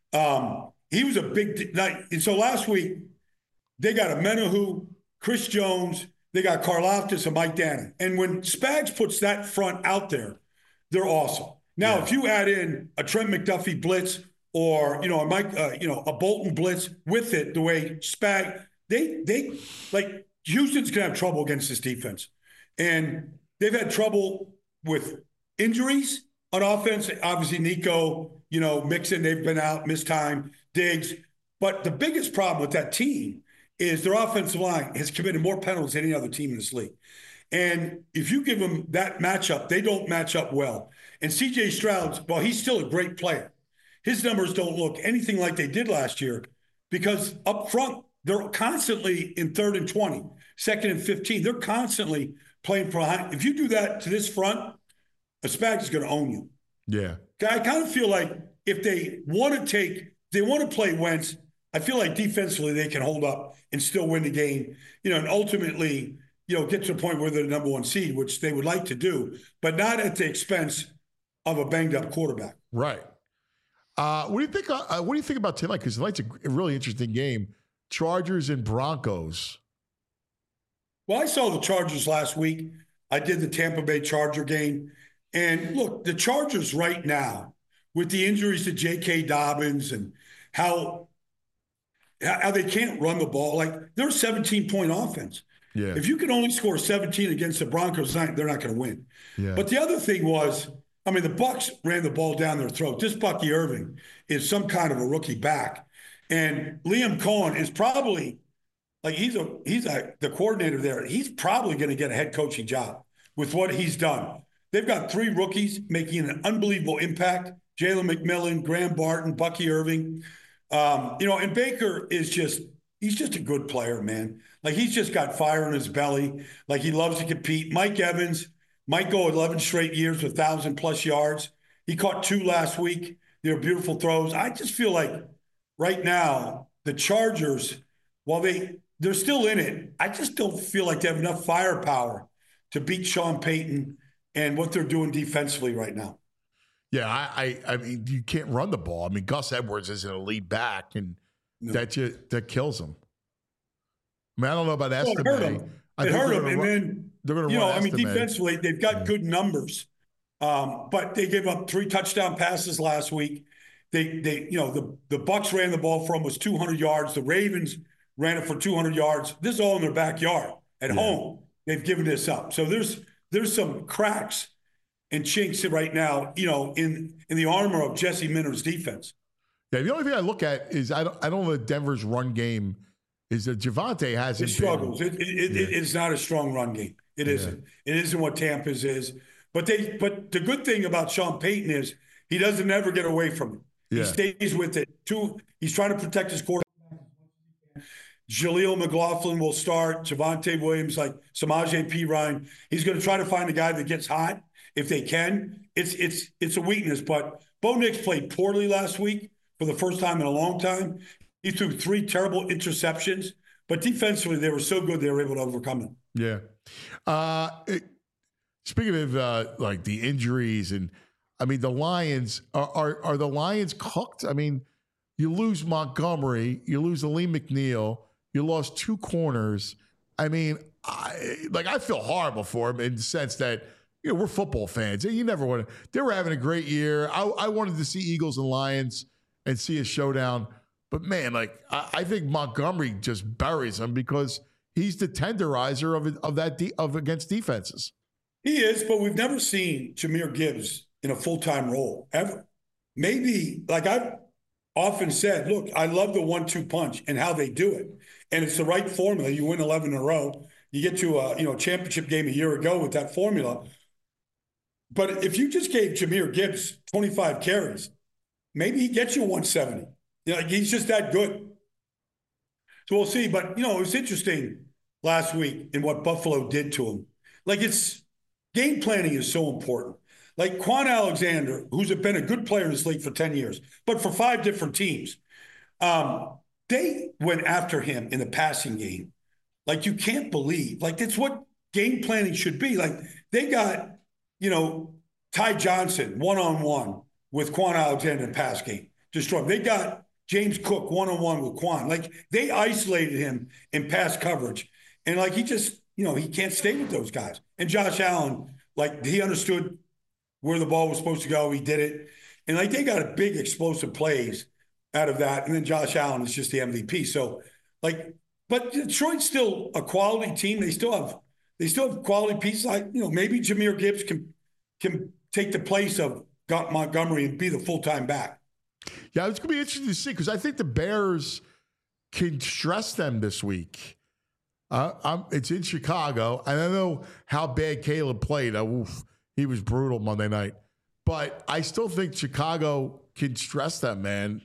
I: Um, he was a big night. And so last week, they got Omenihu, Chris Jones, they got Karlaftis and Mike Dannon. And when Spags puts that front out there, they're awesome. Now,
B: Yeah.
I: if you add in a Trent McDuffie blitz or, you know, a Mike, uh, you know, a Bolton blitz with it, the way Spag, they, they, like, Houston's going to have trouble against this defense. And they've had trouble with injuries on offense. Obviously, Nico, you know, Mixon, they've been out, missed time, Diggs. But the biggest problem with that team is their offensive line has committed more penalties than any other team in this league. And if you give them that matchup, they don't match up well. And C J Stroud, well, he's still a great player. His numbers don't look anything like they did last year because up front, they're constantly in third and twenty, second and fifteen. They're constantly playing for behind. If you do that to this front, a Spags is going to own you.
B: Yeah.
I: I kind of feel like if they want to take, they want to play Wentz, I feel like defensively they can hold up and still win the game, you know, and ultimately, you know, get to a point where they're the number one seed, which they would like to do, but not at the expense of a banged up quarterback.
B: Right. Uh, what do you think? Uh, what do you think about tonight? Because tonight's a really interesting game. Chargers and Broncos.
I: Well, I saw the Chargers last week. I did the Tampa Bay Charger game. And look, the Chargers right now, with the injuries to J K. Dobbins and how, how they can't run the ball, like they're a seventeen-point offense.
B: Yeah.
I: If you can only score seventeen against the Broncos, they're not going to win.
B: Yeah.
I: But the other thing was, I mean, the Bucs ran the ball down their throat. This Bucky Irving is some kind of a rookie back. And Liam Cohen is probably like he's a he's a the coordinator there. He's probably going to get a head coaching job with what he's done. They've got three rookies making an unbelievable impact. Jalen McMillan, Graham Barton, Bucky Irving. Um, you know, and Baker is just he's just a good player, man. Like, he's just got fire in his belly. Like, he loves to compete. Mike Evans might go eleven straight years with one thousand plus yards. He caught two last week. They're beautiful throws. I just feel like right now, the Chargers, while they, they're still in it, I just don't feel like they have enough firepower to beat Sean Payton and what they're doing defensively right now.
B: Yeah, I, I, I mean, you can't run the ball. I mean, Gus Edwards is an elite back, and no. that you, that kills him. I mean, I don't know about Estime.
I: Well, it hurt him.
B: I
I: it hurt him,
B: run,
I: and then
B: they're going to
I: you
B: run
I: know, I mean,
B: Estime.
I: defensively, they've got yeah. good numbers, um, but they gave up three touchdown passes last week. They, they, you know, the the Bucs ran the ball for almost two hundred yards. The Ravens ran it for two hundred yards. This is all in their backyard at yeah. home. They've given this up. So there's there's some cracks and chinks right now, you know, in in the armor of Jesse Minter's defense.
B: Yeah, the only thing I look at is I don't I don't know if Denver's run game is that Javonte hasn't.
I: It struggles. It, it, it, yeah. It's not a strong run game. It isn't. Yeah. It isn't what Tampa's is. But they. But the good thing about Sean Payton is he doesn't ever get away from it. Yeah. He stays with it. Two. He's trying to protect his quarterback. Jaleel McLaughlin will start. Javonte Williams, like Samaje Perine. He's going to try to find a guy that gets hot if they can. It's it's it's a weakness. But Bo Nix played poorly last week for the first time in a long time. He threw three terrible interceptions, but defensively they were so good they were able to overcome it.
B: Yeah. Uh, it, speaking of uh, like the injuries, and I mean the Lions are, are are the Lions cooked? I mean, you lose Montgomery, you lose Aleem McNeil, you lost two corners. I mean, I, like I feel horrible for him in the sense that you know we're football fans. You never want to. They were having a great year. I, I wanted to see Eagles and Lions and see a showdown. But, man, like, I, I think Montgomery just buries him because he's the tenderizer of of that de- of against defenses.
I: He is, but we've never seen Jahmyr Gibbs in a full-time role, ever. Maybe, like I've often said, look, I love the one two punch and how they do it. And it's the right formula. You win eleven in a row. You get to a you know championship game a year ago with that formula. But if you just gave Jahmyr Gibbs twenty-five carries, maybe he gets you one seventy. You know, he's just that good. So we'll see. But, you know, it was interesting last week in what Buffalo did to him. Like, it's game planning is so important. Like Quan Alexander, who's been a good player in this league for ten years, but for five different teams, um, they went after him in the passing game. Like, you can't believe. Like, that's what game planning should be. Like, they got, you know, Ty Johnson one-on-one with Quan Alexander in the pass game. Destroy him. They got James Cook one-on-one with Quan. Like, they isolated him in pass coverage. And, like, he just, you know, he can't stay with those guys. And Josh Allen, like, he understood where the ball was supposed to go. He did it. And, like, they got a big explosive plays out of that. And then Josh Allen is just the M V P. So, like, but Detroit's still a quality team. They still have they still have quality pieces. Like, you know, maybe Jahmyr Gibbs can can take the place of Montgomery and be the full-time back.
B: Yeah, it's going to be interesting to see because I think the Bears can stress them this week. Uh, I'm, it's in Chicago, and I know how bad Caleb played. Uh, oof, he was brutal Monday night. But I still think Chicago can stress them, man.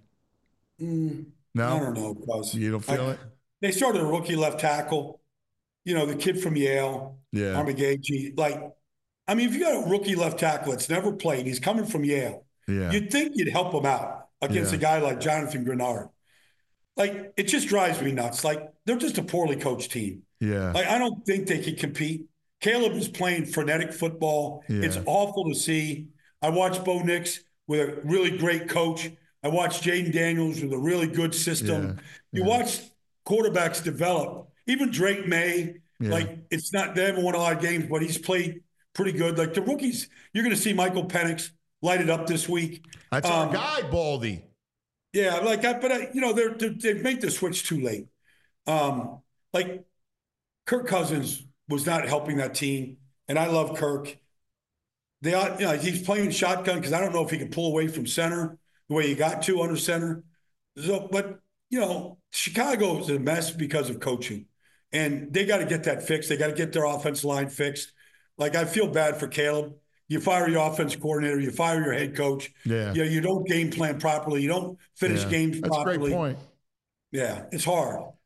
I: Mm,
B: no?
I: I don't know. Cause
B: you don't feel
I: I,
B: it?
I: They started a rookie left tackle. You know, the kid from Yale,
B: yeah.
I: Armigage. Like, I mean, if you got a rookie left tackle that's never played, he's coming from Yale.
B: Yeah.
I: You'd think you'd help him out against yeah. a guy like Jonathan Grenard. Like, it just drives me nuts. Like, they're just a poorly coached team.
B: Yeah.
I: Like, I don't think they could compete. Caleb is playing frenetic football. Yeah. It's awful to see. I watched Bo Nix with a really great coach. I watched Jaden Daniels with a really good system. Yeah. You yeah. watch quarterbacks develop. Even Drake May, yeah. like, it's not, they haven't won a lot of games, but he's played pretty good. Like, the rookies, you're going to see Michael Penix light it up this week.
B: That's um, our guy, Baldy.
I: Yeah, like I, but I, you know, they're, they're they've made the switch too late. Um, like Kirk Cousins was not helping that team, and I love Kirk. They, you know, he's playing shotgun because I don't know if he can pull away from center the way he got to under center. So, but you know, Chicago is a mess because of coaching, and they got to get that fixed. They got to get their offensive line fixed. Like, I feel bad for Caleb. You fire your offense coordinator, you fire your head coach.
B: Yeah.
I: You know, you don't game plan properly. You don't finish
B: yeah.
I: games
B: That's
I: properly.
B: That's a great point.
I: Yeah, it's hard.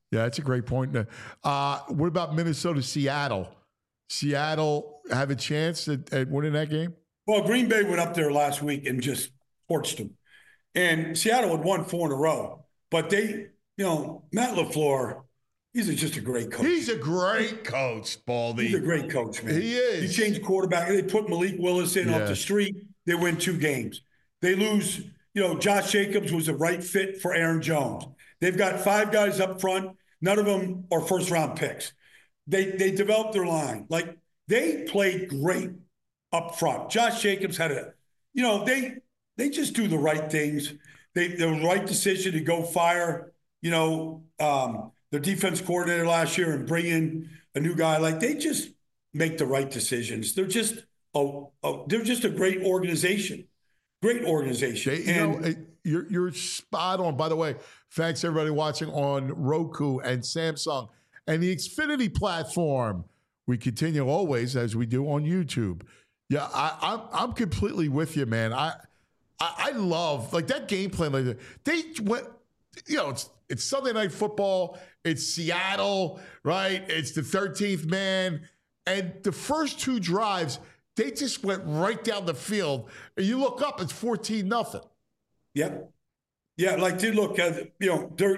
B: Yeah, that's a great point. Uh, what about Minnesota, Seattle? Seattle have a chance at, at winning that game?
I: Well, Green Bay went up there last week and just torched them. And Seattle had won four in a row. But they, you know, Matt LaFleur, he's just a great coach.
B: He's a great coach, Baldy.
I: He's a great coach, man.
B: He is.
I: He changed quarterback. They put Malik Willis in
B: Yeah.
I: off the street. They win two games. They lose, you know, Josh Jacobs was a right fit for Aaron Jones. They've got five guys up front. None of them are first-round picks. They they developed their line. Like, they played great up front. Josh Jacobs had a, you know, they they just do the right things. They the right decision to go fire, you know, um, their defense coordinator last year and bring in a new guy. Like, they just make the right decisions. They're just a, a they're just a great organization. Great organization.
B: They, you
I: and,
B: know, you're you're spot on. By the way, thanks everybody watching on Roku and Samsung and the Xfinity platform. We continue always as we do on YouTube. Yeah, I, I'm I'm completely with you, man. I, I I love like that game plan. Like they went, you know, it's it's Sunday Night Football. It's Seattle, right? It's the thirteenth man, and the first two drives. They just went right down the field. And you look up, it's fourteen nothing.
I: Yep. Yeah, like, dude, look, uh, you know, they're,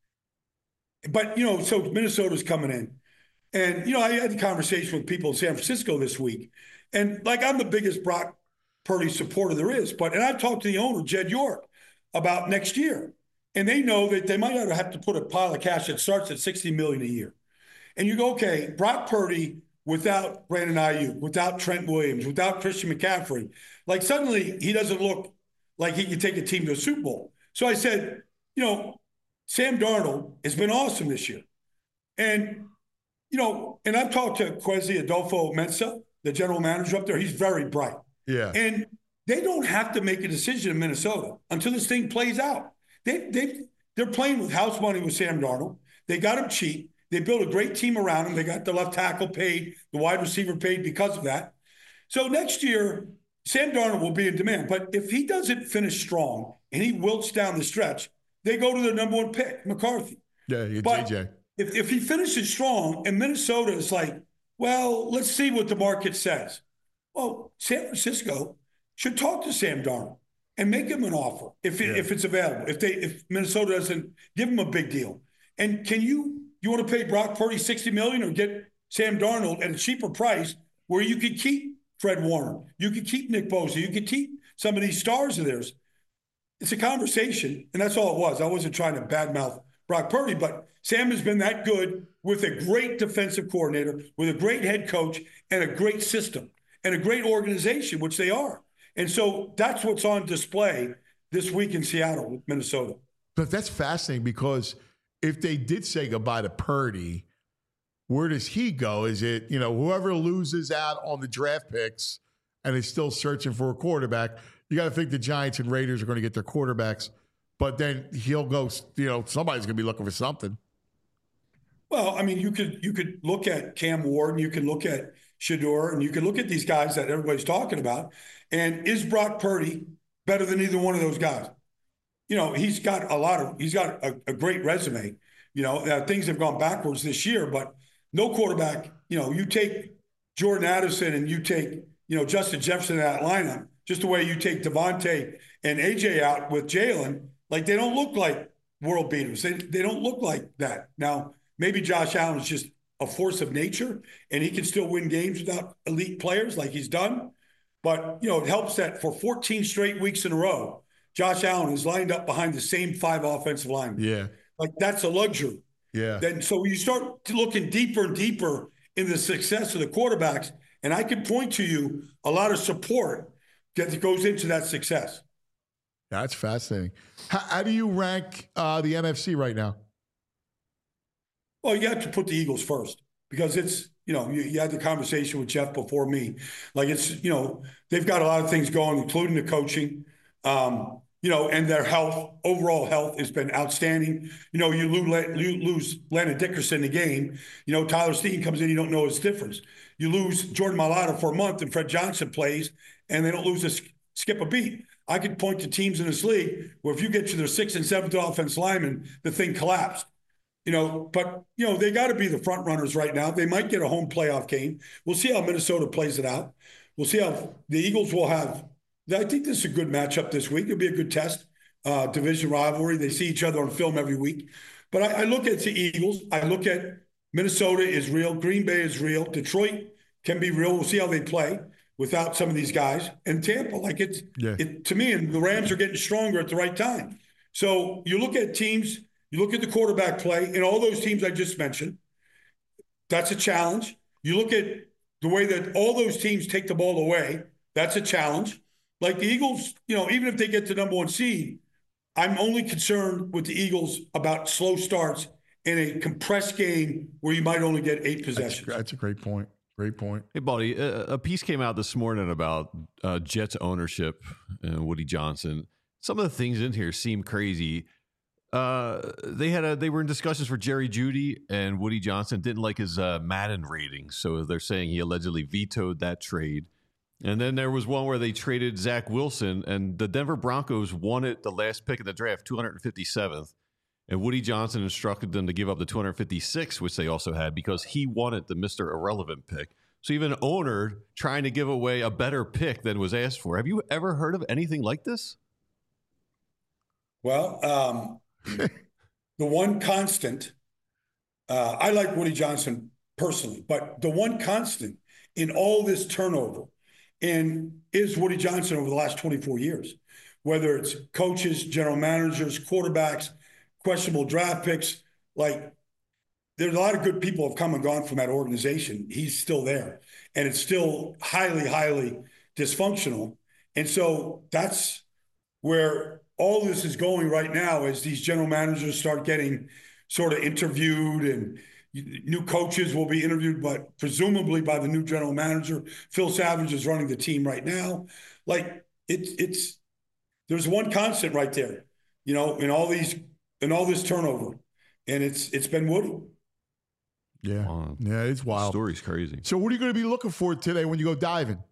I: but, you know, so Minnesota's coming in. And, you know, I had a conversation with people in San Francisco this week. And, like, I'm the biggest Brock Purdy supporter there is. But, and I talked to the owner, Jed York, about next year. And they know that they might have to put a pile of cash that starts at sixty million dollars a year. And you go, okay, Brock Purdy, without Brandon Ayuk, without Trent Williams, without Christian McCaffrey, like suddenly he doesn't look like he can take a team to a Super Bowl. So I said, you know, Sam Darnold has been awesome this year. And, you know, and I've talked to Kwesi Adolfo-Mensah, the general manager up there. He's very bright.
B: Yeah.
I: And they don't have to make a decision in Minnesota until this thing plays out. They, they, they're playing with house money with Sam Darnold. They got him cheap. They built a great team around him. They got the left tackle paid, the wide receiver paid because of that. So next year, Sam Darnold will be in demand. But if he doesn't finish strong and he wilts down the stretch, they go to their number one pick, McCarthy.
B: Yeah, you
I: but
B: J J.
I: If, if he finishes strong and Minnesota is like, well, let's see what the market says. Well, San Francisco should talk to Sam Darnold and make him an offer if, it,
B: Yeah.
I: if it's available, if they if Minnesota doesn't give him a big deal. And can you – you want to pay Brock Purdy sixty million dollars or get Sam Darnold at a cheaper price where you could keep Fred Warner, you could keep Nick Bosa, you could keep some of these stars of theirs. It's a conversation, and that's all it was. I wasn't trying to badmouth Brock Purdy, but Sam has been that good with a great defensive coordinator, with a great head coach, and a great system, and a great organization, which they are. And so that's what's on display this week in Seattle with Minnesota.
B: But that's fascinating because – if they did say goodbye to Purdy, where does he go? Is it, you know, whoever loses out on the draft picks and is still searching for a quarterback? You got to think the Giants and Raiders are going to get their quarterbacks, but then he'll go, you know, somebody's going to be looking for something.
I: Well, I mean, you could you could look at Cam Ward and you can look at Shedeur and you can look at these guys that everybody's talking about. And is Brock Purdy better than either one of those guys? You know, he's got a lot of, he's got a, a great resume. You know, uh, things have gone backwards this year, but no quarterback, you know, you take Jordan Addison and you take, you know, Justin Jefferson out of that lineup, just the way you take Devontae and A J out with Jalen, like they don't look like world beaters. They, they don't look like that. Now, maybe Josh Allen is just a force of nature and he can still win games without elite players like he's done. But, you know, it helps that for fourteen straight weeks in a row, Josh Allen is lined up behind the same five offensive linemen.
B: Yeah.
I: Like, that's a luxury.
B: Yeah.
I: Then so you start looking deeper and deeper in the success of the quarterbacks, and I can point to you a lot of support that goes into that success.
B: That's fascinating. How, how do you rank uh, the N F C right now?
I: Well, you have to put the Eagles first because it's, you know, you, you had the conversation with Jeff before me. Like, it's, you know, they've got a lot of things going, including the coaching. Um, you know, and their health, overall health has been outstanding. You know, you lose, you lose Landon Dickerson in the game. You know, Tyler Steen comes in, you don't know his difference. You lose Jordan Mailata for a month and Fred Johnson plays, and they don't lose a skip a beat. I could point to teams in this league where if you get to their sixth and seventh offense lineman, the thing collapsed. You know, but, you know, they got to be the front runners right now. They might get a home playoff game. We'll see how Minnesota plays it out. We'll see how the Eagles will have. I think this is a good matchup this week. It'll be a good test. Uh, division rivalry. They see each other on film every week. But I, I look at the Eagles. I look at Minnesota is real. Green Bay is real. Detroit can be real. We'll see how they play without some of these guys. And Tampa, like it's,
B: yeah.
I: it, to me, and the Rams are getting stronger at the right time. So you look at teams, you look at the quarterback play, and all those teams I just mentioned, that's a challenge. You look at the way that all those teams take the ball away, that's a challenge. Like the Eagles, you know, even if they get to number one seed, I'm only concerned with the Eagles about slow starts in a compressed game where you might only get eight possessions.
B: That's, that's a great point. Great point.
C: Hey, buddy, a, a piece came out this morning about uh, Jets ownership and Woody Johnson. Some of the things in here seem crazy. Uh, they had a they were in discussions for Jerry Jeudy, and Woody Johnson didn't like his uh, Madden ratings, so they're saying he allegedly vetoed that trade. And then there was one where they traded Zach Wilson, and the Denver Broncos wanted the last pick of the draft, two hundred fifty-seventh, and Woody Johnson instructed them to give up the two hundred fifty-sixth, which they also had, because he wanted the Mister Irrelevant pick. So even owner trying to give away a better pick than was asked for. Have you ever heard of anything like this?
I: Well, um, the one constant, uh, I like Woody Johnson personally, but the one constant in all this turnover and is Woody Johnson over the last twenty-four years, whether it's coaches, general managers, quarterbacks, questionable draft picks. Like, there's a lot of good people have come and gone from that organization. He's still there, and it's still highly, highly dysfunctional. And so that's where all this is going right now, as these general managers start getting sort of interviewed, and new coaches will be interviewed, but presumably by the new general manager. Phil Savage is running the team right now. Like, it's it's there's one constant right there, you know, in all these in all this turnover, and it's it's been Woody.
B: Yeah,
C: Wow.
B: yeah, it's wild.
C: The story's crazy.
B: So, what are you going to be looking for today when you go diving?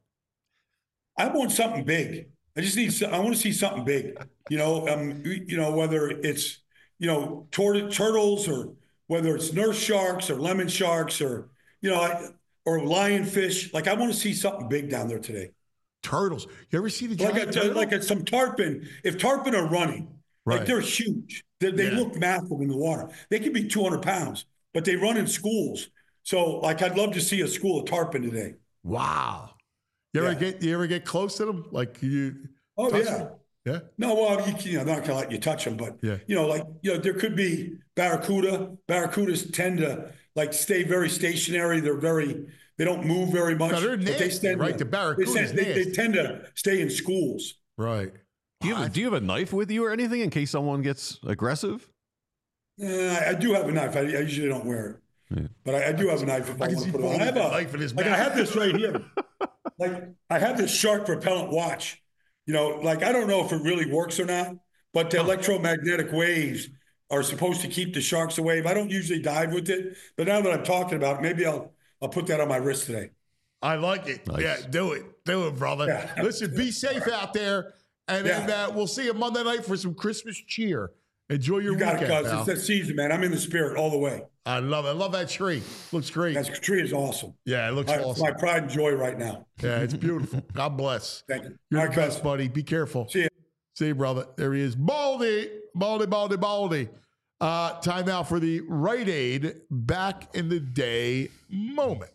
I: I want something big. I just need. I want to see something big. You know, um, you know, whether it's you know tur- turtles or whether it's nurse sharks or lemon sharks or you know, I, or lionfish. Like, I want to see something big down there today.
B: Turtles. You ever see the giant
I: like a,
B: turtle?
I: like a, some tarpon? If tarpon are running,
B: Right.
I: like they're huge. They, they
B: Yeah.
I: look massive in the water. They can be two hundred pounds, but they run in schools. So, like, I'd love to see a school of tarpon today.
B: Wow. You ever
I: Yeah.
B: get you ever get close to them? Like you?
I: Oh
B: touch
I: yeah.
B: them? Yeah.
I: No, well, you, you know, they're not gonna let you touch them, but
B: Yeah.
I: you know, like you know, there could be barracuda. Barracudas tend to like stay very stationary. They're very, they don't move very much.
B: No, they're
I: but they
B: nasty,
I: tend
B: right?
I: to-
B: The barracuda's
I: they, tend- they, they
B: nasty.
I: tend to stay in schools.
B: Right.
C: Do you, have, a- do you have a knife with you or anything in case someone gets aggressive?
I: Uh, I, I do have a knife. I, I usually don't wear it,
C: Yeah.
I: but I, I do have a knife if I,
B: I can
I: want
B: see
I: to put it on.
B: Paul
I: I have
B: with
I: a
B: the knife in his
I: like I
B: mouth.
I: have this right here. Like I have this shark repellent watch. You know, like I don't know if it really works or not, but the electromagnetic waves are supposed to keep the sharks away. I don't usually dive with it, but now that I'm talking about it, maybe I'll I'll put that on my wrist today.
B: I like it.
C: Nice.
B: Yeah, do it. Do it, brother.
I: Yeah.
B: Listen, be safe out there. And then
I: Yeah.
B: uh, we'll see you Monday night for some Christmas cheer. Enjoy your
I: You got it,
B: weekend,
I: cuz
B: pal.
I: it's that season, man. I'm in the spirit all the way.
B: I love it. I love that tree. Looks great.
I: That tree is awesome.
B: yeah, it looks
I: My,
B: awesome.
I: my pride and joy right now.
B: Yeah, it's beautiful. God bless.
I: Thank you.
B: You're
I: All
B: the
I: right,
B: best,
I: cuz.
B: buddy. Be careful.
I: See ya.
B: See you, brother. There he is. Baldy. Baldy, Baldy, Baldy. Uh, time now for the Rite Aid back in the day moment.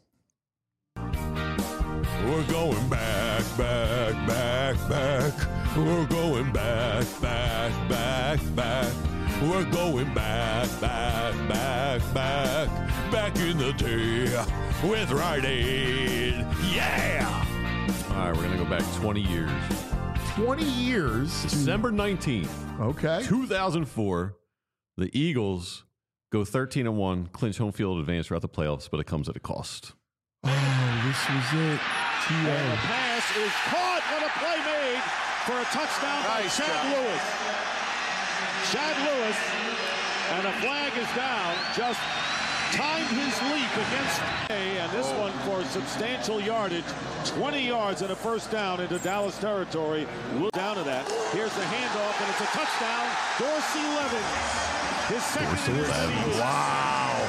A: We're going back, back, back, back. We're going back, back, back, back. We're going back, back, back, back. Back in the day with Rite Aid. Yeah!
C: All right, we're going to go back twenty years.
B: twenty years.
C: December nineteenth,
B: Okay.
C: two thousand four, the Eagles go thirteen and one, clinch home field advance throughout the playoffs, but it comes at a cost.
B: Oh, this was it. T
J: The
B: A.
J: pass is caught with a play made for a touchdown by Chad Lewis. Chad Lewis, and a flag is down just timed his leap against A, and this one for substantial yardage, twenty yards and a first down into Dallas territory. We'll down to that. Here's the handoff, and it's a touchdown. Dorsey Levin, his second in the season.
B: Wow.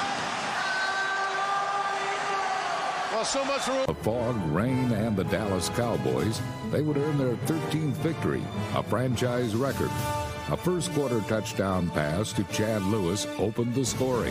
J: Well, so much for
K: The fog, rain, and the Dallas Cowboys, they would earn their thirteenth victory, a franchise record. A first quarter touchdown pass to Chad Lewis opened the scoring.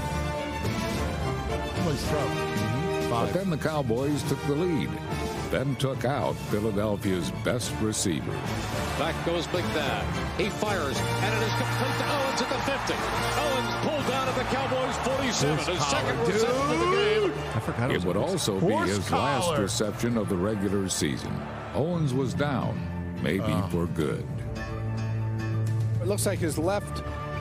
K: But then the Cowboys took the lead, then took out Philadelphia's best receiver.
J: Back goes Big Bad. He fires, and it is complete to Owens at the fifty. Owens pulled down at the Cowboys forty-seven. His second reception of the game.
C: I forgot it,
K: It would also be
B: Horse
K: his
B: collar.
K: last reception of the regular season. Owens was down, maybe
B: Oh.
K: for good.
L: It looks like his left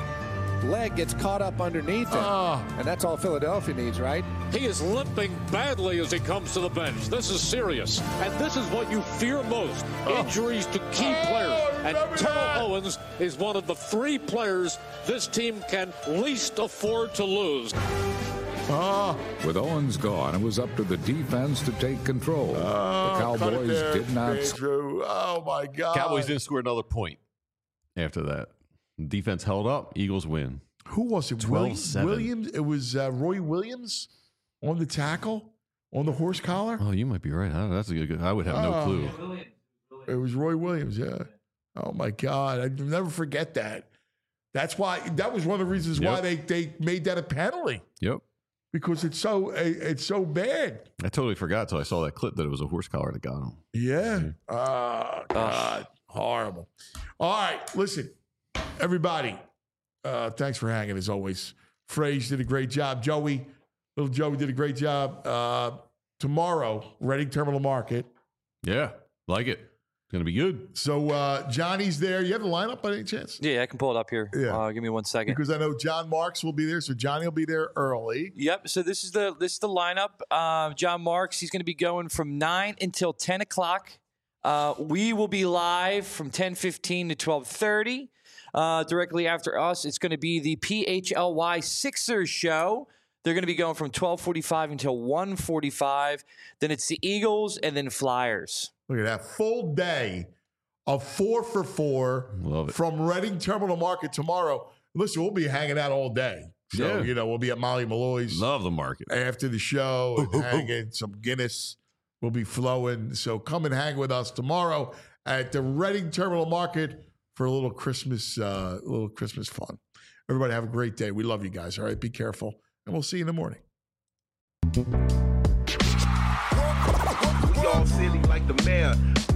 L: leg gets caught up underneath him.
B: Oh.
L: And that's all Philadelphia needs, right?
J: He is limping badly as he comes to the bench. This is serious. And this is what you fear most. Injuries to key
B: Oh,
J: players. And
B: remember
J: Terrell
B: that.
J: Owens is one of the three players this team can least afford to lose.
B: Oh,
K: With Owens gone, it was up to the defense to take control.
B: oh,
K: the
B: cut it
K: Cowboys
B: there,
K: did not.
B: Andrew. Oh, my God.
C: Cowboys didn't score another point after that. Defense held up. Eagles win.
B: Who was it?
C: twelve
B: Williams?
C: seven.
B: Williams? It was uh, Roy Williams on the tackle, on the horse collar.
C: Oh, you might be right. I, that's a good. I would have no
B: Oh.
C: clue.
B: It was Roy Williams, yeah. Oh, my God. I'd never forget that. That's why, that was one of the reasons why
C: Yep.
B: they, they made that a penalty,
C: Yep.
B: because it's so it's so bad.
C: I totally forgot until I saw that clip that it was a horse collar that got him.
B: Yeah. Oh, God. Horrible. All right. Listen, everybody, uh, thanks for hanging as always. Fraze did a great job. Joey, little Joey did a great job. Uh, tomorrow, Reading Terminal Market.
C: Yeah, like it. It's gonna be good.
B: So uh, Johnny's there. You have the lineup by any chance?
D: Yeah, I can pull it up here.
B: Yeah.
D: Uh, give me one second.
B: Because I know John Marks will be there, so Johnny will be there early.
D: Yep. So this is the this is the lineup. Uh, John Marks. He's going to be going from nine until ten o'clock. Uh, we will be live from ten fifteen to twelve thirty. Uh, directly after us, it's going to be the P H L Y Sixers show. They're going to be going from twelve forty-five until one forty-five. Then it's the Eagles and then Flyers.
B: Look at that full day of four for four
C: Love it.
B: from Reading Terminal Market tomorrow. Listen, we'll be hanging out all day. So,
C: Yeah.
B: you know, we'll be at Molly Malloy's
C: Love the market.
B: after the show and hanging. Some Guinness will be flowing. So come and hang with us tomorrow at the Reading Terminal Market for a little Christmas, uh, little Christmas fun. Everybody have a great day. We love you guys. All right, be careful, and we'll see you in the morning.
M: We all silly like the mayor.